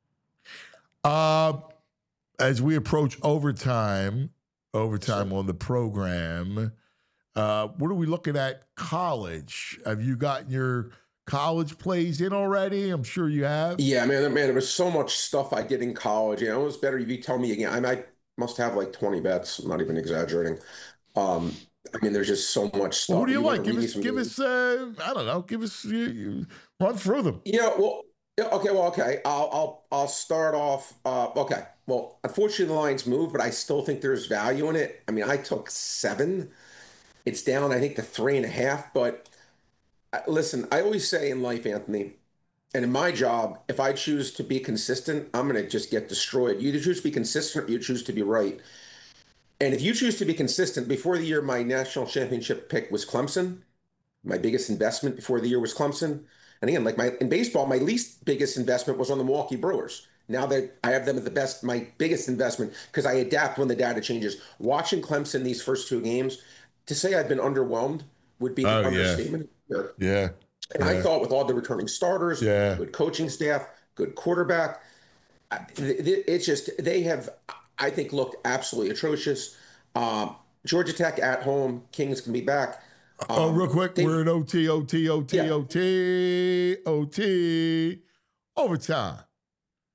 As we approach overtime on the program, what are we looking at college? Have you gotten your college plays in already? I'm sure you have. Yeah, man, there was so much stuff I did in college. It was better if you tell me again. I must have like 20 bets. I'm not even exaggerating. There's just so much stuff. What do you like? Give us. I don't know. Give us. Run through them. Okay. I'll start off. Okay. Well, unfortunately, the line's moved, but I still think there's value in it. I took 7. It's down, I think, to 3.5. But listen, I always say in life, Anthony, and in my job, if I choose to be consistent, I'm going to just get destroyed. You either choose to be consistent or you choose to be right. And if you choose to be consistent, before the year, my national championship pick was Clemson. My biggest investment before the year was Clemson. And again, in baseball, my least biggest investment was on the Milwaukee Brewers. Now that I have them at my biggest investment, because I adapt when the data changes. Watching Clemson these first 2 games, to say I've been underwhelmed would be an understatement. Yeah. And I thought with all the returning starters, good coaching staff, good quarterback, it's just, they have, I think, looked absolutely atrocious. Georgia Tech at home, Kings can be back. Real quick, we're in OT, overtime.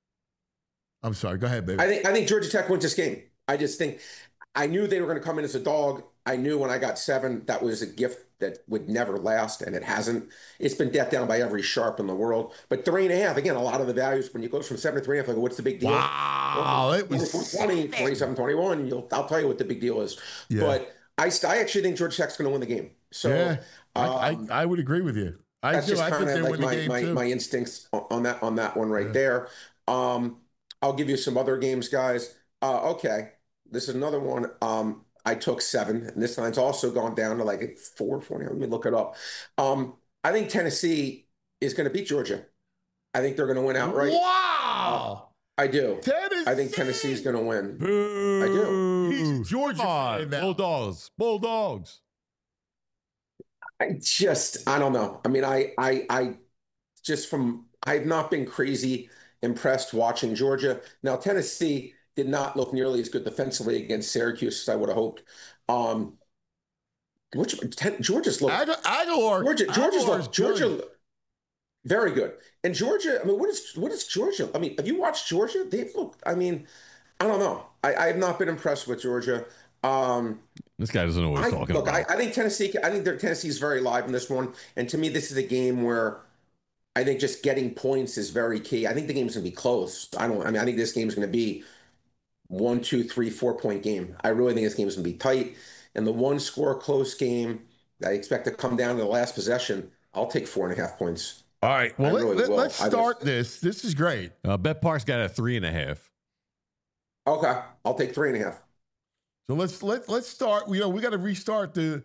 I'm sorry. Go ahead, baby. I think Georgia Tech wins this game. I just think I knew they were going to come in as a dog. I knew when I got 7 that was a gift that would never last, and it hasn't. It's been death down by every sharp in the world. But 3.5, again, a lot of the values when you go from 7 to 3.5, like what's the big deal? Wow, it was 20, 27, 21. I'll tell you what the big deal is. Yeah. But I actually think Georgia Tech's going to win the game. So yeah, I would agree with you. I that's do. just I think kind they of win like the game too. my instincts on that one right there. I'll give you some other games, guys. Okay, this is another one. I took 7, and this line's also gone down to like 4.40. Let me look it up. I think Tennessee is going to beat Georgia. I think they're going to win outright. Wow. I do. Tennessee. I think Tennessee's going to win. Boo. I do. He's a Georgia fan now. Bulldogs. I don't know. I mean, I just I've not been crazy impressed watching Georgia. Now, Tennessee did not look nearly as good defensively against Syracuse as I would have hoped. Georgia's looked Aguilar. Georgia very good. And Georgia, I mean, what is Georgia? I mean, have you watched Georgia? They've looked, I mean, I don't know. I have not been impressed with Georgia. This guy doesn't know what he's talking about. I think Tennessee's very live in this one. And to me, this is a game where I think just getting points is very key. I think the game's going to be close. I think this game's going to be 1, 2, 3, 4-point game. I really think this game's going to be tight. And the one score close game that I expect to come down to the last possession, I'll take 4.5 points. All right. Well, let's start this. This is great. Bet Park's got a 3.5. Okay. I'll take 3.5. So let's start. We got to restart the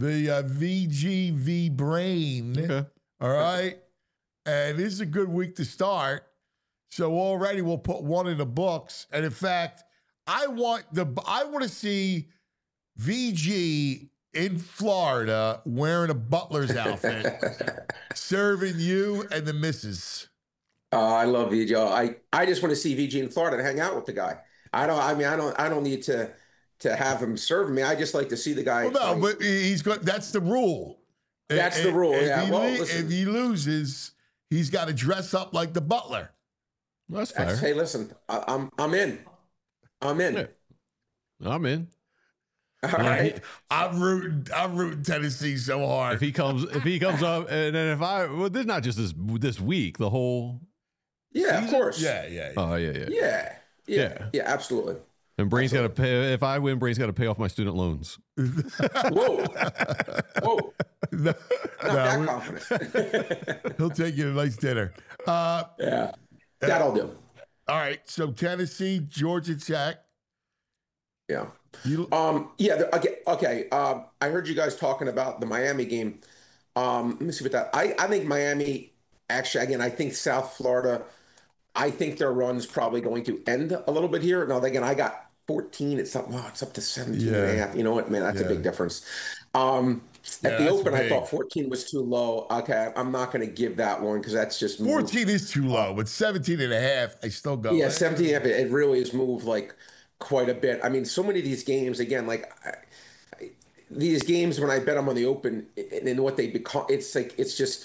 VGV brain. Okay. All right. And this is a good week to start. So already we'll put one in the books. And in fact, I want to see VG in Florida wearing a butler's outfit, serving you and the missus. I love VG. I just want to see VG in Florida and hang out with the guy. I don't need to have him serve me. I just like to see the guy. Well, no, but he's got. That's the rule. That's the rule. Yeah. If he loses, he's got to dress up like the butler. That's fair. Hey, listen, I'm in. I'm in. Yeah. I'm in. All right. I'm rooting Tennessee so hard. If he comes up, and then this is not just this week, the whole. Yeah, season? of course. Yeah. Oh yeah. Yeah, absolutely. And Brain's got to pay. If I win, Brain's got to pay off my student loans. Whoa. No, Not that confident. he'll take you to a nice dinner. Yeah, that'll do. All right. So Tennessee, Georgia Tech. Yeah. Okay. I heard you guys talking about the Miami game. Let me see what that. I think Miami. Actually, again, I think South Florida. I think their run's probably going to end a little bit here. Now, again, I got 14. It's up to 17 and a half. You know what, man? That's a big difference. At the open, I thought 14 was too low. Okay, I'm not going to give that one because that's just 14 is too low, but 17 and a half, I still go. Yeah, 17 and a half, it really has moved like quite a bit. I mean, so many of these games, again, like these games when I bet them on the open and what they become, it's just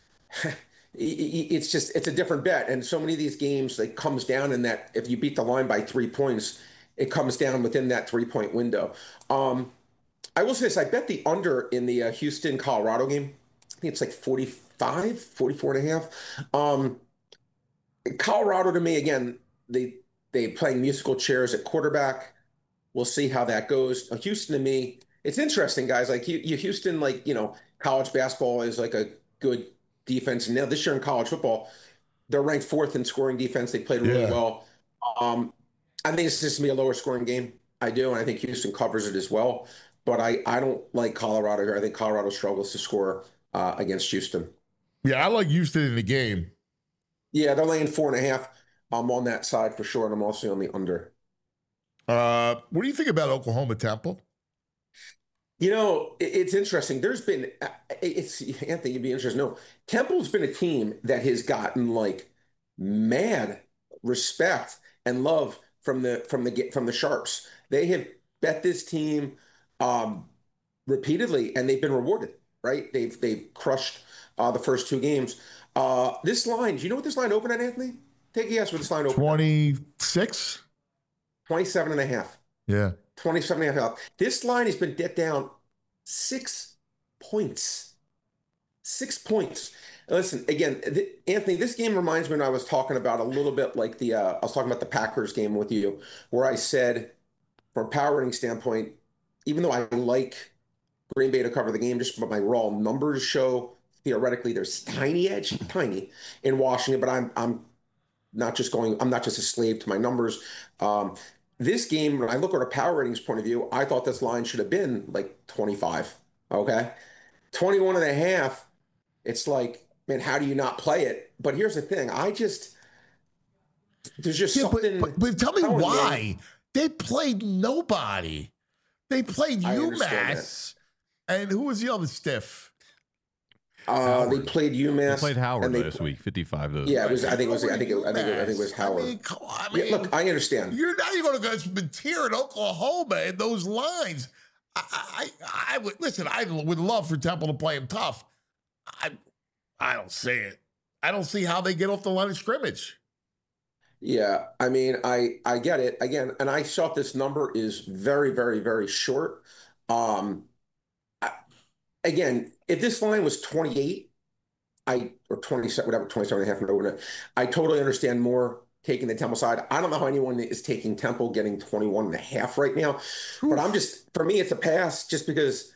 it's a different bet. And so many of these games, like comes down in that if you beat the line by 3 points, it comes down within that 3-point window. I will say this, I bet the under in the Houston, Colorado game. I think it's like 44 and a half. Colorado to me, again, they playing musical chairs at quarterback. We'll see how that goes. Houston to me, it's interesting, guys. Like Houston, like, college basketball is like a good defense. And now this year in college football, they're ranked 4th in scoring defense. They played really well. I think it's just going to be a lower scoring game. I do. And I think Houston covers it as well. But I don't like Colorado here. I think Colorado struggles to score against Houston. Yeah, I like Houston in the game. Yeah, they're laying 4.5. I'm on that side for sure. And I'm also on the under. What do you think about Oklahoma Temple? It's interesting. There's been, Anthony, you'd be interested. No, Temple's been a team that has gotten like mad respect and love from the Sharps. They have bet this team repeatedly, and they've been rewarded. Right? They've crushed the first 2 games. This line, do you know what this line opened at, Anthony? I Take a guess where this line opened. 26? 27 and a half. Yeah. 27 and a half. This line has been dipped down 6 points. 6 points. Listen, again, Anthony, this game reminds me when I was talking about a little bit like I was talking about the Packers game with you, where I said, from a power rating standpoint, even though I like Green Bay to cover the game, just from my raw numbers show, theoretically, there's tiny edge, tiny in Washington, but I'm not just a slave to my numbers. This game, when I look at a power ratings point of view, I thought this line should have been like 25. Okay. 21 and a half. It's like, man, how do you not play it? But here's the thing. There's just something. But tell me why. They played nobody. They played UMass. And who was the other stiff? They played UMass. They played Howard last week. 55 of those. Yeah, it was. I think it was Howard. I mean, look, I understand. You're not even going to go to tear at Oklahoma in those lines. I would listen. I would love for Temple to play him tough. I don't see it. I don't see how they get off the line of scrimmage. Yeah, I mean, I get it again, and I thought this number is very, very, very short. Again, if this line was 28, or 27, whatever, 27 and a half, whatever, I totally understand more taking the Temple side. I don't know how anyone is taking Temple getting 21 and a half right now, but for me, it's a pass just because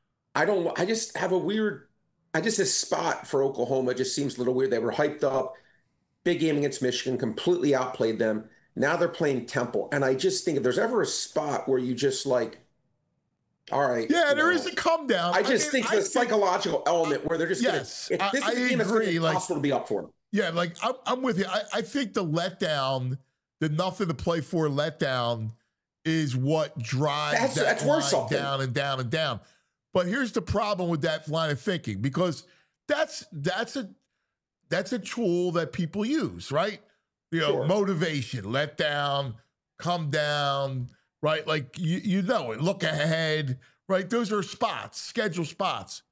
this spot for Oklahoma just seems a little weird. They were hyped up, big game against Michigan, completely outplayed them. Now they're playing Temple. And I just think if there's ever a spot where you just like, all right. Yeah, there is a come down. I think the psychological element where they're just yes, this is a game that's going to be impossible to be up for them. Yeah, like I'm with you. I think the letdown, the nothing to play for letdown is what drives that line down and down and down. But here's the problem with that line of thinking, because that's a tool that people use, right? Motivation, let down, come down, right? Like you know it. Look ahead, right? Those are spots, schedule spots.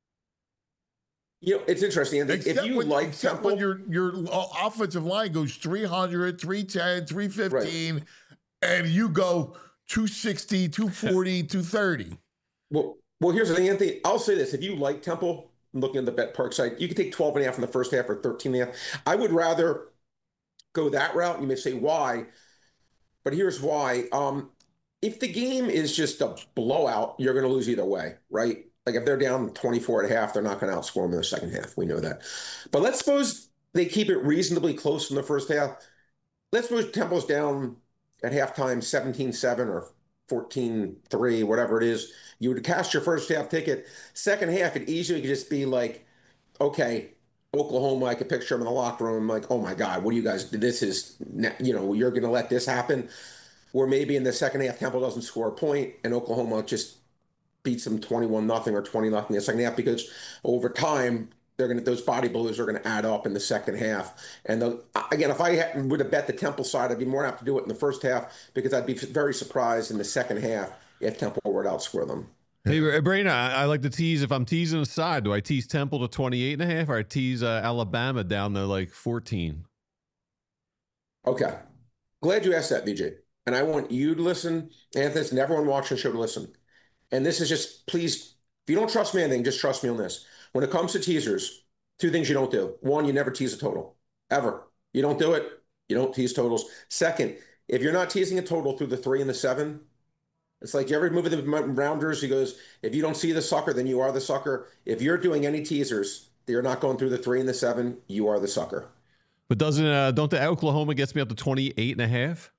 It's interesting. If you like Temple, when your offensive line goes 300, 310, 315, right, and you go 260, 240, 230. Well, here's the thing, Anthony. I'll say this. If you like Temple, looking at the Bet Park site, you can take 12 and a half in the first half or 13 and a half. I would rather go that route. You may say why, but here's why. If the game is just a blowout, you're going to lose either way, right? Like if they're down 24 and a half, they're not going to outscore them in the second half. We know that. But let's suppose they keep it reasonably close in the first half. Let's suppose Temple's down at halftime 17-7 or 14-3, whatever it is. You would cash your first half ticket. Second half, it easily could just be like, okay, Oklahoma, I could picture them in the locker room like, oh my God, what do you guys do? This is, you're going to let this happen? Or maybe in the second half, Temple doesn't score a point and Oklahoma just beats them 21-0 or 20-0 in the second half, because over time, those body blows are going to add up in the second half. And again, if I would have bet the Temple side, I'd be more apt to do it in the first half, because I'd be very surprised in the second half if Temple were to outscore them. Hey, Brain, I like to tease. If I'm teasing a side, do I tease Temple to 28 and a half, or I tease Alabama down to like 14? Okay. Glad you asked that, VJ. And I want you to listen, Anthony, and everyone watching the show to listen. And this is just, please, if you don't trust me anything, just trust me on this. When it comes to teasers, two things you don't do. One, you never tease a total, ever. You don't do it. You don't tease totals. Second, if you're not teasing a total through the 3 and the 7, it's like every move of the rounders, he goes, if you don't see the sucker, then you are the sucker. If you're doing any teasers, you're not going through the 3 and the 7, you are the sucker. But don't the Oklahoma gets me up to 28 and a half?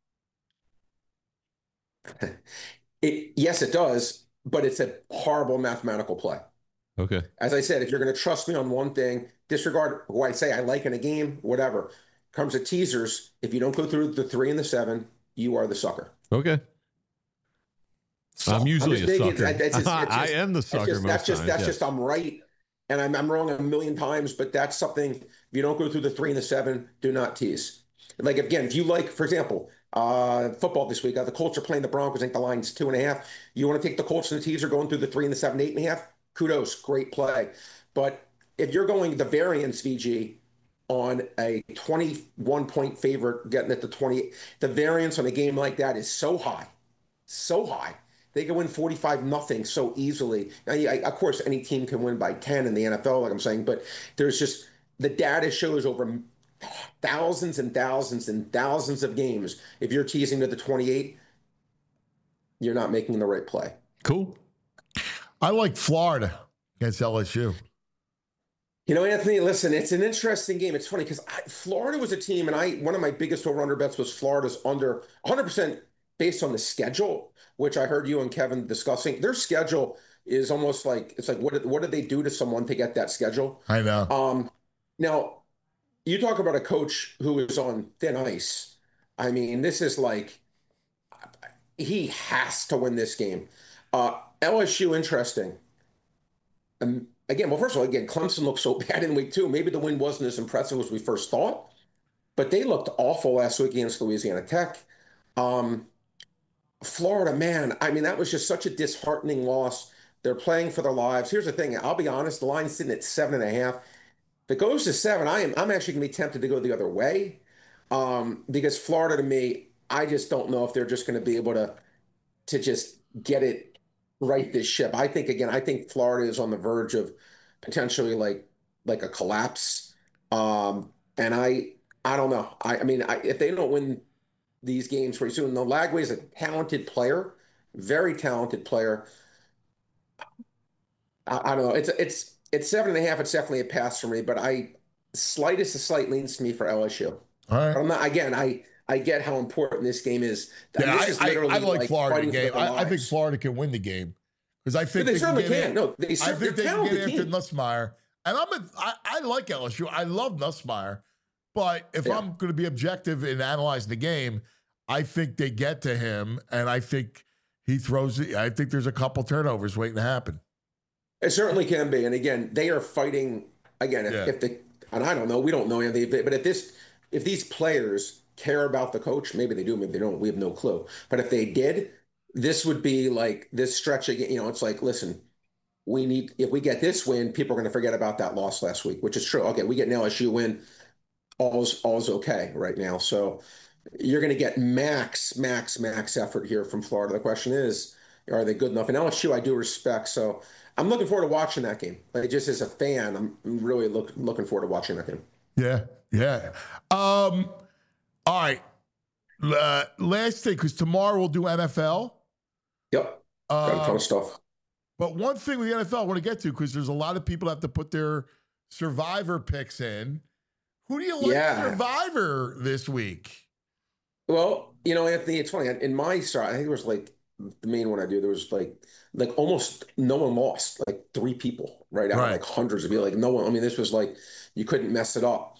Yes, it does, but it's a horrible mathematical play. Okay. As I said, if you're going to trust me on one thing, disregard who I say I like in a game, whatever. Comes to teasers, if you don't go through the 3 and the 7, you are the sucker. Okay. I'm usually a sucker. I am the sucker most times. That's just I'm right, and I'm wrong a million times, but that's something. If you don't go through the 3 and the 7, do not tease. Like, again, if you like, for example, football this week, the Colts are playing the Broncos. I think the line's 2.5. You want to take the Colts and the teaser going through the 3 and the 7, 8.5? Kudos, great play. But if you're going the variance, VG, on a 21-point favorite getting it to 20. The variance on a game like that is so high, so high. They can win 45-0 so easily. Now, of course, any team can win by 10 in the NFL, like I'm saying, but there's just the data shows over thousands and thousands and thousands of games. If you're teasing to the 28, you're not making the right play. Cool. I like Florida against LSU. You know, Anthony, listen, it's an interesting game. It's funny because Florida was a team, and one of my biggest over-under bets was Florida's under 100% based on the schedule, which I heard you and Kevin discussing. Their schedule is almost like, it's like, what did they do to someone to get that schedule? I know. Now, you talk about a coach who is on thin ice. I mean, this is like, he has to win this game. LSU, interesting. Again, well, first of all, Clemson looked so bad in week 2. Maybe the win wasn't as impressive as we first thought, but they looked awful last week against Louisiana Tech. Florida, man, I mean, that was just such a disheartening loss. They're playing for their lives. Here's the thing. I'll be honest. The line's sitting at 7.5. If it goes to 7, I'm actually going to be tempted to go the other way because Florida, to me, I just don't know if they're just going to be able to just get it right this ship. I think Florida is on the verge of potentially like a collapse. And I don't know. I mean, if they don't win these games pretty soon, Lagway is a talented player, very talented player. I don't know. It's 7.5. It's definitely a pass for me, but slightest leans to me for LSU. All right. But I'm not, again, I get how important this game is. Yeah, this is I literally like Florida game. I think lives. Florida can win the game because I think They certainly can. No, I think they can get after team. Nussmeier. And I like LSU. I love Nussmeier. But if I'm going to be objective in analyzing the game, I think they get to him, and I think he throws it. I think there's a couple turnovers waiting to happen. It certainly can be. And again, they are fighting again. And I don't know, we don't know anything, but if these players care about the coach, maybe they do, maybe they don't. We have no clue. But if they did, this would be like this stretch again. You know, it's like, listen, if we get this win, people are going to forget about that loss last week, which is true. Okay, we get an LSU win, all's okay right now. So you're going to get max effort here from Florida. The question is, are they good enough? And LSU, I do respect. So I'm looking forward to watching that game. Like, just as a fan, I'm really looking forward to watching that game. Yeah. All right. Last thing, because tomorrow we'll do NFL. Yep. Got a ton of stuff. But one thing with the NFL I want to get to, because there's a lot of people that have to put their Survivor picks in. Who do you like Survivor this week? Well, you know, Anthony, it's funny. In my start, I think it was like the main one I do. There was like almost no one lost. Like 3 people, right? Out of like hundreds of people. Like no one. I mean, this was like you couldn't mess it up.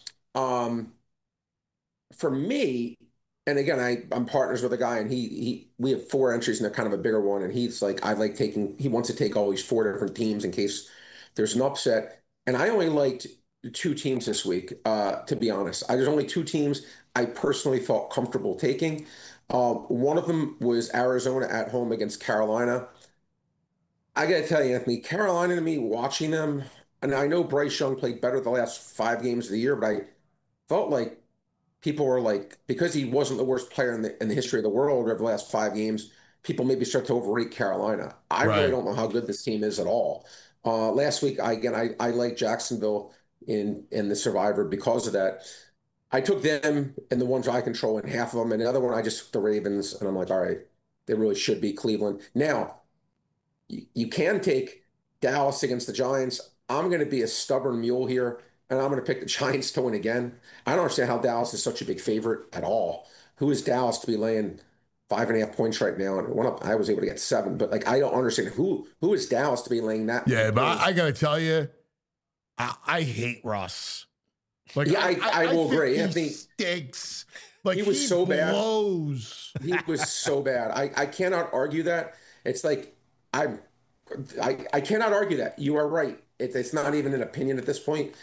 For me, and again, I'm partners with a guy, and we have 4 entries in a kind of a bigger one, and he's like, he wants to take all these 4 different teams in case there's an upset. And I only liked 2 teams this week, to be honest. There's only 2 teams I personally felt comfortable taking. One of them was Arizona at home against Carolina. I got to tell you, Anthony, Carolina, to me, watching them, and I know Bryce Young played better the last 5 games of the year, but I felt like people were like, because he wasn't the worst player in the history of the world over the last 5 games, people maybe start to overrate Carolina. I really don't know how good this team is at all. Last week, I liked Jacksonville in the Survivor because of that. I took them and the ones I control in half of them, and the other one I just took the Ravens, and I'm like, all right, they really should beat Cleveland. Now, you can take Dallas against the Giants. I'm going to be a stubborn mule here, and I'm going to pick the Giants to win again. I don't understand how Dallas is such a big favorite at all. Who is Dallas to be laying 5.5 points right now? And I was able to get 7, but like I don't understand who is Dallas to be laying that. Yeah, but I got to tell you, I hate Russ. Like, yeah, I will agree. He stinks. Like, he was so blows. bad. He was so bad. I cannot argue that. It's like I cannot argue that. You are right. It's not even an opinion at this point.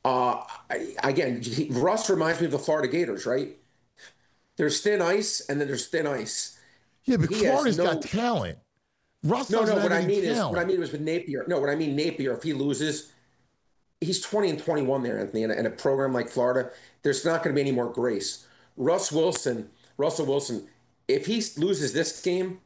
Russ reminds me of the Florida Gators, right? There's thin ice, and then there's thin ice. Yeah, but Florida's got talent. Russ doesn't have any talent. What I mean was with Napier. No, what I mean, Napier, if he loses, he's 20-21 there, Anthony, in a program like Florida. There's not going to be any more grace. Russell Wilson, if he loses this game,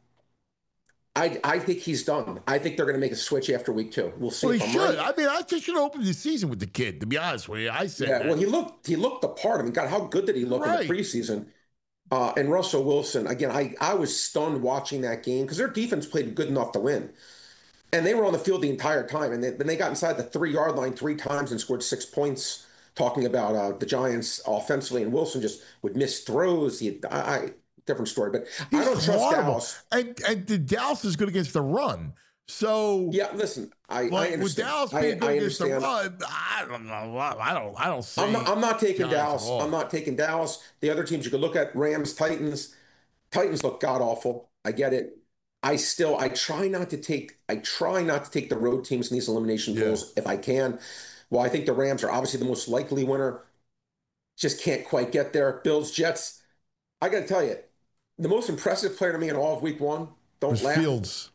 I think he's done. I think they're going to make a switch after week 2. We'll see. Well, if he I'm should. right. I mean, I just should open the season with the kid, to be honest with you. I said Yeah, that. well, he looked the part. I mean, God, how good did he look in the preseason? And Russell Wilson, again, I was stunned watching that game because their defense played good enough to win. And they were on the field the entire time. And then they got inside the 3-yard line 3 times and scored 6 points, talking about the Giants offensively. And Wilson just would miss throws. Different story. But I don't trust Dallas. And the Dallas is good against the run. So yeah, listen, I understand. With Dallas being good against the run, I don't see. I'm not taking Giants Dallas. I'm not taking Dallas. The other teams you could look at: Rams, Titans. Titans look god awful. I get it. I try not to take the road teams in these elimination pools if I can. Well, I think the Rams are obviously the most likely winner. Just can't quite get there. Bills, Jets. I got to tell you, the most impressive player to me in all of week 1. Don't laugh. Fields.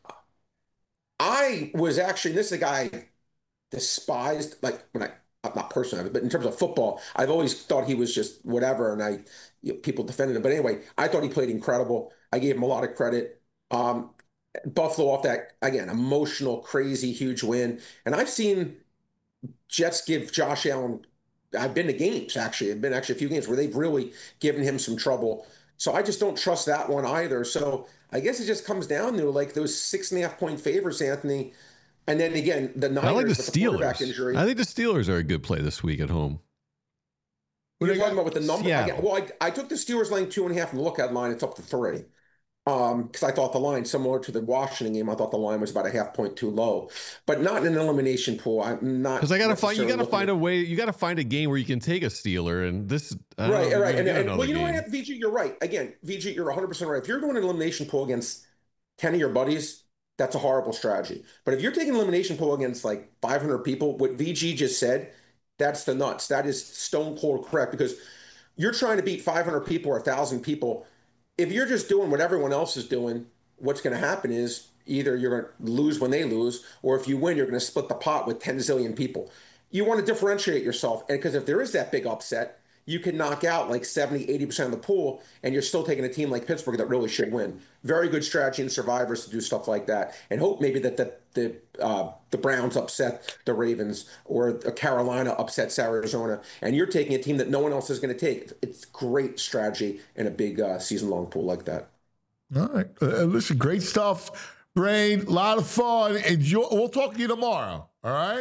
I was actually, this is a guy I despised, like not personally, but in terms of football, I've always thought he was just whatever, and people defended him. But anyway, I thought he played incredible. I gave him a lot of credit. Buffalo off that, again, emotional, crazy, huge win. And I've seen Jets give Josh Allen, I've been to games, actually. I've been actually a few games where they've really given him some trouble. So I just don't trust that one either. So I guess it just comes down to like those 6.5-point favorites, Anthony. And then again, the Niners I like the with the quarterback Steelers. injury. I think the Steelers are a good play this week at home. You're talking about with the number. Seattle. Well, I took the Steelers laying 2.5 from the lookout line. It's up to 3. Because I thought the line, similar to the Washington game, I thought the line was about a 0.5 point too low, but not in an elimination pool. I'm not Because you got to find a way. You got to find a game where you can take a Steeler, and this right. And well, you know game. what, VG, you're right. Again, VG, you're 100% right. If you're doing an elimination pool against 10 of your buddies, that's a horrible strategy. But if you're taking an elimination pool against like 500 people, what VG just said, that's the nuts. That is stone cold correct, because you're trying to beat 500 people or 1,000 people. If you're just doing what everyone else is doing, what's going to happen is either you're going to lose when they lose, or if you win, you're going to split the pot with 10 zillion people. You want to differentiate yourself. And because if there is that big upset, you can knock out like 70, 80% of the pool, and you're still taking a team like Pittsburgh that really should win. Very good strategy in survivors to do stuff like that, and hope maybe that the Browns upset the Ravens, or Carolina upsets Arizona, and you're taking a team that no one else is going to take. It's great strategy in a big season-long pool like that. All right. Listen, great stuff, Brain. A lot of fun. Enjoy. We'll talk to you tomorrow. All right.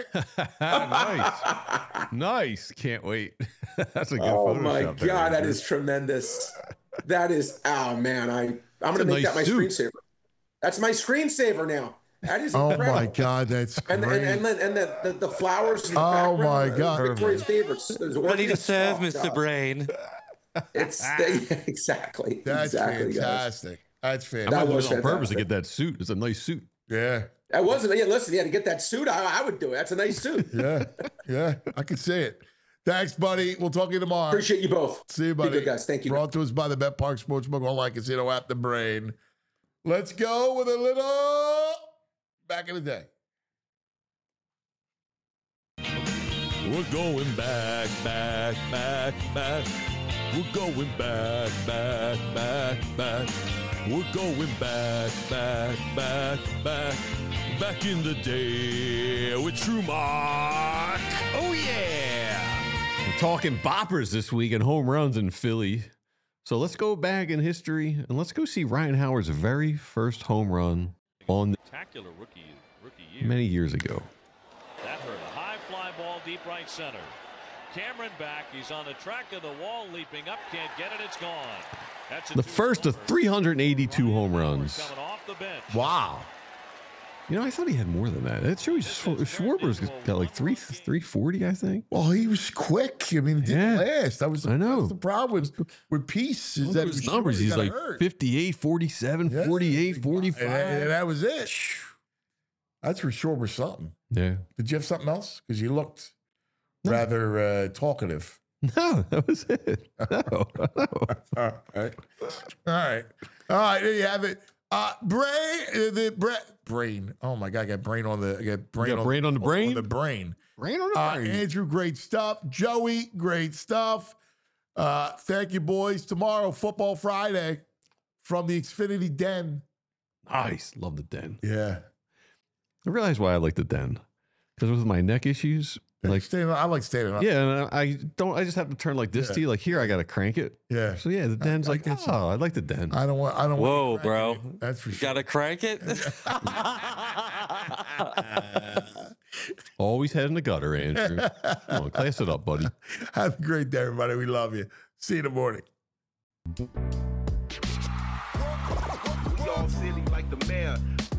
Nice. Can't wait. That's a good. Oh Photoshop my there, God, that Andrew. is tremendous. That is. Oh man, I'm going to make that my screensaver. That's my screensaver now. That is incredible. Oh my God, that's and great. and the flowers. In the Oh background, my God. Victoria's favorites. Ready to serve, Mr. Brain. It's exactly. That's exactly, fantastic. That's I fantastic. might do was it on purpose to fantastic. get that suit. It's a nice suit. Yeah. That wasn't. Yeah, listen. Yeah, to get that suit, I would do it. That's a nice suit. Yeah. I can see it. Thanks, buddy. We'll talk to you tomorrow. Appreciate you both. See you, Be buddy. good, guys. Thank you. Brought to us by the Bet Park Sportsbook Online Casino app, The Brain. Let's go with a little back in the day. We're going back. We're going back. We're going back in the day with True Mark. Oh, yeah. We're talking boppers this week and home runs in Philly. So let's go back in history and let's go see Ryan Howard's very first home run on Spectacular rookie year. many years ago. That hurt. A high fly ball deep right center. Cameron back. He's on the track of the wall, leaping up. Can't get it. It's gone. That's The first of 382 home runs. coming off the bench. Wow. You know, I thought he had more than that. It shows Schwarber's got like 340, I think. Well, he was quick. I mean, it didn't last. That was I know. That's the problem with Peace. Is Look that at his he numbers. He's got like hurt. 58, 47, 48, 45. And that was it. That's for sure was something. Yeah. Did you have something else? Because you looked rather talkative. No, that was it. No. All right. All right. There you have it. Brain. Oh my God, I got brain on the. I got brain, You got on, brain on the brain? On the brain. Brain on the brain. Andrew, great stuff. Joey, great stuff. Thank you, boys. Tomorrow, Football Friday from the Xfinity Den. Nice. Love the Den. Yeah. I realize why I like the Den. Because with my neck issues, like I like standing up. Yeah, and I just have to turn like this to you. Like here, I got to crank it. Yeah. So yeah, the Den's like, I like the Den. I don't want. Whoa, bro. That's for sure. Gotta crank it. Always head in the gutter, Andrew. Come on, class it up, buddy. Have a great day, everybody. We love you. See you in the morning. We all silly like the mayor.